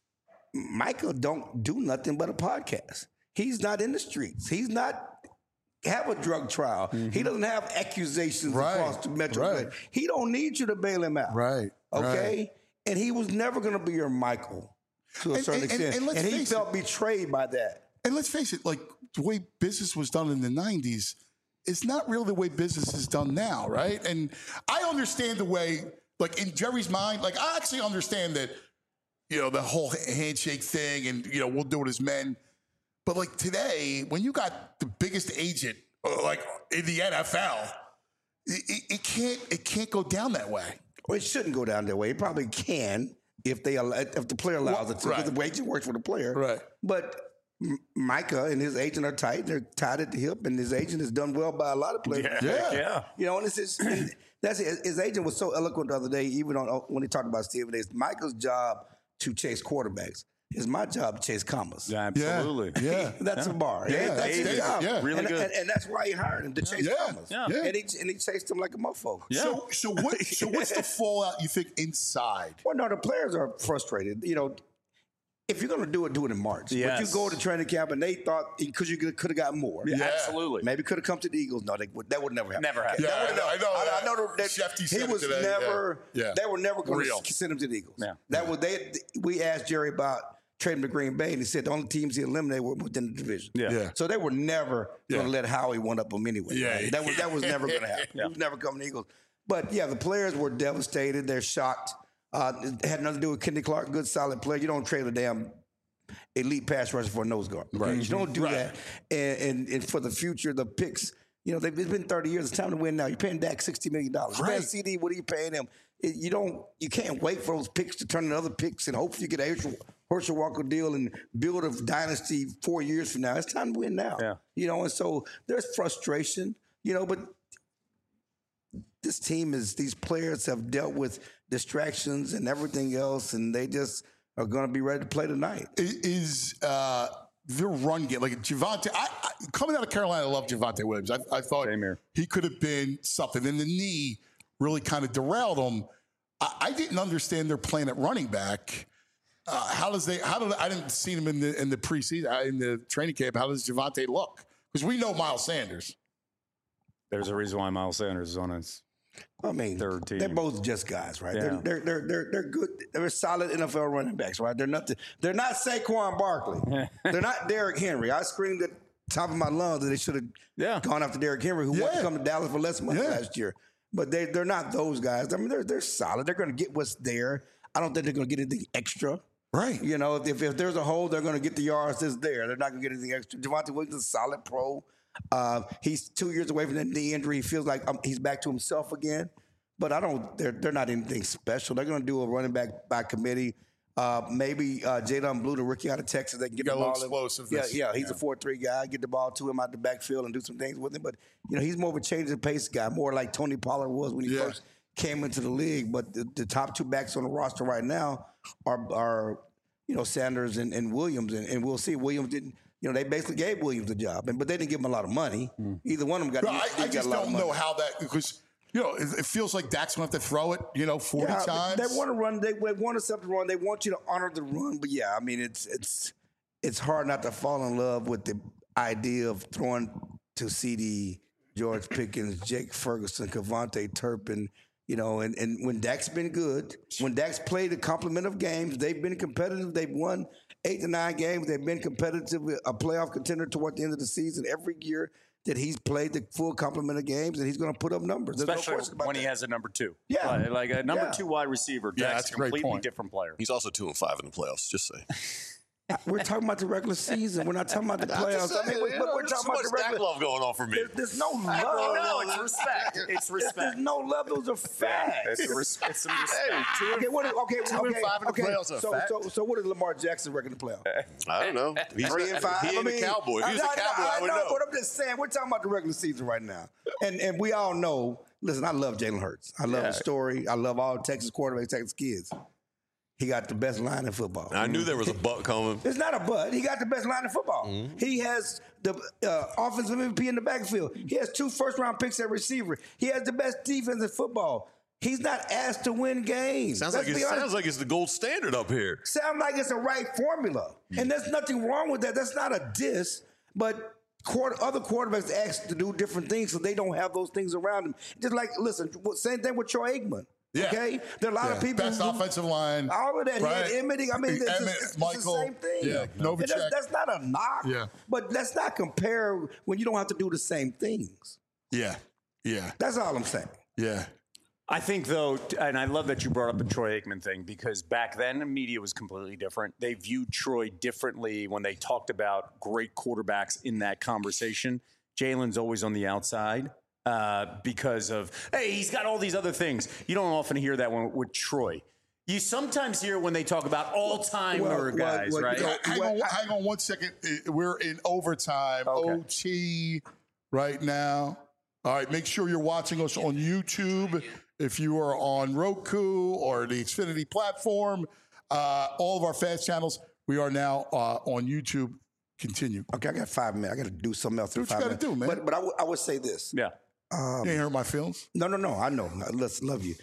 Michael don't do nothing but a podcast. He's not in the streets. He's not have a drug trial. He doesn't have accusations Right. across the metro. Right. He don't need you to bail him out. Right. Okay. Right. And he was never going to be your Michael to a And- certain and- and- extent. and let's he face felt betrayed by that. And let's face it, like the way business was done in the nineties, it's not really the way business is done now, right? And I understand the way, like in Jerry's mind, like I actually understand that, you know, the whole handshake thing and, you know, we'll do it as men. But like today, when you got the biggest agent, uh, like in the N F L, it, it, it can't it can't go down that way. Well, it shouldn't go down that way. It probably can if they allow, if the player allows it to. Right. Because the agent works for the player. Right. But M- Micah and his agent are tight. They're tied at the hip, and his agent has done well by a lot of players. Yeah, yeah. You know, and it's just, and that's it. His agent was so eloquent the other day, even on when he talked about Stephen A. It's Micah's job to chase quarterbacks. It's my job to chase commas. Yeah, absolutely. Yeah. That's Yeah. a bar. Yeah, that's his David, job. yeah. Really and, good. And, and that's why he hired him to chase Yeah. commas. Yeah. And, he, and he chased him like a mofo. Yeah. So, so what? So, what's the fallout you think inside? Well, no, the players are frustrated. You know, if you're going to do it, do it in March. But Yes. you go to training camp and they thought because you could have gotten more. Yeah, absolutely. Maybe could have come to the Eagles. No, they would. That would never happen. Never happen. Yeah, That would I know. I know. I, I know that Shefty he said it was today. never. Yeah. Yeah. They were never going Real. to send him to the Eagles. Yeah. That was they. We asked Jerry about trading to Green Bay, and he said the only teams he eliminated were within the division. Yeah. Yeah. So they were never going Yeah. to let Howie one up them anyway. Yeah. Right? That was that was never going to happen. Yeah. He was never coming to the Eagles. But yeah, the players were devastated. They're shocked. Uh, it had nothing to do with Kenny Clark, good solid player. You don't trade a damn elite pass rusher for a nose guard. Okay? Right. You don't do Right. that. And, and and for the future, the picks. You know, they've, it's been thirty years. It's time to win now. You're paying Dak sixty million dollars. You're paying Right. C D. What are you paying him? It- you don't. You can't wait for those picks to turn into other picks and hopefully you get a Herschel, Herschel Walker deal and build a dynasty four years from now. It's time to win now. Yeah. You know, and so there's frustration. You know, but this team is. These players have dealt with distractions and everything else, and they just are going to be ready to play tonight. Is uh, their run game like Javonte? I, I, coming out of Carolina, I love Javonte Williams. I, I thought Same here. he could have been something, and the knee really kind of derailed him. I, I didn't understand their plan at running back. Uh, how does they? How did I didn't see him in the in the preseason uh, in the training camp? How does Javonte look? Because we know Miles Sanders. There's a reason why Miles Sanders is on his I mean, third team. they're both just guys, right? Yeah. They're, they're they're they're they're good. They're solid N F L running backs, right? They're not. They're not Saquon Barkley. They're not Derrick Henry. I screamed at the top of my lungs that they should have Yeah. gone after Derrick Henry, who wanted Yeah. to come to Dallas for less money Yeah. last year. But they they're not those guys. I mean, they're they're solid. They're going to get what's there. I don't think they're going to get anything extra. Right. You know, if if there's a hole, they're going to get the yards that's there. They're not going to get anything extra. Javonte Williams is a solid pro. Uh, he's two years away from that knee injury. He feels like um, he's back to himself again. But I don't. They're they're not anything special. They're going to do a running back by committee. Uh, maybe uh, Jalen Blue, the rookie out of Texas, they can get Got the a little ball. in- explosiveness. Yeah, yeah. He's Yeah. a four three guy. Get the ball to him out the backfield and do some things with him. But you know, he's more of a change of pace guy, more like Tony Pollard was when he Yeah. first came into the league. But the, the top two backs on the roster right now are are you know Sanders and, and Williams, and, and we'll see. Williams didn't. You know, they basically gave Williams the job, and but they didn't give him a lot of money. Either one of them got. No, I, each I got just a lot of don't money. know how that because you know it, it feels like Dak's gonna have to throw it, you know, forty Yeah, times. They want to run. They, they want to accept the run. They want you to honor the run. But yeah, I mean, it's it's it's hard not to fall in love with the idea of throwing to C D, George Pickens, Jake Ferguson, Cavante Turpin. You know, and, and when Dak's been good, when Dak's played a complement of games, they've been competitive. They've won eight to nine games. They've been competitive, a playoff contender toward the end of the season every year that he's played the full complement of games, and he's going to put up numbers. There's no Especially question about when he that. has a number two. Yeah. Like, like a number Yeah. two wide receiver. Yeah, Dak's that's a great completely point. different player. He's also two and five in the playoffs. Just say. We're talking about the regular season. We're not talking about the I'm just playoffs. I mean, saying, we're, you but know, we're there's talking so about much the Dak regular. love going on for me. There- there's no love. No, it's respect. It's There's, respect. there's no love. Those are facts. It's, a res- it's some respect. Okay, what is, okay, two and okay, five in the okay. playoffs are so, fact. so, so what is Lamar Jackson's record in the playoffs? I don't know. He's Three and five. He ain't I mean, a cowboy. If he was I, a cowboy, I, I, would know, know. but I'm just saying we're talking about the regular season right now, and and we all know. Listen, I love Jalen Hurts. I love Yeah. his story. I love all Texas quarterbacks, Texas kids. He got the best line in football. I knew there was a butt coming. It's not a bud. He got the best line in football. Mm-hmm. He has the uh, offensive M V P in the backfield. He has two first round picks at receiver. He has the best defense in football. He's not asked to win games. Sounds Let's like it be honest. sounds like it's the gold standard up here. Sound like it's a right formula, and there's nothing wrong with that. That's not a diss, but. Quarter, other quarterbacks asked to do different things, so they don't have those things around them. Just like, listen, same thing with Troy Aikman. Yeah. Okay, there are a lot Yeah. of people. Best who- offensive line. All of that. right? He had Emmett. I mean, it's, Emmett, it's, it's Michael, the same thing. Yeah, And Novacek. that's, that's not a knock. Yeah. But let's not compare when you don't have to do the same things. Yeah, yeah, That's all I'm saying. yeah. I think, though, and I love that you brought up the Troy Aikman thing, because back then the media was completely different. They viewed Troy differently when they talked about great quarterbacks in that conversation. Jalen's always on the outside uh, because of, hey, he's got all these other things. You don't often hear that one with Troy. You sometimes hear when they talk about all-time Well, guys, well, right? well, hang, on, hang on one second. Uh, We're in overtime. Okay. O T right now. All right, make sure you're watching us on YouTube. If you are on Roku or the Xfinity platform, uh, all of our fast channels, we are now uh, on YouTube. Continue. Okay, I got five minutes. I got to do something else. Do in what you five gotta minutes. do, man. But, but I, w- I would say this. Yeah. Um, you ain't hurt my feelings? No, no, no. I know. Let's love you.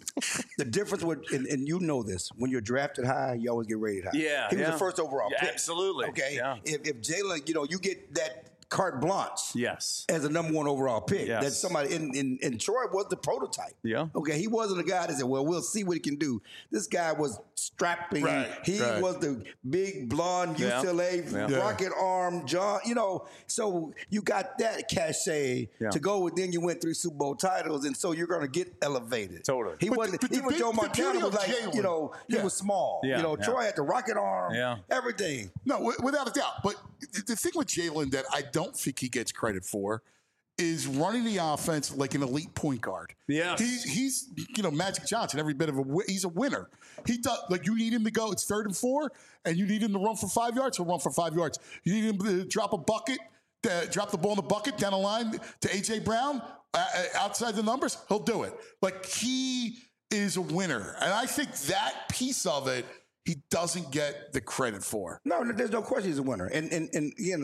The difference with, and, and you know this, when you're drafted high, you always get rated high. Yeah, He was yeah. the first overall Yeah, pick. absolutely. Okay. Yeah. If, if Jalen, you know, you get that carte blanche Yes. as a number one overall pick. Yes. That somebody in, in, in Troy was the prototype. Yeah. Okay. He wasn't a guy that said, well, we'll see what he can do. This guy was strapping. Right, He right. was the big blonde Yeah. U C L A Yeah. rocket arm, John, you know, so you got that cachet Yeah. to go with. Then you went three Super Bowl titles, and so you're going to get elevated. Totally. He But wasn't, the- but the even big- Joe the Montana beauty was of like, Jalen- you know, he Yeah. was small. Yeah, You know, yeah. Troy had the rocket arm, Yeah. everything. No, w- without a doubt. But th- the thing with Jalen that I don't think he gets credit for is running the offense like an elite point guard. Yes. He's, he's you know, Magic Johnson, every bit of a wi- he's a winner. He does, like, you need him to go, it's third and four, and you need him to run for five yards, he'll run for five yards. You need him to drop a bucket, uh, drop the ball in the bucket down the line to A J Brown, uh, uh, outside the numbers, he'll do it. Like, he is a winner. And I think that piece of it, he doesn't get the credit for. No, there's no question he's a winner. And and and again,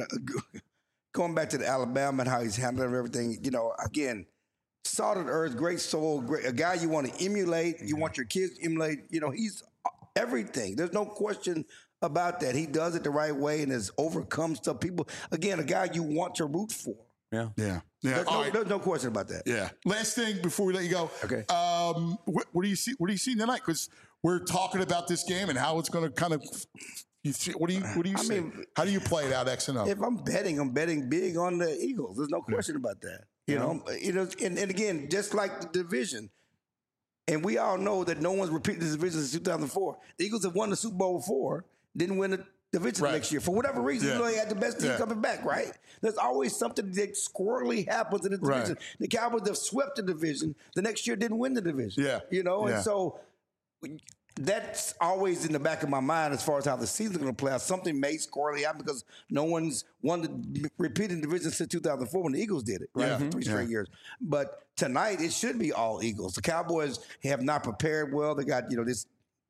going back to the Alabama and how he's handling everything, you know, again, salt of the earth, great soul, great, a guy you want to emulate, you want your kids to emulate. You know, he's everything. There's no question about that. He does it the right way and has overcome stuff. People, again, a guy you want to root for. Yeah. Yeah. Yeah. There's, All no, right. there's no question about that. Yeah. Last thing before we let you go. Okay. Um, what, what do you see? What do you see tonight? Because we're talking about this game and how it's going to kind of. You see, what do you? What do you I see? mean, how do you play it out? X and O. If I'm betting, I'm betting big on the Eagles. There's no question about that. You Yeah. know, you know, and, and again, just like the division, and we all know that no one's repeated this division since two thousand four. The Eagles have won the Super Bowl before, didn't win the division Right. next year for whatever reason. Yeah. You know, they had the best team Yeah. coming back, right? There's always something that squirrely happens in the Right. division. The Cowboys have swept the division. The next year didn't win the division. Yeah. you know, Yeah. and so. That's always in the back of my mind as far as how the season's going to play out. Something may squirrely happen because no one's won the repeating division since two thousand four when the Eagles did it, right? Yeah. For three straight Yeah. years. But tonight, it should be all Eagles. The Cowboys have not prepared well. They got, you know, this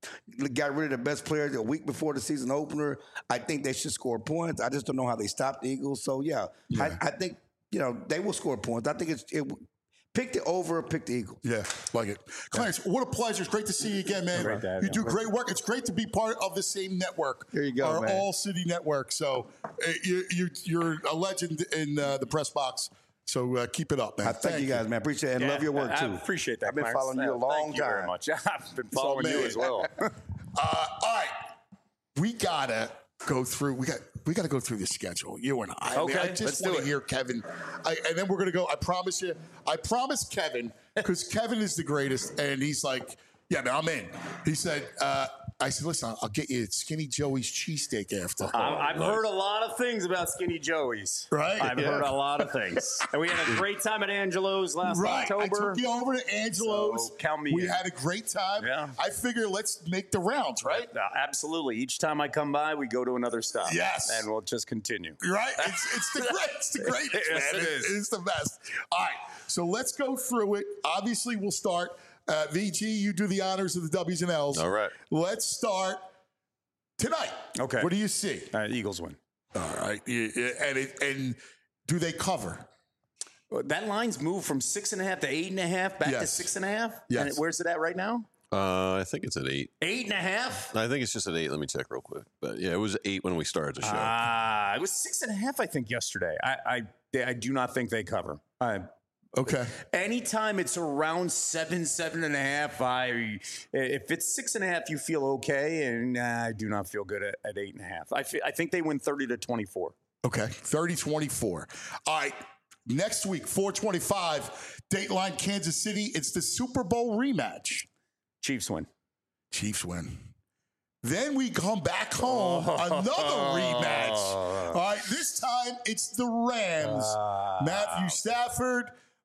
got rid of the best players a week before the season opener. I think they should score points. I just don't know how they stop the Eagles. So, yeah, Yeah. I, I think, you know, they will score points. I think it's it, pick the over, pick the Eagles. Yeah, like it. Clarence, what a pleasure. It's great to see you again, man. Great to have you you. do great work. It's great to be part of the same network. There you go, Our man. All City Network. So uh, you, you, you're a legend in uh, the press box. So uh, keep it up, man. I thank, you guys, man. Appreciate it and love your work, I too. appreciate that. I've been Clarence. following you a Yeah, long thank you time. very much. I've been following you man. as well. Uh, all right, we gotta go through. We got. We got to go through the schedule. You and I. I, mean, Okay, I just let's do want to it. hear Kevin, I, and then we're gonna go. I promise you. I promise Kevin because Kevin is the greatest, and he's like, yeah, man, I'm in. He said, uh, I said, listen, I'll get you Skinny Joey's cheesesteak after. I- I've heard a lot of things about Skinny Joey's. Right, I've yeah. heard a lot of things. And we had a great time at Angelo's last Right. October. I took you over to Angelo's. So count me we in. had a great time. Yeah. I figure let's make the rounds, right? Uh, absolutely. Each time I come by, we go to another stop. Yes. And we'll just continue. Right? It's, it's the great, it's the greatest, Yes, man. it It- is. It's the best. All right. So let's go through it. Obviously, we'll start. Uh, V G, you do the honors of the W's and L's. All right. Let's start tonight. Okay. What do you see? Uh, Eagles win. All right. Yeah, yeah, And it, and do they cover? Well, That line's moved from six and a half to eight and a half, back to Yes. six and a half. Yes. And it- where's it at right now? Uh, I think it's at eight. Eight and a half? I think it's just at eight. Let me check real quick. But yeah, it was eight when we started the show. Ah, it was six and a half, I think, yesterday. I I, I do not think they cover. I, Okay. anytime it's around seven, seven and a half, I if it's six and a half, you feel okay, and nah, I do not feel good at, at eight and a half. I fe- I think they win thirty to twenty-four. Okay. thirty twenty-four. All right. Next week, four twenty-five, Dateline, Kansas City. It's the Super Bowl rematch. Chiefs win. Chiefs win. Then we come back home, another rematch. All right, this time it's the Rams. Matthew Stafford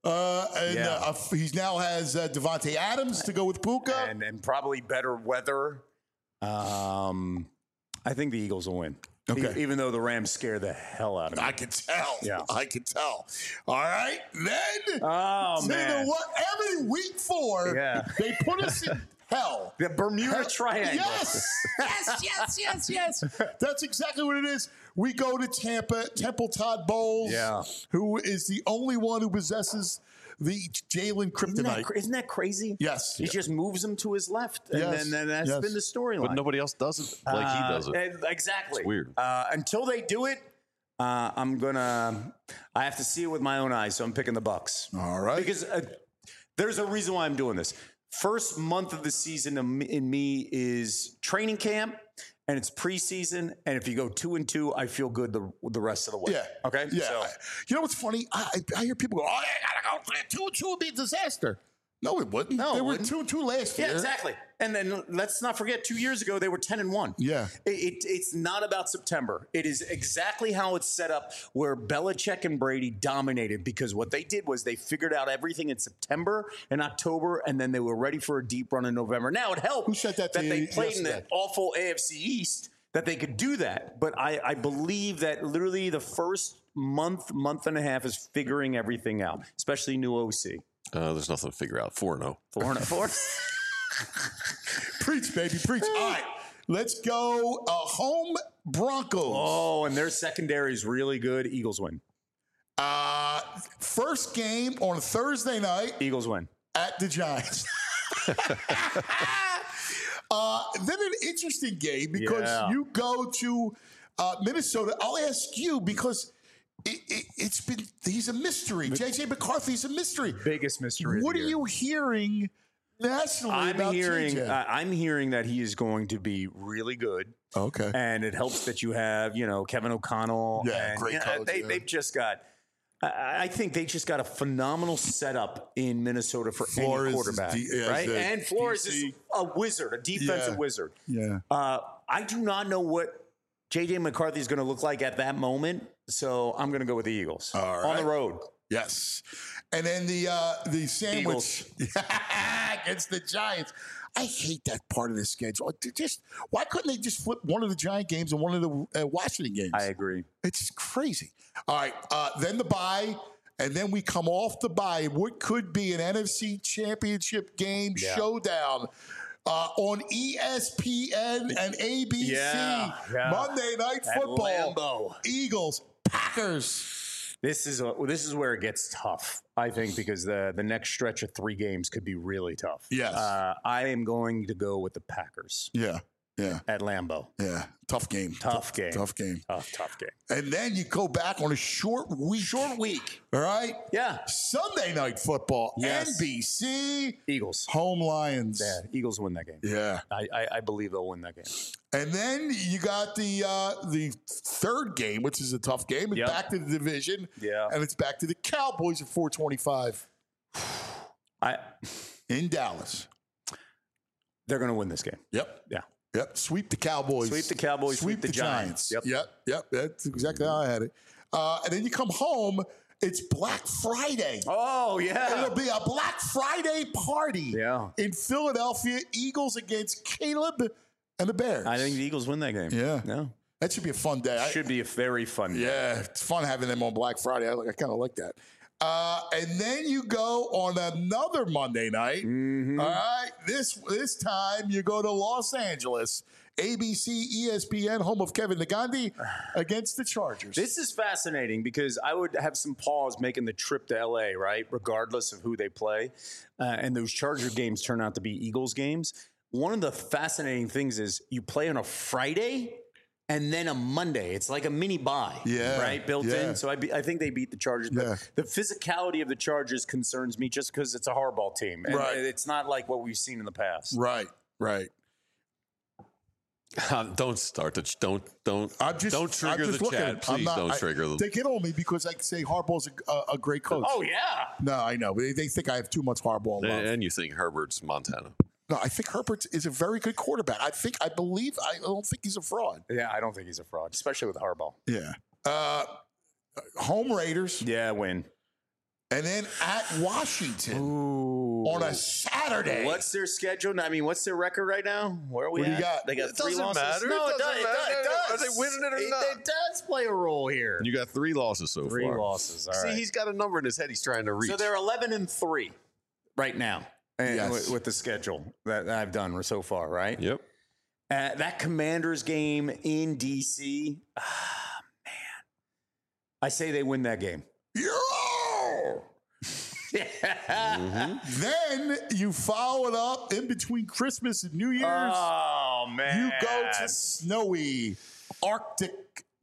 Uh, and Yeah. uh, he's now has uh, Devontae Adams to go with Puka. and and probably better weather. Um, I think the Eagles will win. Okay. E- even though the Rams scare the hell out of me. I can tell. Yeah. I can tell. All right. Then, Oh, to man. the what? Every week four, Yeah. they put us in hell. The Bermuda Hell- Triangle. Yes. yes, yes, yes, yes. That's exactly what it is. We go to Tampa, Temple Todd Bowles, Yeah. who is the only one who possesses the Jalen Isn't that, Kryptonite. cra- isn't that crazy? Yes. He just moves him to his left. And Yes. then, then that's Yes. been the storyline. But nobody else does it like he does it. Uh, exactly. It's weird. Uh, until they do it, uh, I'm gonna. I have to see it with my own eyes, so I'm picking the Bucks. All right. Because uh, there's a reason why I'm doing this. First month of the season in me- in me is training camp, and it's preseason. And if you go two and two, I feel good the the rest of the way. Yeah. Okay. Yeah. So, You know what's funny? I, I I hear people go, "Oh, I gotta go two and two would be a disaster." No, it wouldn't. No, they it were wouldn't. two and two last yeah, year. exactly. And then let's not forget, two years ago they were ten and one. Yeah. It, it, it's not about September. It is exactly how it's set up, where Belichick and Brady dominated, because what they did was they figured out everything in September and October, and then they were ready for a deep run in November. Now it helped Who said that to they you played in the yesterday? awful A F C East, that they could do that. But I, I believe that literally the first month, month and a half is figuring everything out, especially new O C. Uh, there's nothing to figure out. four and oh. Four and a four. Preach, baby, preach. All right, let's go. Uh, home Broncos. Oh, and their secondary is really good. Eagles win. Uh, first game on a Thursday night Eagles win. at the Giants. uh, then an interesting game because Yeah. you go to uh, Minnesota. I'll ask you because it, it, it's been he's a mystery. J J McCarthy's a mystery. Biggest mystery. of What the are year. you hearing nationally I'm about hearing. J J? Uh, I'm hearing that he is going to be really good, Okay. and it helps that you have, you know, Kevin O'Connell. Yeah, and, great you know, coach, They, yeah. They've just got. I I think they just got a phenomenal setup in Minnesota for Flores any is quarterback, D- yeah, right? is a And Flores D C. is a wizard, a defensive Yeah. wizard. Yeah. Uh, I do not know what J J McCarthy is going to look like at that moment, so I'm going to go with the Eagles All on the right. road. Yes. And then the uh, the sandwich against the Giants. I hate that part of the schedule. Just why couldn't they just flip one of the Giant games and one of the uh, Washington games? I agree. It's crazy. All right. Uh, then the bye, and then we come off the bye. What could be an N F C Championship game Yeah. showdown uh, on E S P N and A B C Yeah, yeah. Monday Night At Football. Lambeau. Eagles, Packers. This is a, this is where it gets tough, I think, because the the next stretch of three games could be really tough. Yes. uh, I am going to go with the Packers Yeah. Yeah. at Lambeau. Yeah. Tough game. Tough game. Tough game. Tough, tough game. And then you go back on a short week. Short week. All right. Yeah. Sunday Night Football. Yes. N B C. Eagles. Home Lions. Yeah, Eagles win that game. Yeah. I, I, I believe they'll win that game. And then you got the uh, the third game, which is a tough game. It's Yep. back to the division. Yeah. And it's back to the Cowboys at four twenty-five I in Dallas. they're going to win this game. Yep. Yeah. Yep. Sweep the Cowboys. Sweep the Cowboys, sweep the Giants. Yep. Yep. Yep. Yep. That's exactly how I had it. Uh, and then you come home. It's Black Friday. Oh yeah. It'll be a Black Friday party. Yeah. In Philadelphia, Eagles against Caleb and the Bears. I think the Eagles win that game. Yeah. No. That should be a fun day. I- Should be a very fun game. yeah, it's fun having them on Black Friday. I, like- I kind of like that. Uh, and then you go on another Monday night. Mm-hmm. All right, this this time you go to Los Angeles, A B C, E S P N, home of Kevin Nagandi, against the Chargers. This is fascinating because I would have some pause making the trip to L A, right? Regardless of who they play. Uh, and those Charger games turn out to be Eagles games. One of the fascinating things is you play on a Friday and then a Monday. It's like a mini bye, Yeah, right? Built yeah. in. So I, be, I think they beat the Chargers. But Yeah. the physicality of the Chargers concerns me just because it's a hardball team. And Right. it's not like what we've seen in the past. right, right. Uh, don't start the ch- don't don't I'm just don't I'm trigger just the looking chat. at it. I'm Please not- don't I- trigger them. They get on me because I say Harbaugh's a, a, a great coach. Oh, yeah. No, I know. But they, they think I have too much Harbaugh love. And, and you think Herbert's Montana? No, I think Herbert is a very good quarterback. I think, I believe, I don't think he's a fraud. Yeah, I don't think he's a fraud, especially with Harbaugh. Yeah. Uh, home Raiders Yeah, win. and then at Washington Ooh. on a Saturday. What's their schedule? I mean, what's their record right now? Where are we What do at? you got? They got It three doesn't losses. matter. No, It it, doesn't does, it, matter. does, it does. Are they winning it or it, not? It does play a role here. You got three losses so Three far. losses. All See, right. he's got a number in his head he's trying to reach. So they're eleven and three right now and Yes. with, with the schedule that I've done so far, right? Yep. Uh, that Commanders game in D C, ah, man. I say they win that game. Euro! Mm-hmm. Then you follow it up in between Christmas and New Year's. Oh, man. You go to snowy Arctic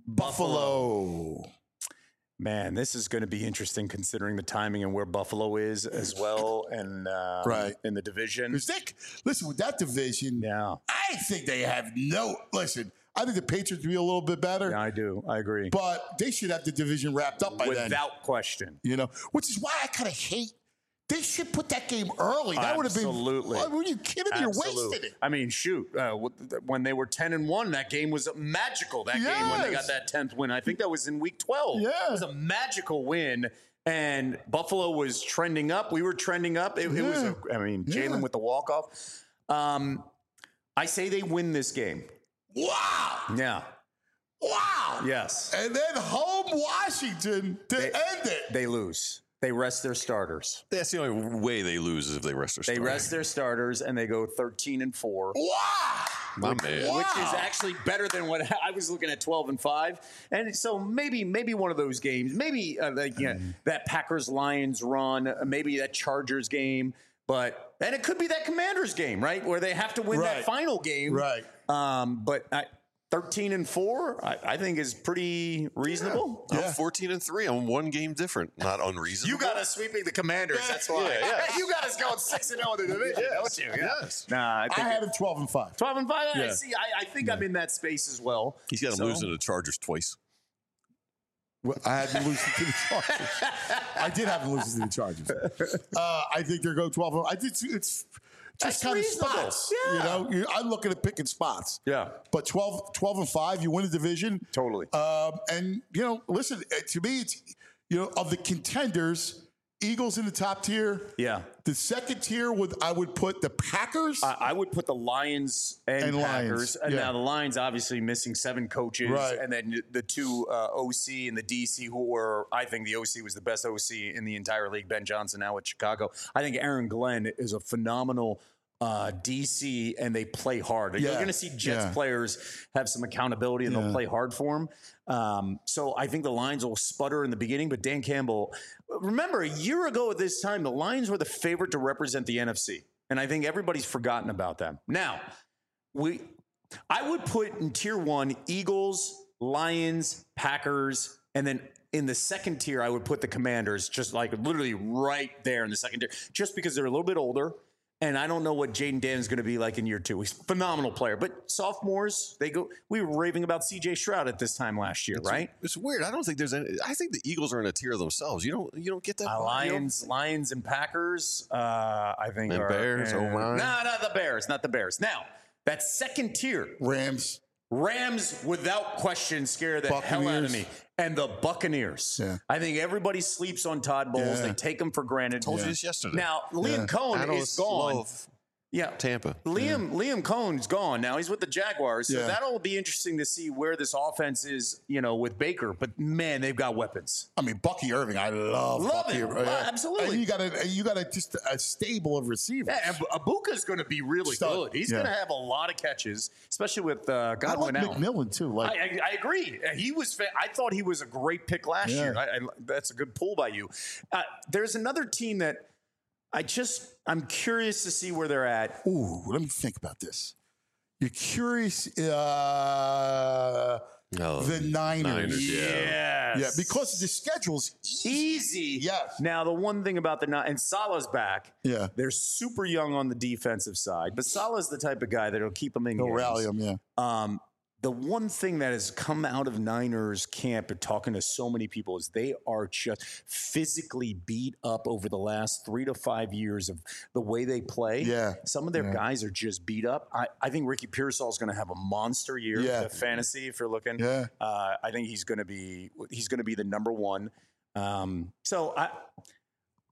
Buffalo. Man, this is going to be interesting considering the timing and where Buffalo is as well, and um, Right. in the division. Because they, listen, with that division, Yeah, I think they have no. Listen, I think the Patriots would be a little bit better, yeah, I do. I agree. but they should have the division wrapped up by then. Without question. You know, which is why I kind of hate. They should put that game early. That would have been. Absolutely. What, were you kidding me? You're Absolutely. wasting it. I mean, shoot, uh, when they were ten and one, that game was magical. That game when they got Yes. that tenth win, I think that was in week twelve. Yeah. It was a magical win. And Buffalo was trending up. We were trending up. It, it was, a, I mean, Jalen Yeah. with the walk off. Um, I say they win this game. Wow! Yeah. Wow! Yes. And then home Washington to They- end it. They lose. They rest their starters. That's the only way they lose is if they rest their They starter. rest their starters and they go thirteen and four. Wow! My man. Which is actually better than what I was looking at, twelve and five. And so maybe maybe one of those games, maybe uh, like yeah, that Packers Lions run, uh, maybe that Chargers game, but and it could be that Commanders game, right, where they have to win Right. that final game, Right. Um, but I, thirteen and four, I, I think is pretty reasonable. I'm Yeah. fourteen and three. I'm one game different. Not unreasonable. You got us sweeping the Commanders. That's why. Yeah, yeah. You got us going six and zero in the division, don't you? Yeah. Yes. Nah, I I think had him twelve and five. twelve and five. I Yeah. see. I, I think I'm in that space as well. He's got him So- losing to the Chargers twice. Well, I had them losing to the Chargers. I did have them losing to the Chargers. Uh, I think they're going twelve. I did. It's That's just kind of reasonable. spots. Yeah. You know, You- I'm looking at picking spots. Yeah. But twelve, twelve and five, you win the division. Totally. Um, and you know, listen, uh, to me, it's you know, of the contenders, Eagles in the top tier. Yeah. The second tier would I would put the Packers. I, I would put the Lions and, And Packers. Lions, And yeah. now the Lions obviously missing seven coaches. Right. And then the two uh, O C and the D C who were, I think the O C was the best O C in the entire league. Ben Johnson now with Chicago. I think Aaron Glenn is a phenomenal uh, D C and they play hard. You're Yeah. going to see Jets Yeah. players have some accountability and Yeah. they'll play hard for him. Um, so I think the Lions will sputter in the beginning, but Dan Campbell, remember a year ago at this time, the Lions were the favorite to represent the N F C. And I think everybody's forgotten about them. Now, we, I would put in tier one, Eagles, Lions, Packers, and then in the second tier, I would put the Commanders, just like literally right there in the second tier, just because they're a little bit older. And I don't know what Jaden Dan is going to be like in year two. He's a phenomenal player. But sophomores, they go. We were raving about C J Stroud at this time last year, right? It's weird. I don't think there's any. I think the Eagles are in a tier themselves. You don't. You don't get that. Uh, you don't- Lions, Lions, and Packers. Uh, I think And are, Bears, oh my. No, not the Bears. Not the Bears. Now that second tier, Rams. Rams without question scare the hell out of Buccaneers. me, and the Buccaneers. Yeah. I think everybody sleeps on Todd Bowles. Yeah. They take him for granted. Told you this yesterday. Now Liam Yeah. Cohen is Analysts gone. love Yeah, Tampa. Liam Liam Cohen's gone now. He's with the Jaguars, so Yeah. that'll be interesting to see where this offense is. You know, with Baker, but man, they've got weapons. I mean, Bucky Irving. I love, Love Bucky him. Irving. Well, absolutely. And you got a you got a just a stable of receivers. Yeah, and Abuka's going to be really Stud. good. He's Yeah. going to have a lot of catches, especially with uh, I like Godwin out. McMillan too. Like I, I, I agree. He was. Fa- I thought he was a great pick last Yeah. year. I, I, that's a good pull by you. Uh, there's another team that I just. I'm curious to see where they're at. ooh, let me think about this. You're curious. Uh, No, the Niners. Niners, yeah. Yes. Yeah, because the schedule's easy. easy. Yes. Now the one thing about the Ni- and Salah's back. Yeah. They're super young on the defensive side, but Salah's the type of guy that'll keep them in. He'll games. rally them. Yeah. Um, the one thing that has come out of Niners camp and talking to so many people is they are just physically beat up over the last three to five years of the way they play. Yeah. Some of their Yeah. guys are just beat up. I, I think Ricky Pearsall is going to have a monster year. Yeah. The fantasy, if you're looking. Yeah. Uh, I think he's going to be he's going to be the number one. Um, so I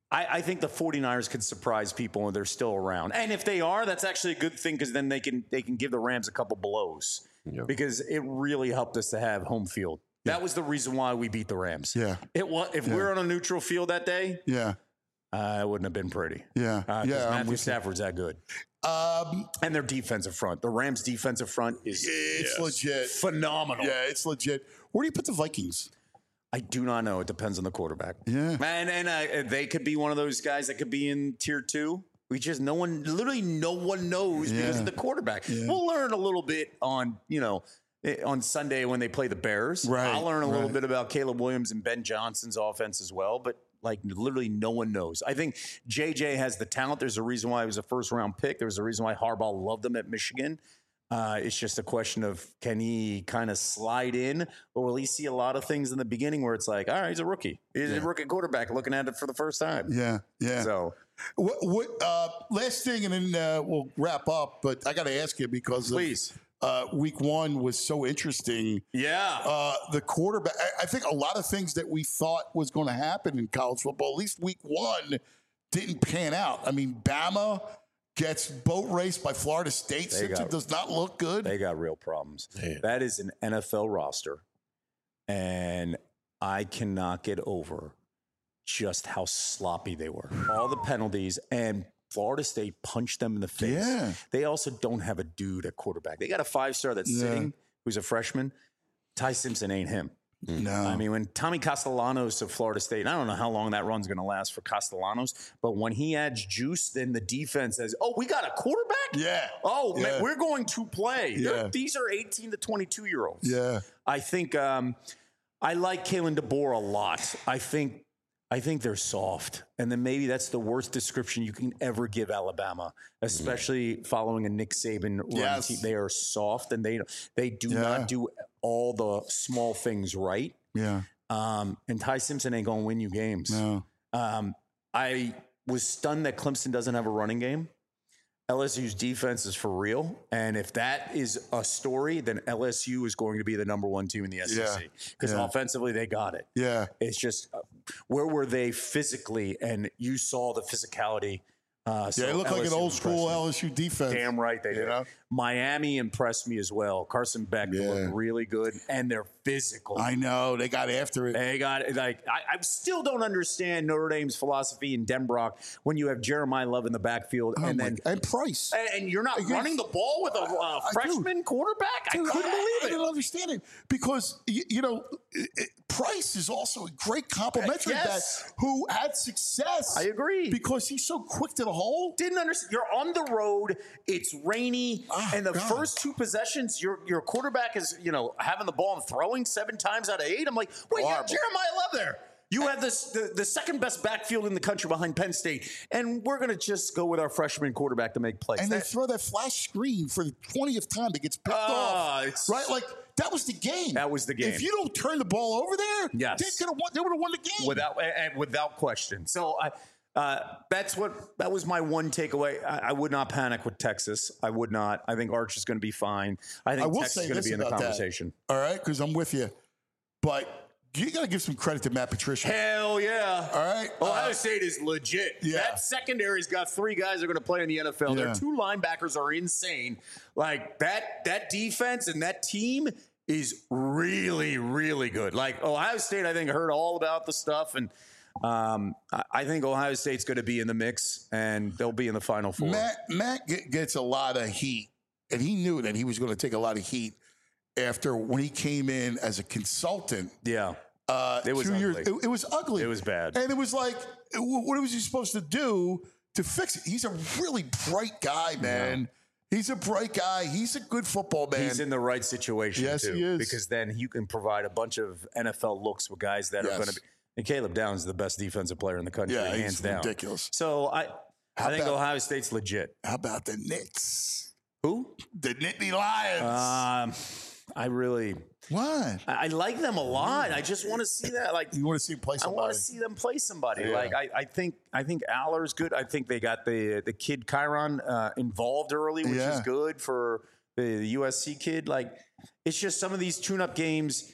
I, I think the 49ers could surprise people when they're still around. And if they are, that's actually a good thing because then they can they can give the Rams a couple blows. Yeah. Because it really helped us to have home field. Yeah. That was the reason why we beat the Rams. Yeah. It was if yeah. we were on a neutral field that day, yeah. Uh, it wouldn't have been pretty. Yeah. Uh, yeah. Matthew Stafford's that good. Um, and their defensive front. The Rams' defensive front is it's yes, legit. Phenomenal. Yeah, it's legit. Where do you put the Vikings? I do not know. It depends on the quarterback. Yeah. And, and uh, they could be one of those guys that could be in tier two. We just, no one, literally no one knows yeah. because of the quarterback. Yeah. We'll learn a little bit on, you know, on Sunday when they play the Bears. Right. I'll learn a little right. bit about Caleb Williams and Ben Johnson's offense as well. But like literally no one knows. I think J J has the talent. There's a reason why he was a first round pick. There's a reason why Harbaugh loved him at Michigan. Uh, it's just a question of can he kind of slide in, or will he see a lot of things in the beginning where it's like, all right, he's a rookie. He's yeah. a rookie quarterback looking at it for the first time. Yeah, yeah. So, what? what uh, last thing, and then uh, we'll wrap up. But I got to ask you because please. Of, uh, week one was so interesting. Yeah. Uh, the quarterback. I, I think a lot of things that we thought was going to happen in college football, at least week one, didn't pan out. I mean, Bama gets boat raced by Florida State. They Simpson got, does not look good. They got real problems. Man. That is an N F L roster, and I cannot get over just how sloppy they were. All the penalties, and Florida State punched them in the face. Yeah. They also don't have a dude at quarterback. They got a five-star that's yeah. sitting, who's a freshman. Ty Simpson ain't him. No. I mean, when Tommy Castellanos of Florida State, I don't know how long that run's going to last for Castellanos, but when he adds juice, then the defense says, oh, we got a quarterback? Yeah. Oh, yeah. man, we're going to play. Yeah. These are eighteen to twenty-two-year-olds. Yeah. I think um, I like Kalen DeBoer a lot. I think I think they're soft. And then maybe that's the worst description you can ever give Alabama, especially mm. following a Nick Saban run yes. team. They are soft, and they they do yeah. not do all the small things right. Yeah. Um, and Ty Simpson ain't going to win you games. No. Um, I was stunned that Clemson doesn't have a running game. L S U's defense is for real. And if that is a story, then L S U is going to be the number one team in the S E C. Because yeah. yeah. offensively, they got it. Yeah. It's just, uh, where were they physically? And you saw the physicality. Uh, so yeah, it looked L S U like an old school me. L S U defense. Damn right they did. know? Miami impressed me as well. Carson Beck Yeah. looked really good, and they're physical. I know. They got after it. They got it. Like I, I still don't understand Notre Dame's philosophy in Denbrock when you have Jeremiah Love in the backfield Oh and my- then and Price. and, and you're not Again, running the ball with a uh, I- freshman quarterback. Dude, I couldn't I, believe I it. don't understand it because you, you know it, it, Price is also a great complimentary Yes. back who had success. I agree. because he's so quick to the hole. Didn't understand. You're on the road. It's rainy, Oh, and the God. first two possessions, your your quarterback is you know having the ball and throwing seven times out of eight. I'm like, wait, you have Horrible. Jeremiah Love there. You have this the, the second best backfield in the country behind Penn State, and we're going to just go with our freshman quarterback to make plays. And they That- throw that flash screen for the twentieth time that gets picked Ah, off. it's- Right? Like, that was the game. That was the game. If you don't turn the ball over there, Yes. they could have won. They would have won the game. without and without question. So I. Uh, that's what that was my one takeaway. I, I would not panic with Texas. I would not. I think Arch is going to be fine. I think I will Texas say is going to this be in the about that. conversation. All right, because I'm with you. But you got to give some credit to Matt Patricia. Hell yeah! All right, Ohio uh, State is legit. yeah. That secondary's got three guys that are going to play in the N F L. Yeah. Their two linebackers are insane. Like that, that defense and that team is really, really good. Like Ohio State, I think heard all about the stuff, and um, I, I think Ohio State's going to be in the mix, and they'll be in the Final Four. Matt, Matt get- gets a lot of heat, and he knew that he was going to take a lot of heat after when he came in as a consultant. Yeah. Uh, It was two years, ugly. it, it was ugly. It was bad. And it was like, wh- what was he supposed to do to fix it? He's a really bright guy, man. He's a bright guy. He's a good football man. He's in the right situation, Yes, too, he is. because then you can provide a bunch of N F L looks with guys that are Yes. going to be. And Caleb Downs is the best defensive player in the country, Yeah, he's hands down. ridiculous. So I, How I think about- Ohio State's legit. How about the Knicks? Who? The Nittany Lions. Um, I really, Why? I, I like them a lot. I just want to see that. Like, You want to see him play I somebody? want to see them play somebody. Yeah. Like, I, I think, I think Aller's good. I think they got the the kid Kyron uh, involved early, which Yeah. is good for the, the U S C kid. Like, it's just some of these tune-up games.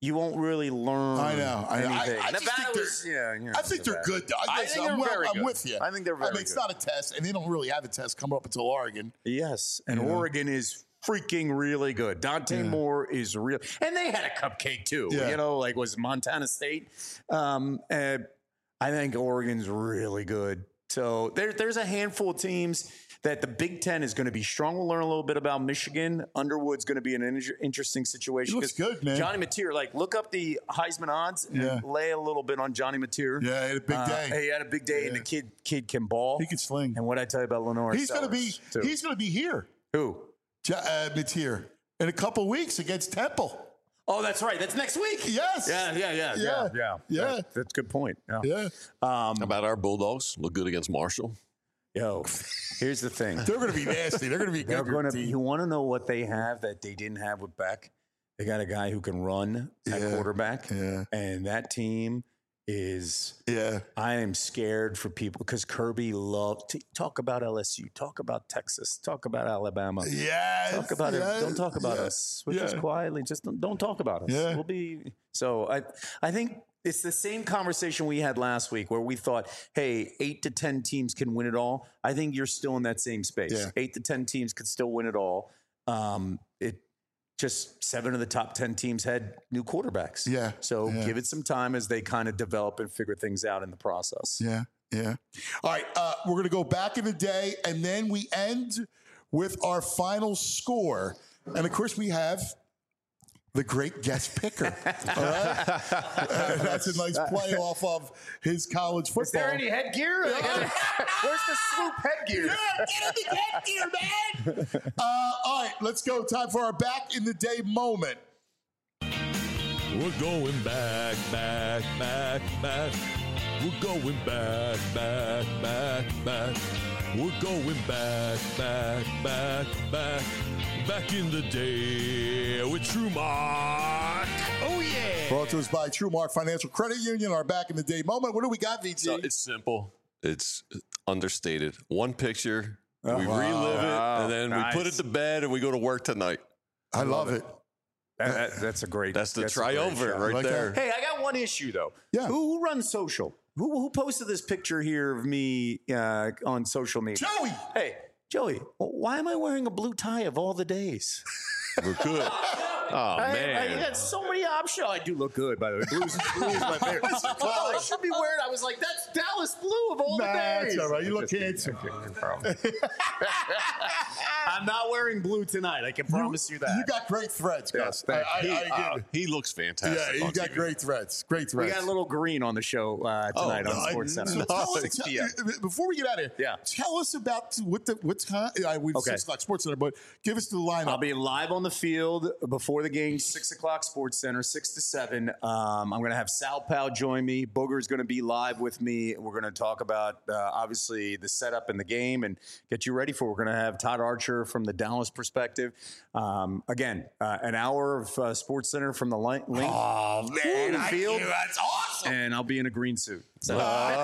you won't really learn. I know. I, know. I, anything. I just Nevada think they're, was, yeah, you know, I think they're Nevada. good. Though. I Listen, think I'm, they're well, very I'm good. with you. I think they're very I mean, it's good. not a test, and they don't really have a test coming up until Oregon. Yes, and You know? Oregon is freaking really good. Dante Yeah. Moore is real, and they had a cupcake too. Yeah. You know, like was Montana State. Um, uh, I think Oregon's really good. So there, there's a handful of teams that the Big Ten is going to be strong. We'll learn a little bit about Michigan. Underwood's going to be an in- interesting situation. He looks 'cause good, man. Johnny Mateer, like look up the Heisman odds and Yeah. lay a little bit on Johnny Mateer. Yeah, he had a big Uh, day. he had a big day, and Yeah. the kid kid can ball. He can sling. And what I tell you about Lenore, He's going to be. Sellers, too. He's going to be here. Who? Ja- uh, Mateer in a couple of weeks against Temple. Oh, that's right. That's next week. Yes. Yeah, yeah, yeah, Yeah. yeah, yeah. Yeah. That- that's a good point. Yeah. Yeah. Um, How about our Bulldogs? Look good against Marshall. yo, here's the thing. They're going to be nasty. They're going to be They're good. going to. You want to know what they have that they didn't have with Beck? They got a guy who can run at Yeah. quarterback, Yeah. and that team is. Yeah. I am scared for people because Kirby loved to talk about L S U, talk about Texas, talk about Alabama. Yes. Talk about yes, it. Don't talk about yeah, us. We're yeah. just quietly. Just don't, don't talk about us. Yeah. We'll be. So I, I think it's the same conversation we had last week where we thought, hey, eight to ten teams can win it all. I think you're still in that same space. Yeah. Eight to ten teams could still win it all. Um, it just seven of the top ten teams had new quarterbacks. Yeah. So Yeah. give it some time as they kind of develop and figure things out in the process. Yeah, yeah. All right, uh, we're going to go back in the day, and then we end with our final score. And of course, we have the great guest picker. All right, Uh, that's a nice play off of his college football. Is there any headgear? Where's the swoop headgear? Yeah, get in the headgear, man. uh, all right, let's go. Time for our back in the day moment. We're going back, back, back, back. We're going back, back, back, back. We're going back, back, back, back. Back in the day with TrueMark. Oh, yeah. Brought to us by TrueMark Financial Credit Union. Our back in the day moment. What do we got, V T? So it's simple. It's understated. One picture. we wow. relive Wow. it, and then Nice. we put it to bed, and we go to work tonight. I love it. That, that- that's a great. That's the a great triumvirate shot. right Like there. that. Hey, I got one issue though. Yeah. Who, who runs social? Who, who posted this picture here of me uh, on social media? Joey. Hey, Joey, why am I wearing a blue tie of all the days? We're good. Oh, I, man. I got so many options. I do look good, by the way. Blue's, blue is my favorite. Well, I should be wearing. I was like, that's Dallas blue of all Nah, the days. it's all right. You look handsome. I'm not wearing blue tonight. I can promise you, that. You got great threads, Gus. Yes, I, thank I, you. I Uh, give it. he looks fantastic. Yeah, you on got T V. great threads. Great we threads. got a little green on the show uh, tonight Oh, on no, Sports Center. So tell us, six tell- p.m. before we get out of here, Yeah. tell us about what the what's kind. Uh, we've Okay. six o'clock Sports Center, but give us the lineup. I'll be live on the field before the game, six o'clock Sports Center, six to seven. Um, I'm going to have Sal Powell join me. Booger's going to be live with me. We're going to talk about uh, obviously the setup in the game and get you ready for. We're going to have Todd Archer from the Dallas perspective. Um, again, uh, an hour of uh, Sports Center from the li- link. Oh man, the I, field. that's awesome. And I'll be in a green suit. So.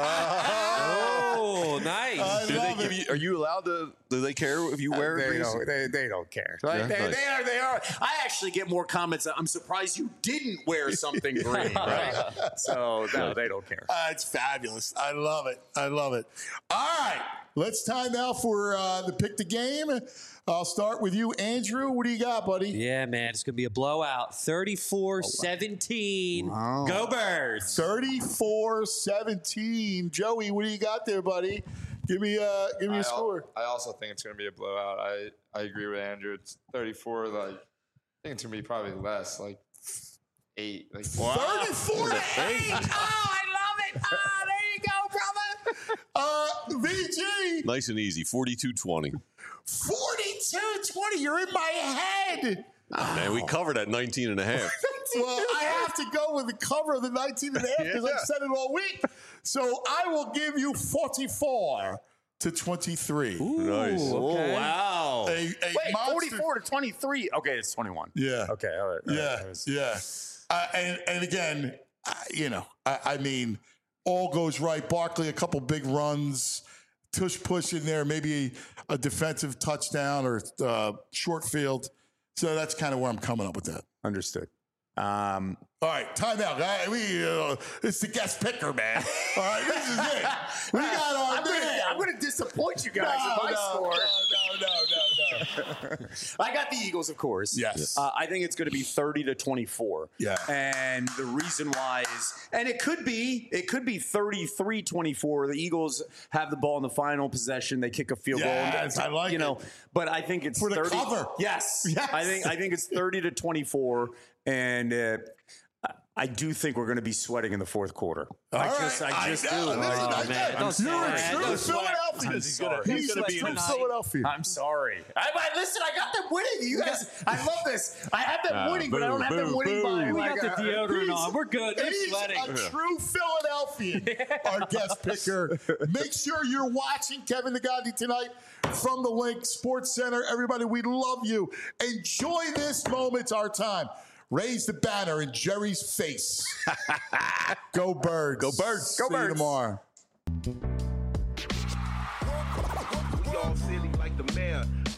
Oh, nice. I Do they love give it. you, are you allowed to? Do they care if you wear a they, green don't, suit? they, they don't care. Yeah, Like, they, nice. they are. They are. I actually get more comments. I'm surprised you didn't wear something green. Right? So no, they don't care. Uh, it's fabulous. I love it. I love it. All right, let's time now for uh, the pick the game. I'll start with you, Andrew. What do you got, buddy? Yeah, man, it's going to be a blowout. thirty-four seventeen. Go Birds. thirty-four seventeen. Joey, what do you got there, buddy? Give me uh give me a I al- score. I also think it's going to be a blowout. I, I agree with Andrew. It's thirty-four. Like, I think it's going to be probably less, like eight. Like thirty-four to eight. Oh, I love it. Oh, there you go, brother. Uh, V G, Nice and easy. forty-two twenty. forty-two twenty. You're in my head. Man, we covered at nineteen and a half. Well, I have to go with the cover of the nineteen and a half because Yeah. I've said it all week. So I will give you forty-four to twenty-three. Nice. Oh, wow. A, a Wait, monster- forty-four to twenty-three. Okay, it's twenty-one. Yeah. Okay. All right. all right. Yeah. That was- Yeah. Uh, and, and again, uh, you know, I, I mean, all goes right. Barkley, a couple big runs, tush push in there, maybe a defensive touchdown or uh, short field. So that's kind of where I'm coming up with that. Understood. Um, All right, time out. Right? We, uh, it's the guest picker, man. All right, this is it. We got our I'm gonna, man. I'm gonna disappoint you guys No, if I no, score. no, no, no, no, no. I got the Eagles, of course. Yes. Uh, I think it's going to be thirty to twenty-four. Yeah. And the reason why is, and it could be, it could be thirty-three twenty-four. The Eagles have the ball in the final possession. They kick a field Yes, goal. I like you know, it. but I think it's For the thirty. cover. Yes. Yes. I think I think it's thirty to twenty-four, and uh, I do think we're going to be sweating in the fourth quarter. All I right. just, I just know. do. Listen, Oh, I man. know. Don't say You're that. a true Don't sweat. Philadelphia. He's gonna- He's he's a gonna true tonight. Philadelphia. I'm sorry. I, I, listen, I got them winning. You guys, I love this. I have them winning, but I don't have them winning by We like got the a- deodorant He's- on. We're good. They're He's sweating. a true Philadelphian, our guest picker. Make sure you're watching Kevin Nagandi tonight from the Link Sports Center. Everybody, we love you. Enjoy this moment. It's our time. Raise the banner in Jerry's face. Go Birds. Go Birds. Go See Birds. you tomorrow. We all silly like the mayor.